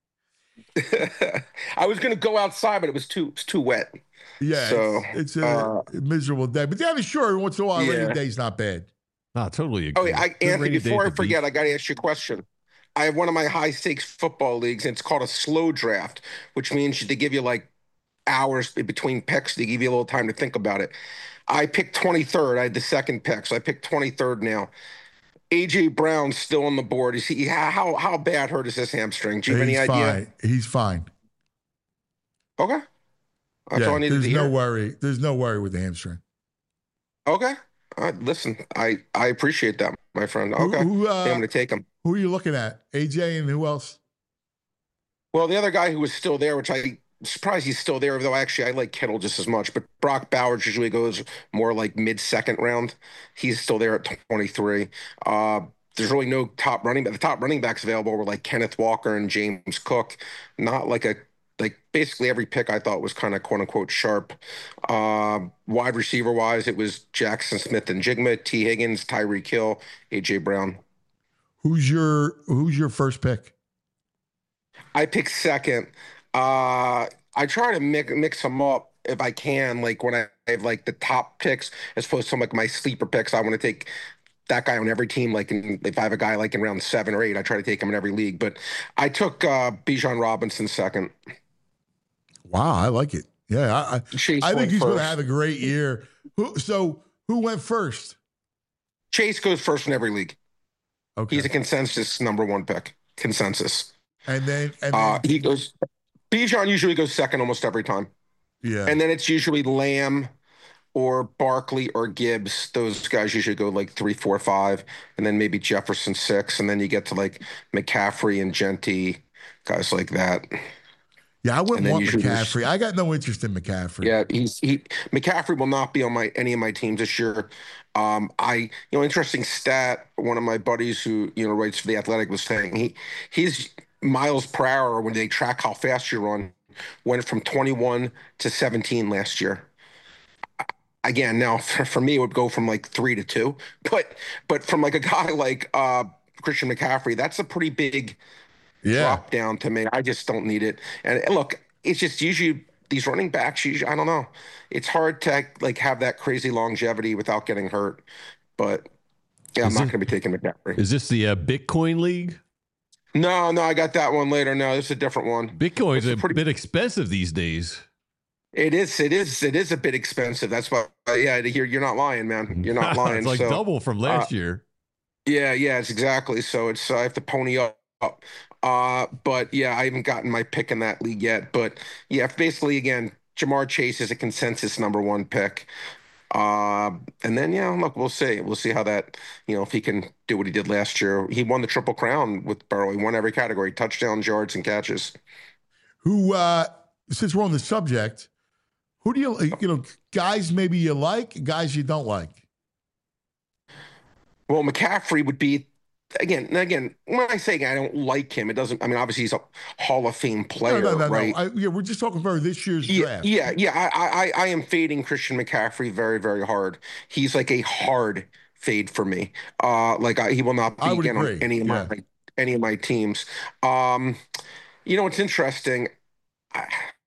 I was gonna go outside, but it was too it's too wet. Yeah, So, it's, it's a uh, miserable day. But yeah, sure, every once in a while, a Yeah. rainy day's not bad. Ah, totally Oh, agree. yeah, I, Good Anthony, rainy day before I for forget, beef. I got to ask you a question. I have one of my high stakes football leagues, and it's called a slow draft, which means they give you like hours in between picks. They give you a little time to think about it. I picked twenty-third. I had the second pick, so I picked twenty-third now. A J Brown's still on the board. Is he how how bad hurt is this hamstring? Do you have He's any idea? fine. He's fine. Okay, that's Yeah, all I needed there's to no hear. worry. There's no worry with the hamstring. Okay, all right, listen, I I appreciate that, my friend. Who- Okay, who, uh, I'm going to take him. Who are you looking at? A J and who else? Well, the other guy who was still there, which I surprised he's still there, though actually I like Kittle just as much. But Brock Bowers usually goes more like mid second round. He's still there at twenty-three. Uh, there's really no top running back. The top running backs available were like Kenneth Walker and James Cook. Not like a like basically every pick I thought was kind of quote unquote sharp. Uh, wide receiver wise, it was Jackson Smith and Jigma, T Higgins, Tyreek Hill, A J Brown. Who's your Who's your first pick? I pick second. Uh, I try to mix, mix them up if I can. Like when I have like the top picks as opposed to some like my sleeper picks. I want to take that guy on every team. Like in, if I have a guy like in round seven or eight, I try to take him in every league. But I took uh, Bijan Robinson second. Wow, I like it. Yeah, I I, Chase I think went he's going to first. have a great year. Who, so who went first? Chase goes first in every league. Okay, He's a consensus number one pick. Consensus. and then and then, Uh, he goes. Bijan usually goes second almost every time, yeah, and then it's usually Lamb or Barkley or Gibbs. Those guys usually go like three, four, five, and then maybe Jefferson six, and then you get to like McCaffrey and Genty, guys like that. yeah. I and wouldn't then want usually there's- McCaffrey. I got no interest in McCaffrey. Yeah, he's he McCaffrey will not be on my any of my teams this year. Um, I you know interesting stat. One of my buddies who you know writes for the Athletic was saying he his miles per hour when they track how fast you run went from twenty-one to seventeen last year. Again, now for, for me it would go from like three to two, but but from like a guy like uh, Christian McCaffrey, that's a pretty big yeah. drop down to me. I just don't need it. And and look, it's just usually these running backs. Usually, I don't know. It's hard to like have that crazy longevity without getting hurt. But yeah, I'm Is not it- going to be taking McCaffrey. Is this the uh, Bitcoin League? No, no, I got that one later. No, this is a different one. Bitcoin's It's a a pretty- bit expensive these days. It is. It is. It is a bit expensive. That's why. Yeah, you're you're not lying, man. You're not lying. It's like So, double from last uh, year. Yeah, yeah, it's exactly. So it's uh, I have to pony up. Uh, but yeah, I haven't gotten my pick in that league yet. But yeah, basically, again, Jamar Chase is a consensus number one pick. Uh, and then yeah, look, we'll see. We'll see how that, you know, if he can do what he did last year. He won the Triple Crown with Burrow. He won every category: touchdowns, yards, and catches. Who? uh Since we're on the subject, who do you you know guys maybe you like, guys you don't like? Well, McCaffrey would be again. and Again, when I say I don't like him, it doesn't. I mean, obviously he's a Hall of Fame player, no, no, no, right? no. I, yeah, we're just talking about this year's Yeah, draft. yeah, yeah. I, I, I am fading Christian McCaffrey very, very hard. He's like a hard fade for me. Uh, like I, he will not be I would again agree. on any of Yeah. my any of my teams. Um, you know, it's interesting. I,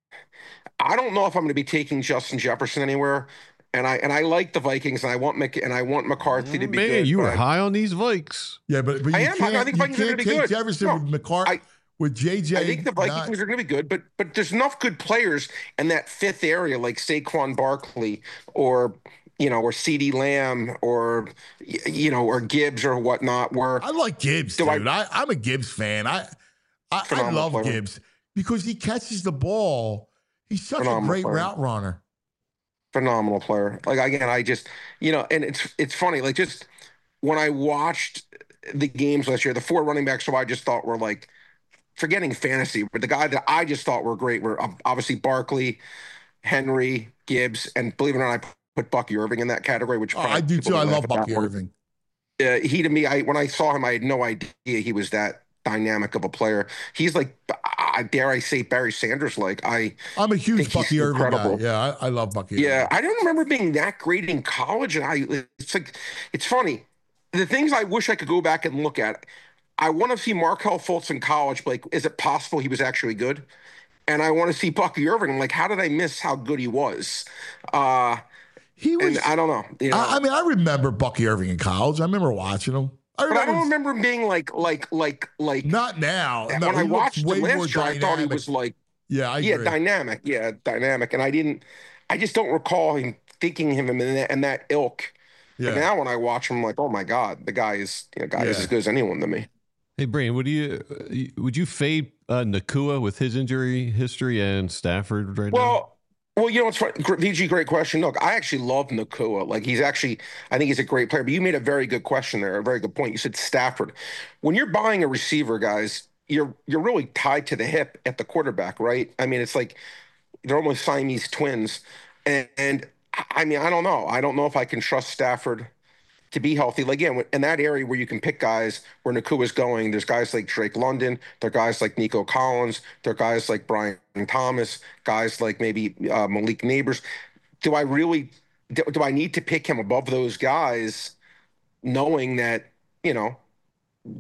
I don't know if I'm going to be taking Justin Jefferson anywhere. And I and I like the Vikings, and I want Mc, and I want McCarthy to be Man, good. you but were I- high on these Vikes. Yeah, but, but you I am. I can't, think you Vikings are can't gonna be take good. Jefferson No, with McCart I- with J J. I think the Vikings not- are going to be good, but but there's enough good players in that fifth area, like Saquon Barkley or you know, or CeeDee Lamb or y- you know, or Gibbs or whatnot. Where I like Gibbs, Do I- dude. I, I'm a Gibbs fan. I I, I Phenomenal love player. Gibbs because he catches the ball. He's such Phenomenal a great player. route runner. phenomenal player. Like again, I just you know, and it's it's funny. Like just when I watched the games last year, the four running backs who I just thought were like forgetting fantasy, but the guy that I just thought were great were um, obviously Barkley, Henry, Gibbs, and believe it or not, I put Bucky Irving in that category. Which Oh, probably I do people too. I laugh love at that Bucky one. Irving. Uh, he to me, I when I saw him, I had no idea he was that dynamic of a player. He's like, I dare I say, Barry Sanders. Like I, I'm a think huge he's Bucky Irving incredible. guy. Yeah, I, I love Bucky Yeah, Irving. I don't remember being that great in college, and I it's like it's funny. The things I wish I could go back and look at. I want to see Markel Fultz in college. Like, is it possible he was actually good? And I want to see Bucky Irving. I'm like, how did I miss how good he was? Uh, He was. and I don't know. You know, I, I mean, I remember Bucky Irving in college. I remember watching him. I but I remember, don't remember him being like, like, like, like. not now. No, when I he looks watched him way more last year, I thought he dynamic. was like, Yeah, I yeah, agree. dynamic. Yeah, dynamic. And I didn't. I just don't recall him thinking him in that, in that ilk. Yeah. But now when I watch him, I'm like, oh my god, the guy is, you know, guy is Yeah. as good as anyone to me. Hey, Brian, would you uh, would you fade uh, Nakua with his injury history and Stafford right now? Well, well, you know what's funny? Gr- V G, great question. Look, I actually love Nakua. Like he's actually, I think he's a great player. But you made a very good question there, a very good point. You said Stafford. When you're buying a receiver, guys, you're you're really tied to the hip at the quarterback, right? I mean, it's like they're almost Siamese twins. And, and I mean, I don't know. I don't know if I can trust Stafford to be healthy. Like, again, in that area where you can pick guys where Nakua's going, there's guys like Drake London, there are guys like Nico Collins, there are guys like Brian Thomas, guys like maybe uh, Malik Neighbors. Do I really, do, do I need to pick him above those guys knowing that, you know,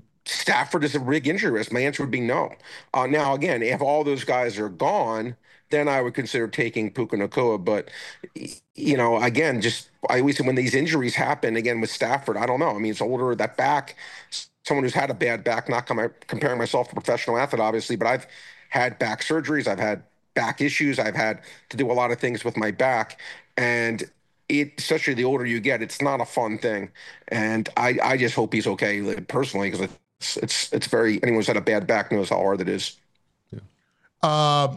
Stafford is a big injury risk? My answer would be no. Uh, now, again, if all those guys are gone, then I would consider taking Puka Nacua. But, you know, again, just I always say when these injuries happen, again, with Stafford, I don't know. I mean, it's older, that back, someone who's had a bad back, not com- comparing myself to a professional athlete, obviously, but I've had back surgeries. I've had back issues. I've had to do a lot of things with my back. And it, especially the older you get, it's not a fun thing. And I, I just hope he's okay, like, personally, because it's, it's, it's very, anyone who's had a bad back knows how hard it is. Yeah. Uh,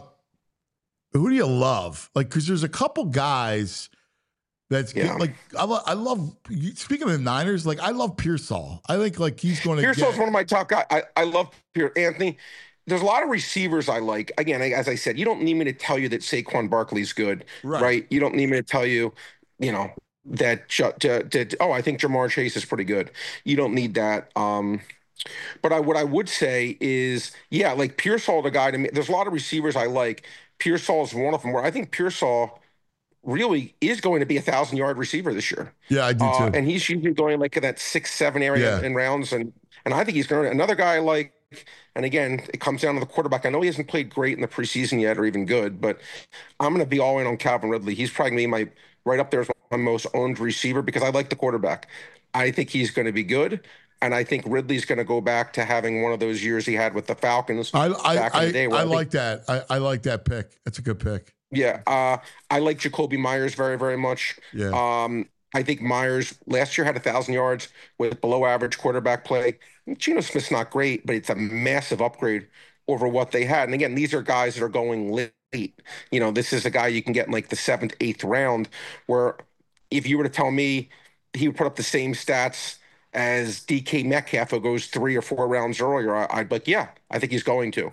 who do you love? Like, because there's a couple guys that's Yeah. good. Like, I, lo- I love, speaking of the Niners, like, I love Pearsall. I think, like, he's going to Pearsall's get. one of my top guys. I, I love Pierce. Anthony, there's a lot of receivers I like. Again, as I said, you don't need me to tell you that Saquon Barkley's good, Right. right? You don't need me to tell you, you know, that, that oh, I think Jamar Chase is pretty good. You don't need that. Um, but I, what I would say is, yeah, like Pearsall, the guy to me, there's a lot of receivers I like. Pearsall is one of them, where I think Pearsall really is going to be a thousand yard receiver this year. Yeah, I do Uh, too. and he's usually going like in that six, seven area Yeah. in rounds. And, and I think he's going to, another guy like, and again, it comes down to the quarterback. I know he hasn't played great in the preseason yet or even good, but I'm going to be all in on Calvin Ridley. He's probably going to be my, right up there as my most owned receiver because I like the quarterback. I think he's going to be good. And I think Ridley's going to go back to having one of those years he had with the Falcons I, back I, in the day. I, where I think- like that. I, I like that pick. That's a good pick. Yeah, uh, I like Jacoby Myers very, very much. Yeah. Um, I think Myers last year had a thousand yards with below average quarterback play. Geno Smith's not great, but it's a massive upgrade over what they had. And again, these are guys that are going late. You know, this is a guy you can get in like the seventh, eighth round, where if you were to tell me he would put up the same stats as D K Metcalf, who goes three or four rounds earlier, I- I'd be like, yeah, I think he's going to.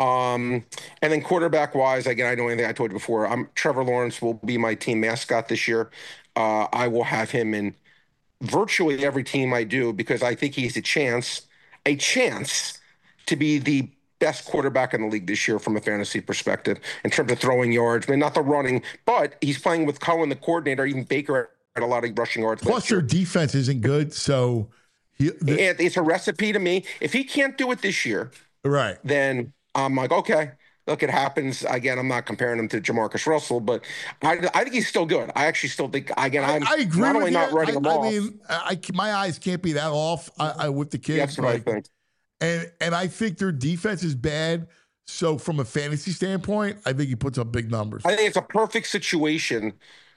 Um, and then quarterback wise, again, I know anything I told you before. I'm Trevor Lawrence will be my team mascot this year. Uh, I will have him in virtually every team I do because I think he's a chance, a chance to be the best quarterback in the league this year from a fantasy perspective in terms of throwing yards. I mean, not the running, but he's playing with Cohen, the coordinator, even Baker had a lot of rushing yards. Plus, last their year. defense isn't good, so he, the, And it's a recipe to me. If he can't do it this year, right. then I'm like, okay, look, it happens. Again, I'm not comparing him to Jamarcus Russell, but I, I think he's still good. I actually still think, again, I'm I agree not with only you. not writing I, him I off. mean, I, my eyes can't be that off I, I, with the kids. That's what like, I think. And and I think their defense is bad. So from a fantasy standpoint, I think he puts up big numbers. I think it's a perfect situation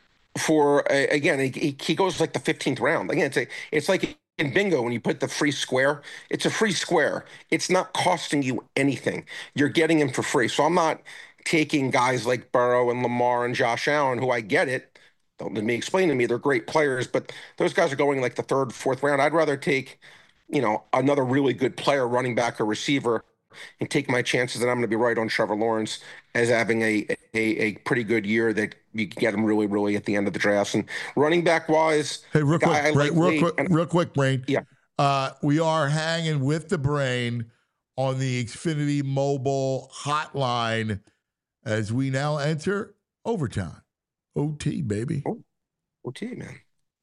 for, uh, again, he, he goes like the fifteenth round. Again, it's, a, it's like in bingo when you put the free square. It's a free square. It's not costing you anything. You're getting him for free. So I'm not taking guys like Burrow and Lamar and Josh Allen, who I get it. Don't let me explain to me. They're great players, but those guys are going like the third, fourth round. I'd rather take, you know, another really good player, running back or receiver, and take my chances that I'm going to be right on Trevor Lawrence as having a, a a pretty good year that you can get him really, really at the end of the drafts. And running back wise, Hey, real quick, guy I Brain, like real late, quick, and- real quick, Brain. Yeah. Uh, we are hanging with the Brain on the Xfinity mobile hotline as we now enter overtime. O T, baby. O T, man.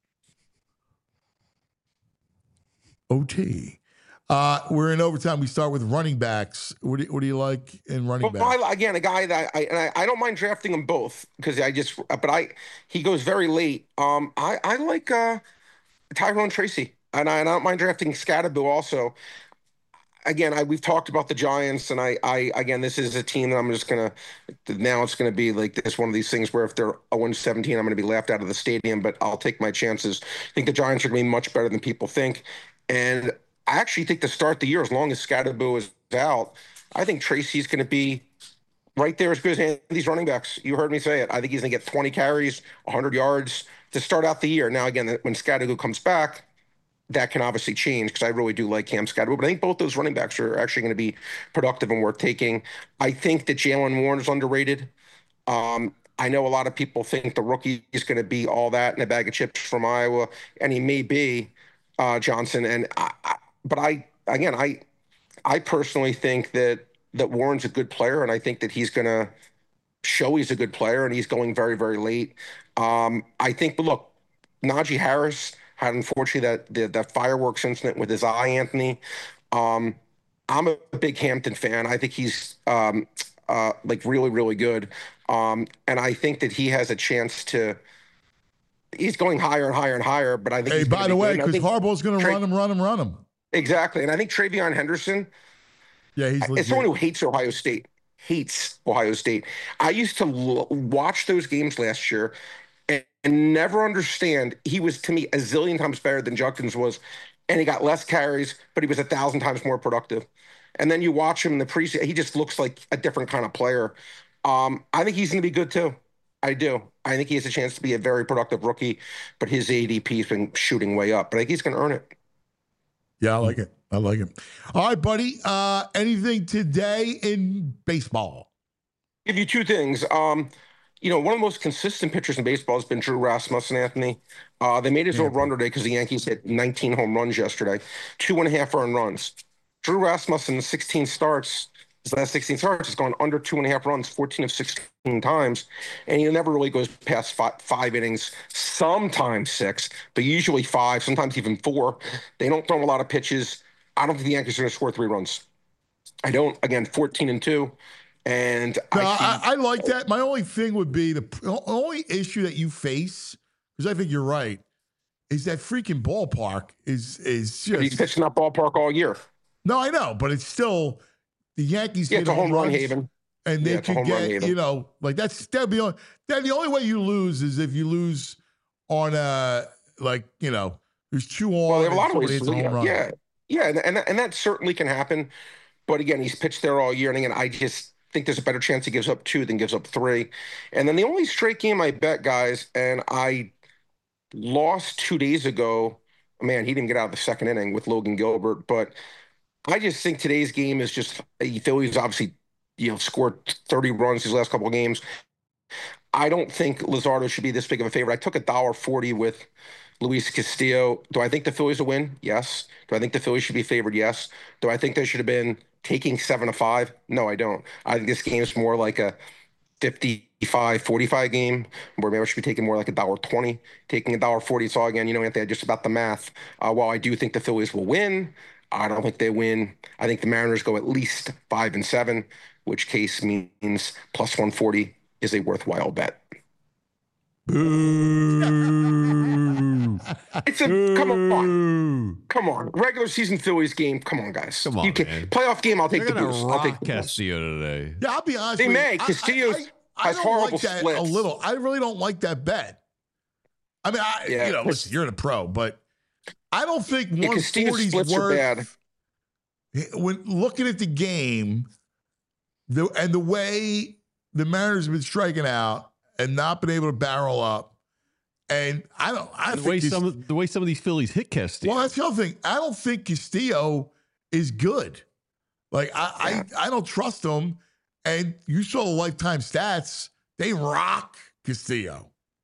O T. Uh, we're in overtime. We start with running backs. What do, what do you like in running Well, backs? I, again, a guy that I and I, I don't mind drafting them both because I just, but I he goes very late. Um, I I like uh, Tyrone Tracy, and I, and I don't mind drafting Scatterbill also. Again, I we've talked about the Giants, and I I again, this is a team that I'm just gonna now it's gonna be like this one of these things where if they're oh and seventeen, I'm gonna be laughed out of the stadium, but I'll take my chances. I think the Giants are gonna be much better than people think, and I actually think to start the year, as long as Scatterbill is out, I think Tracy's going to be right there as good as these running backs. You heard me say it. I think he's going to get twenty carries, one hundred yards to start out the year. Now, again, when Scatterbill comes back, that can obviously change because I really do like Cam Scatterbill. But I think both those running backs are actually going to be productive and worth taking. I think that Jalen Warren is underrated. Um, I know a lot of people think the rookie is going to be all that in a bag of chips from Iowa, and he may be, uh, Johnson. And I, I But I, again, I, I personally think that that Warren's a good player, and I think that he's going to show he's a good player, and he's going very, very late. Um, I think, but look, Najee Harris had unfortunately that the, that fireworks incident with his eye, Anthony. Um, I'm a big Hampton fan. I think he's um, uh, like really, really good. Um, and I think that he has a chance to. He's going higher and higher and higher. But I think. Hey, he's by the way, because Harbaugh's going to Tra- run him, run him, run him. Exactly, and I think Travion Henderson. Yeah, he's. As someone who hates Ohio State, hates Ohio State. I used to l- watch those games last year and, and never understand. He was to me a zillion times better than Judkins was, and he got less carries, but he was a thousand times more productive. And then you watch him in the preseason; he just looks like a different kind of player. Um, I think he's going to be good too. I do. I think he has a chance to be a very productive rookie, but his A D P has been shooting way up. But I think he's going to earn it. Yeah, I like it. I like it. All right, buddy. Uh, anything today in baseball? Give you two things. Um, you know, one of the most consistent pitchers in baseball has been Drew Rasmussen, Anthony. Uh, they made his Yeah. old run today because the Yankees hit nineteen home runs yesterday, two and a half earned runs. Drew Rasmussen, in sixteen starts, his last sixteen starts, has gone under two and a half runs fourteen of sixteen times, and he never really goes past five, five innings, sometimes six, but usually five, sometimes even four. They don't throw a lot of pitches. I don't think the Yankees are going to score three runs. I don't. Again, fourteen and two. And No, I, see, I, I like that. My only thing would be the p- only issue that you face, because I think you're right, is that freaking ballpark is is just. he's pitched in that ballpark all year. No, I know, but it's still the Yankees. Yeah, hit it's a home run runs, haven. and they Yeah, it's a could home run get haven. you know like that's that'd be on, that the only way you lose is if you lose on a like you know there's two on. Well, they have a lot of somebody ways. hits a To, home run. yeah, yeah, and, and and that certainly can happen. But again, he's pitched there all year, and again, I just think there's a better chance he gives up two than gives up three. And then the only straight game I bet, guys, and I lost two days ago. Man, he didn't get out of the second inning with Logan Gilbert, but I just think today's game is just the Phillies obviously, you know, scored thirty runs these last couple of games. I don't think Luzardo should be this big of a favorite. I took a dollar forty with Luis Castillo. Do I think the Phillies will win? Yes. Do I think the Phillies should be favored? Yes. Do I think they should have been taking seven to five? No, I don't. I think this game is more like a fifty-five forty-five game where maybe I should be taking more like a dollar twenty, taking a dollar forty. It's all again, you know, Anthony, just about the math. Uh, while I do think the Phillies will win, I don't think they win. I think the Mariners go at least five and seven, which case means plus one forty is a worthwhile bet. Boo. It's a come on, come on, regular season Phillies game. Come on, guys. Come on, you can, man. playoff game. I'll take They're the gonna boost. I'll rock take the boost. Castillo today. Yeah, I'll be honest. They with may. you. I- Castillo I, I, I has don't horrible like that splits. a little. I really don't like that bet. I mean, I Yeah, you know, Cas- listen, you're the pro, but I don't think Yeah, one Castillo's forty is splits are bad. worth. When looking at the game, the and the way the Mariners have been striking out and not been able to barrel up, and I don't. I The think way this- some of, the way some of these Phillies hit Castillo. well, that's the other thing. I don't think Castillo is good. Like I, I, I don't trust him. And you saw the lifetime stats; they rock Castillo.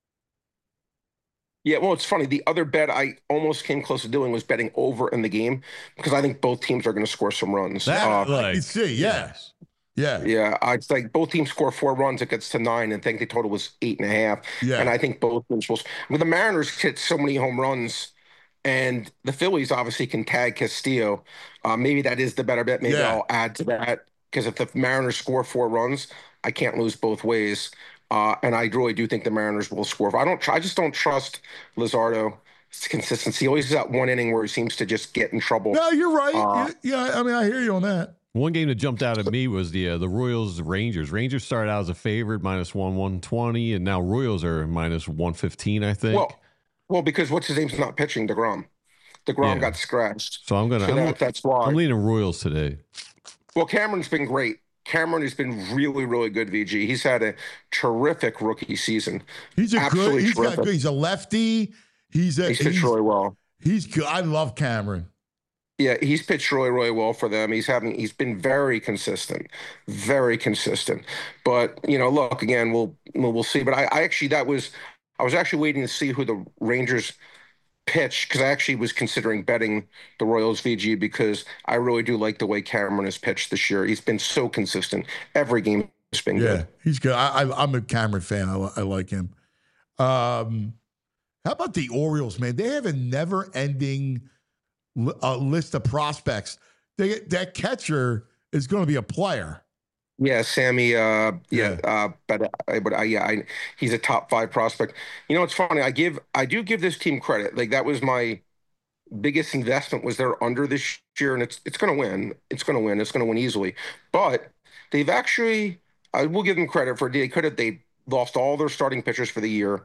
Yeah, well, it's funny. The other bet I almost came close to doing was betting over in the game because I think both teams are going to score some runs. That Uh, I like, can see. Yeah, yes. yeah, yeah, I it's like both teams score four runs. It gets to nine, and I think the total was eight and a half. yeah. And I think both teams will. I mean, the Mariners hit so many home runs, and the Phillies obviously can tag Castillo. Uh, maybe that is the better bet. Maybe Yeah. I'll add to that because if the Mariners score four runs, I can't lose both ways. Uh, and I really do think the Mariners will score. I don't. tr- I just don't trust Luzardo. Consistency. He always has that one inning where he seems to just get in trouble. No, you're right. Uh, yeah, I mean, I hear you on that. One game that jumped out at me was the uh, the Royals Rangers. Rangers started out as a favorite, minus one one twenty, and now Royals are minus one fifteen. I think. Well, well, because what's his name's not pitching, DeGrom. DeGrom Yeah. got scratched. so I'm gonna. So I'm, that, that's why. I'm leaning Royals today. Well, Cameron's been great. Cameron has been really, really good, V G. He's had a terrific rookie season. He's a Absolutely good. He's got terrific. good. He's a lefty. He's a. He's He's, pitched really well. he's good. I love Cameron. Yeah, he's pitched really, really well for them. He's having, he's been very consistent, very consistent. But you know, look again, we'll we'll, we'll see. But I, I actually that was, I was actually waiting to see who the Rangers pitch because I actually was considering betting the Royals V G because I really do like the way Cameron has pitched this year. He's been so consistent. Every game has been Yeah, good. he's good. I, I, I'm a Cameron fan. I, li- I like him. Um, how about the Orioles, man? They have a never-ending li- uh, list of prospects. They, that catcher is going to be a player. Yeah, Sammy. Uh, yeah, uh, but uh, but uh, yeah, I, he's a top five prospect. You know, it's funny. I give I do give this team credit. Like that was my biggest investment was they're under this year, and it's it's going to win. It's going to win. It's going to win easily. But they've actually, I will give them credit for they could have they lost all their starting pitchers for the year,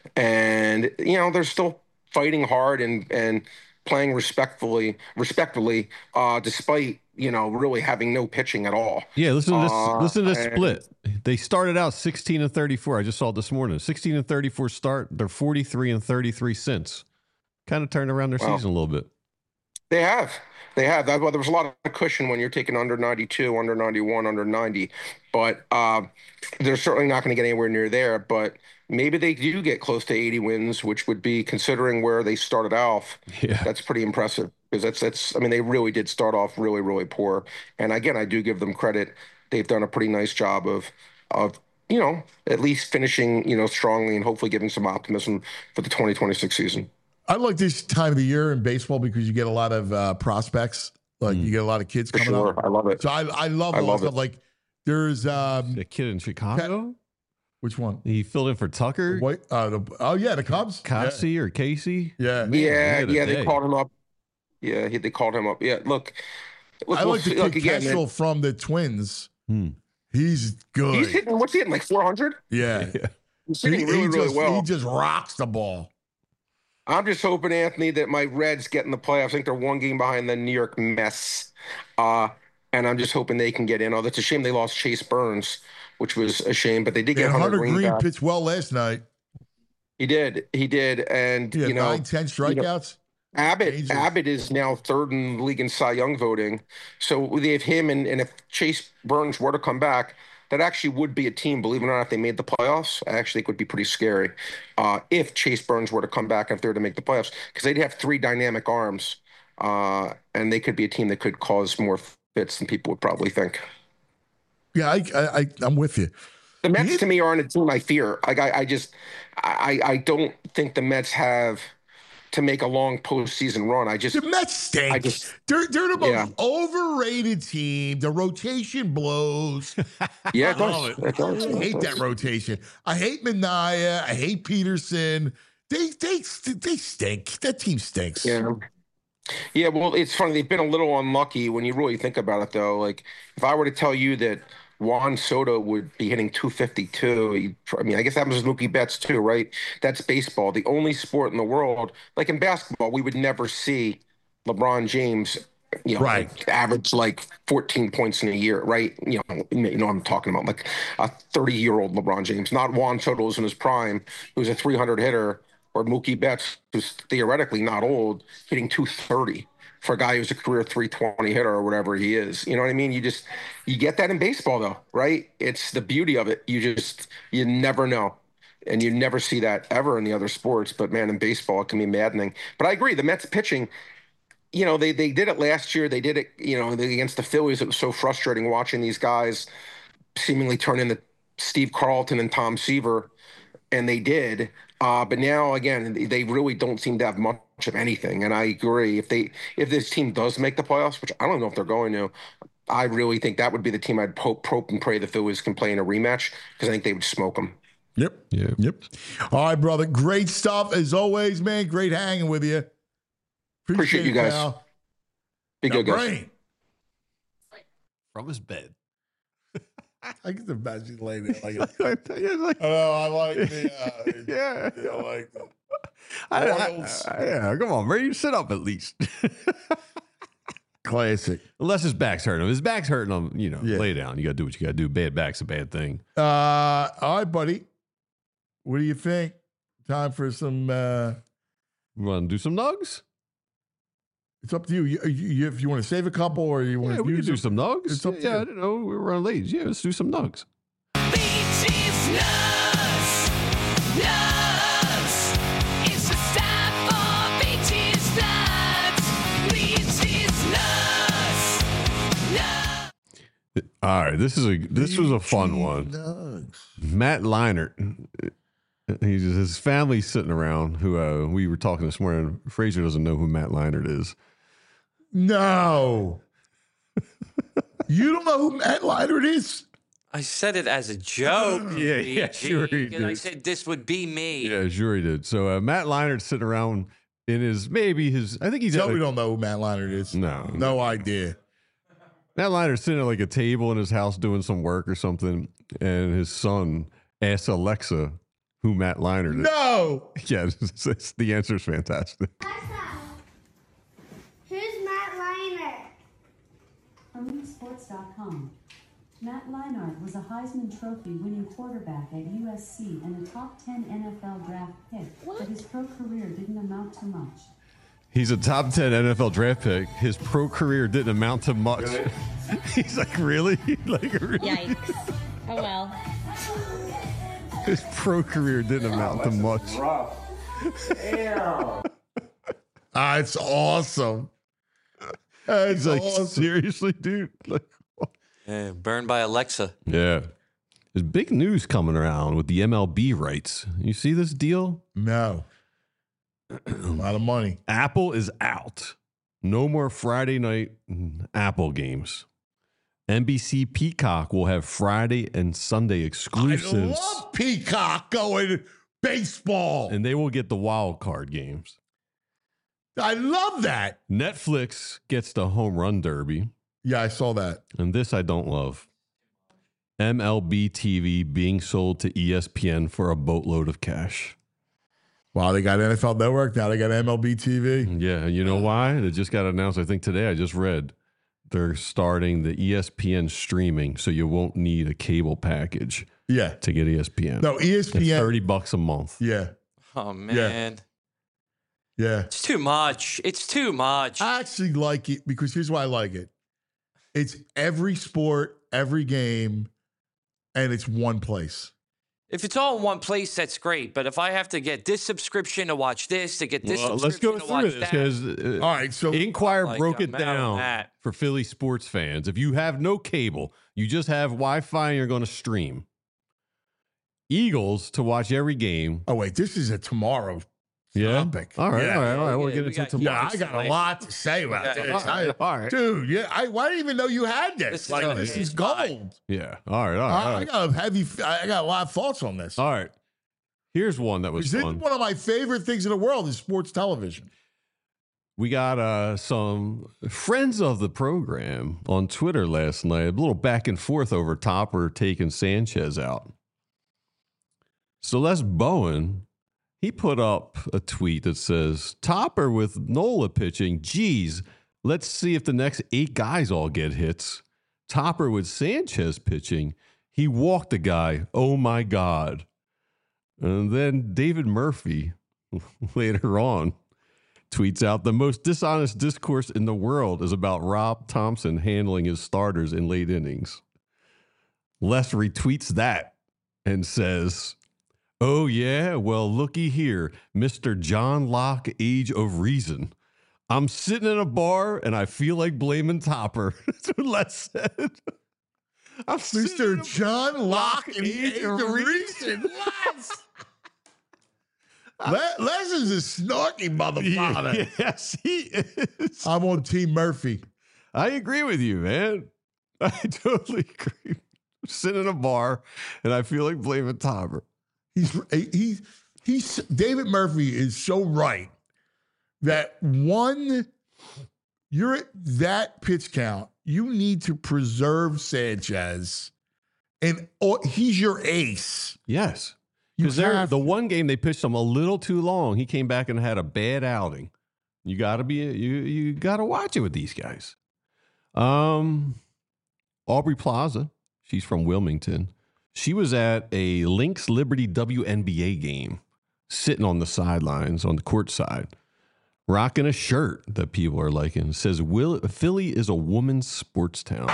and you know they're still fighting hard and and playing respectfully, respectfully, uh, despite you know really having no pitching at all. Yeah, listen to this. Uh, listen to this and- split. They started out sixteen and thirty-four. I just saw it this morning. sixteen and thirty-four start. They're forty-three and thirty-three since. Kind of turned around their Wow. season a little bit. They have. They have. That, well, there was a lot of cushion when you're taking under ninety-two, under ninety-one, under ninety. But uh, they're certainly not going to get anywhere near there. But maybe they do get close to eighty wins, which would be, considering where they started off, Yeah. that's pretty impressive. Because that's, that's, I mean, they really did start off really, really poor. And again, I do give them credit. They've done a pretty nice job of, of you know, at least finishing, you know, strongly and hopefully giving some optimism for the twenty twenty-six season. I like this time of the year in baseball because you get a lot of uh, prospects. Like you get a lot of kids For coming sure. up. I love it. So I, I love I all love that stuff. it. Like there's um, The kid in Chicago. which one? He filled in for Tucker, Wait, uh, the, oh yeah, the Cubs. Casey, or Casey. Yeah, Man, Yeah, what a yeah, day. they called him up. Yeah, he, they called him up. Yeah, look, look, I we'll like the see- kid look again. Kestrel Man. from the Twins. Hmm. He's good. He's hitting. What's he hitting? Like four hundred? yeah, He's he, hitting he really, really just, well. he just rocks the ball. I'm just hoping, Anthony, that my Reds get in the playoffs. I think they're one game behind the New York Mets, uh, and I'm just hoping they can get in. Although it's a shame they lost Chase Burns, which was a shame, but they did get And Hunter Hunter Green, Green back. pitched well last night. He did, he did, and He had you know, nine, ten strikeouts. Abbott Angels. Abbott is now third in the league in Cy Young voting. So they have him, and, and if Chase Burns were to come back, that actually would be a team, believe it or not, if they made the playoffs. I actually think it would be pretty scary uh, if Chase Burns were to come back and if they were to make the playoffs, because they'd have three dynamic arms, uh, and they could be a team that could cause more fits than people would probably think. Yeah, I, I, I I'm with you. The Mets, to me, aren't a team I fear. Like I, I just, I, I don't think the Mets have to make a long postseason run. I just The Mets stink. I just- they're they're the most Yeah. overrated team. The rotation blows. yeah, it I love does. it. It does. I It hate does. that rotation. I hate Minaya. I hate Peterson. They they they stink. That team stinks. Yeah. Yeah, well, it's funny. They've been a little unlucky when you really think about it, though. Like, if I were to tell you that Juan Soto would be hitting two fifty-two, you'd, I mean, I guess that happens with Mookie Betts, too, right? That's baseball. The only sport in the world, like in basketball, we would never see LeBron James, you know, Right. like, average like fourteen points in a year, right? You know, you know what I'm talking about, like a thirty-year-old LeBron James, not Juan Soto who's in his prime, who's a three hundred hitter, or Mookie Betts, who's theoretically not old, hitting two thirty for a guy who's a career three twenty hitter or whatever he is. You know what I mean? You just, you get that in baseball though, right? It's the beauty of it. You just, you never know. And you never see that ever in the other sports. But man, in baseball, it can be maddening. But I agree, the Mets pitching, you know, they they did it last year. They did it, you know, against the Phillies. It was so frustrating watching these guys seemingly turn into Steve Carlton and Tom Seaver, and they did. Uh, but now, again, they really don't seem to have much of anything. And I agree. If they if this team does make the playoffs, which I don't know if they're going to, I really think that would be the team I'd hope, hope and pray the Phillies can play in a rematch, because I think they would smoke them. Yep. Yeah. Yep. All right, brother. Great stuff as always, man. Great hanging with you. Appreciate you it, guys. pal. Be Now, good, guys. Brain, From his bed. I get the imagine laying there like it. Yeah, like- Oh, I like the. Uh, yeah. yeah, I like the. I- I- Royals. I- yeah, come on, Brady, sit up at least. Classic. Unless his back's hurting him. His back's hurting him, you know, Yeah. lay down. You got to do what you got to do. Bad back's a bad thing. Uh, all right, buddy. What do you think? Time for some. Uh, You want to do some nugs? it's up to you. You, you, you. If you want to save a couple, or you want Yeah, to we can use do them. some nugs. It's up to yeah, you. I didn't know we were running late. Yeah, let's do some nugs. Beaches nuts, nuts. It's the time for beaches nuts, beaches nuts, nuts. All right, this is a this was a fun one. Nugs. Matt Leinart. He's his family's sitting around. Who uh, we were talking this morning. Fraser doesn't know who Matt Leinart is. No. You don't know who Matt Leinart is? I said it as a joke. Yeah, yeah, B G, sure he and I did. said this would be me. Yeah, sure he did. So uh, Matt Leinart's sitting around in his maybe his. I think he's So at we like, don't know who Matt Leinart is. no No idea. Matt Leinart's sitting at like a table in his house doing some work or something, and his son asks Alexa who Matt Leinart is. No. Yeah, it's, it's, the answer is fantastic. Who's Matt Leinart? From League Sports dot com. Matt Leinart was a Heisman Trophy winning quarterback at U S C and a top ten N F L draft pick, but his pro career didn't amount to much. He's a top ten N F L draft pick. His pro career didn't amount to much. He's like, really? Like, really? Yikes. Oh well. His pro career didn't amount to much. Damn. Ah, it's awesome. It's He's like, awesome. seriously, dude? Like, Yeah, burned by Alexa. yeah. There's big news coming around with the M L B rights. You see this deal? No. A lot of money. Apple is out. No more Friday night Apple games. N B C Peacock will have Friday and Sunday I exclusives. love Peacock going baseball. And they will get the wild card games. I love that. Netflix gets the home run derby. Yeah, I saw that. And this I don't love. M L B T V being sold to E S P N for a boatload of cash. Wow, they got N F L Network. Now they got M L B T V. Yeah, you know why? It just got announced, I think today, I just read. They're starting the E S P N streaming, so you won't need a cable package Yeah. to get E S P N. No, E S P N. It's thirty bucks a month. Yeah. Oh man, Yeah. it's too much. It's too much. I actually like it because here's why I like it. It's every sport, every game, and it's one place. If it's all in one place, that's great. But if I have to get this subscription to watch this, to get this Well, let's subscription go to through watch this that, because uh, All right, so Inquirer Like, broke it I'm out on down that. for Philly sports fans. If you have no cable, you just have Wi-Fi and you're going to stream. Eagles to watch every game. oh wait, this is a tomorrow Yeah. topic. All right, Yeah. all right, all right. Yeah, We'll yeah, get we into got- tomorrow. Yeah, I got a lot to say about Yeah, this. all right, I- all right. Dude, yeah, I, I didn't even know you had this. This is like, a- this is it's fine. gold. Yeah. All right, all right, I, all I right. got a heavy. I got a lot of thoughts on this. All right. Here's one that was This is fun. one of my favorite things in the world is sports television. We got uh, some friends of the program on Twitter last night. A little back and forth over Topper taking Sanchez out. Celeste Bowen, he put up a tweet that says, Topper with Nola pitching. Geez, let's see if the next eight guys all get hits. Topper with Sanchez pitching. He walked the guy. Oh, my God. And then David Murphy later on tweets out, the most dishonest discourse in the world is about Rob Thompson handling his starters in late innings. Les retweets that and says, oh, yeah, well, looky here, Mister John Locke, Age of Reason. I'm sitting in a bar and I feel like blaming Topper. That's what Les said. I'm Mister John Locke in the Age of Reason. Les. Les, Les is a snarky motherfucker. Yes, he is. I'm on Team Murphy. I agree with you, man. I totally agree. I'm sitting in a bar and I feel like blaming Topper. He's he's he's David Murphy is so right that one, you're at that pitch count. You need to preserve Sanchez, and oh, he's your ace. Yes. You Because have the one game they pitched him a little too long. He came back and had a bad outing. You gotta be you you gotta watch it with these guys. Um Aubrey Plaza, she's from Wilmington. She was at a Lynx Liberty W N B A game, sitting on the sidelines on the court side, rocking a shirt that people are liking. It says, Will, Philly is a woman's sports town.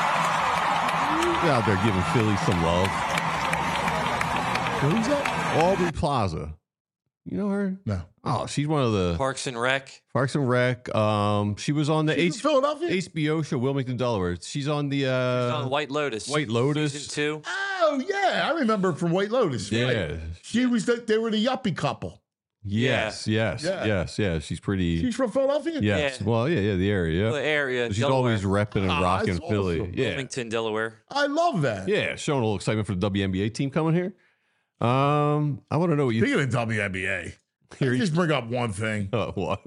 Out there giving Philly some love. Who's that? Aubrey Plaza. You know her? No. Oh, she's one of the Parks and Rec. Parks and Rec. Um, she was on the She's H- from Philadelphia? H B O show, Wilmington, Delaware. She's on the uh, She's on White Lotus. White Lotus. Season two. Oh yeah, I remember from White Lotus. Yeah. Right. She was the, they were the yuppie couple. Yes, yes, Yeah. yes, yeah. She's pretty. She's from Philadelphia? Yes. Yeah. Well, yeah, yeah, the area. Yeah. The area, She's Delaware. always repping and Ah, rocking that's Philly. awesome. Yeah. Wilmington, Delaware. I love that. Yeah, showing a little excitement for the W N B A team coming here. Um, I want to know what you Speaking of W N B A, Here I you- just bring up one thing. uh, what?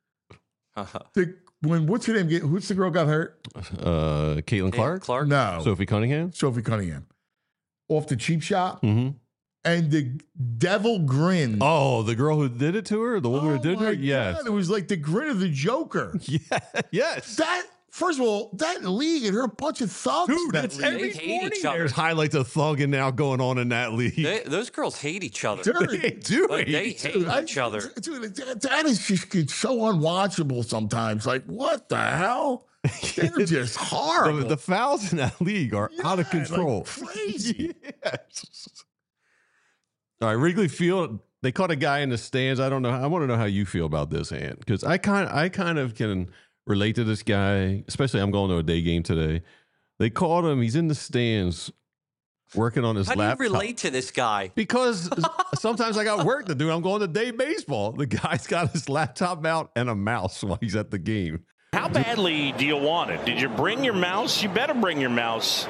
The, when what's her name? Get, who's the girl got hurt? Uh, Caitlin Clark, Clark. No, Sophie Cunningham. Sophie Cunningham, off the cheap shot, Mm-hmm. and the devil grin. Oh, the girl who did it to her, the woman Oh who did my her. Yes, God, it was like the grin of the Joker. yeah, yes. That first of all, that league and her a bunch of thugs. Dude, that it's league. every They hate morning each other. there's highlights of thugging now going on in that league. They, those girls hate each other. Dude, They do. Like, they hate hate I- each other. Dude, that, that is just it's so unwatchable sometimes. Like, what the hell? They're just horrible. The, the fouls in that league are out of Yeah, like control. crazy. Yes. All right, Wrigley Field. They caught a guy in the stands. I don't know. I want to know how you feel about this, Ant, because I kind, I kind of can relate to this guy. Especially, I'm going to a day game today. They caught him. He's in the stands, working on his How do you laptop. relate to this guy? Because sometimes I got work to do. I'm going to day baseball. The guy's got his laptop out and a mouse while he's at the game. How badly do you want it? Did you bring your mouse? You better bring your mouse.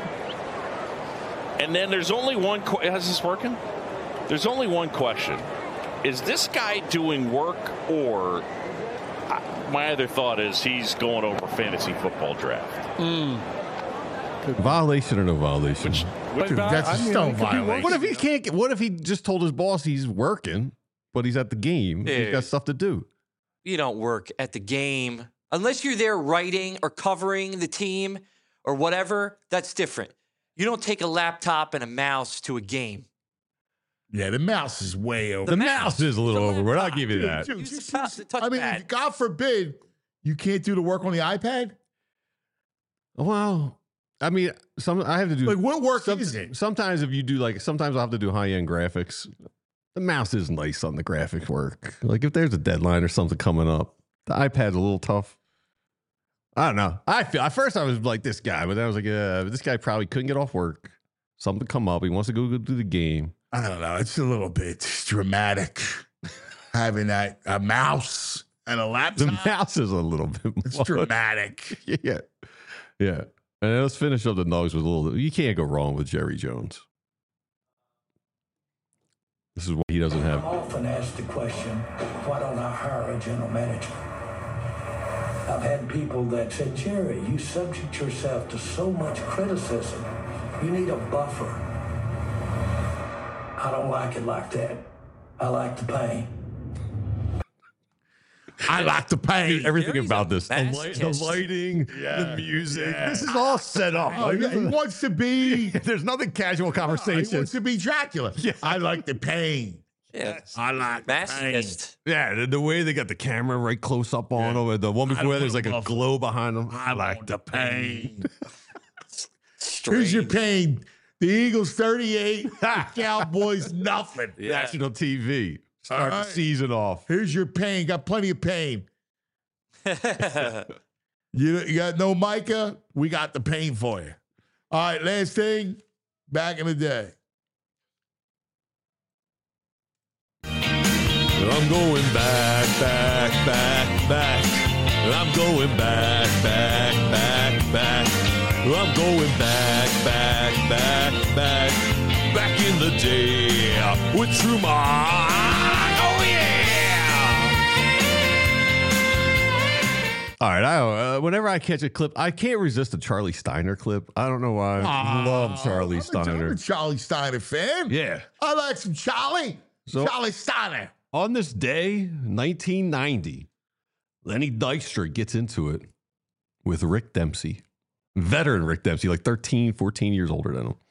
And then there's only one. Qu- Is this working? There's only one question. Is this guy doing work, or uh, my other thought is he's going over fantasy football draft? Violation or no violation? Which, which Dude, that's a stone violation. What if he can't get? What if he just told his boss he's working, but he's at the game? He's Dude. got stuff to do. You don't work at the game unless you're there writing or covering the team or whatever. That's different. You don't take a laptop and a mouse to a game. Yeah, the mouse is way over. The mouse is a little overboard. I'll give you Dude, that. dude, Use the just- mouse to touch I mean, pad. God forbid you can't do the work on the iPad. Well, I mean, some I have to do. Like, what work some- is it? Sometimes if you do like, sometimes I'll have to do high end graphics. The mouse is nice on the graphic work. Like if there's a deadline or something coming up, the iPad's a little tough. I don't know. I feel at first I was like this guy, but then I was like, uh, this guy probably couldn't get off work. Something come up. He wants to go, go do the game. I don't know. It's a little bit dramatic having that a mouse and a The laptop. mouse is a little bit. It's much. dramatic. Yeah, yeah. And then let's finish up the Nugs with a little. You can't go wrong with Jerry Jones. This is what he doesn't I have. often ask the question, why don't I hire a general manager? I've had people that said, Jerry, you subject yourself to so much criticism. You need a buffer. I don't like it like that. I like the pain. I like the pain. Dude, everything Gary's about a this, the, light, the masochist. lighting, Yeah, the music. yeah. This is all set up. Oh, Like, yeah, he wants to be. there's nothing casual He conversation. wants to be Dracula. Yeah. I like the pain. Yeah. I like the pain. Masochist. Yeah, the, the way they got the camera right close up on Yeah. him, the one I before don't there's want like a a buffer. glow behind him. I like the pain. Strange. Here's your pain. The Eagles thirty-eight, the Cowboys nothing. Yeah. National T V. Start All the right. season off. Here's your pain. Got plenty of pain. You, you got no Micah? We got the pain for you. All right, last thing. Back in the day. I'm going back, back, back, back. I'm going back, back, back, back. I'm going back, back, back, back. Back in the day with Truman. Oh, yeah. All right. I, uh, whenever I catch a clip, I can't resist a Charlie Steiner clip. I don't know why. I love Charlie I'm a- Steiner. I'm a Charlie Steiner fan. Yeah. I like some Charlie. So- Charlie Steiner. On this day, nineteen ninety, Lenny Dykstra gets into it with Rick Dempsey. Veteran Rick Dempsey, like thirteen, fourteen years older than him.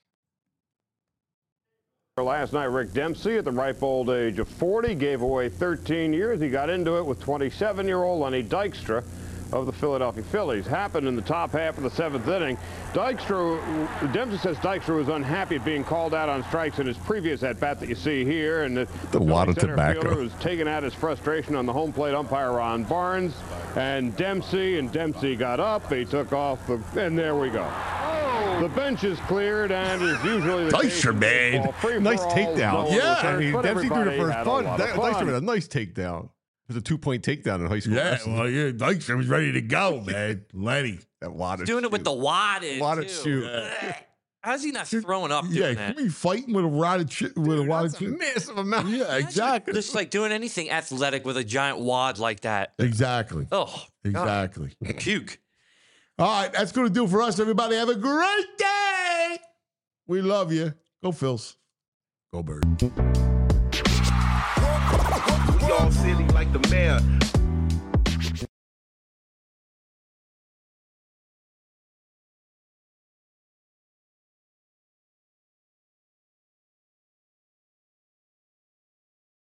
Last night, Rick Dempsey, at the ripe old age of forty, gave away thirteen years. He got into it with twenty-seven-year-old Lenny Dykstra of the Philadelphia Phillies. Happened in the top half of the seventh inning. Dykstra, Dempsey says Dykstra was unhappy at being called out on strikes in his previous at-bat that you see here. And the, The wad of center tobacco. fielder was taking out his frustration on the home plate umpire, Ron Barnes. And Dempsey, and Dempsey got up. He took off, the, and there we go. Oh! The bench is cleared and is usually the case Dykstra, man. baseball. Free Nice for all, takedown. no Yeah. I returns, mean, but Dempsey threw the everybody first had a punch. lot That of Dykstra fun. with a nice takedown. It was a two-point takedown in high school. Yeah, wrestling. well, yeah, Dykstra was ready to go, man. Lenny. That wad of Doing it with shoot. the wad in, Wad of too. shoot. Ugh. How's he not throwing up doing Yeah, that? can we fighting with a rod of chi- with a wad of That's a chi- massive amount. Yeah, exactly. Just like doing anything athletic with a giant wad like that. Exactly. Oh, Exactly. God. Puke. All right, that's going to do for us, everybody. Have a great day. We love you. Go Phils. Go Bird. We all silly like the mayor.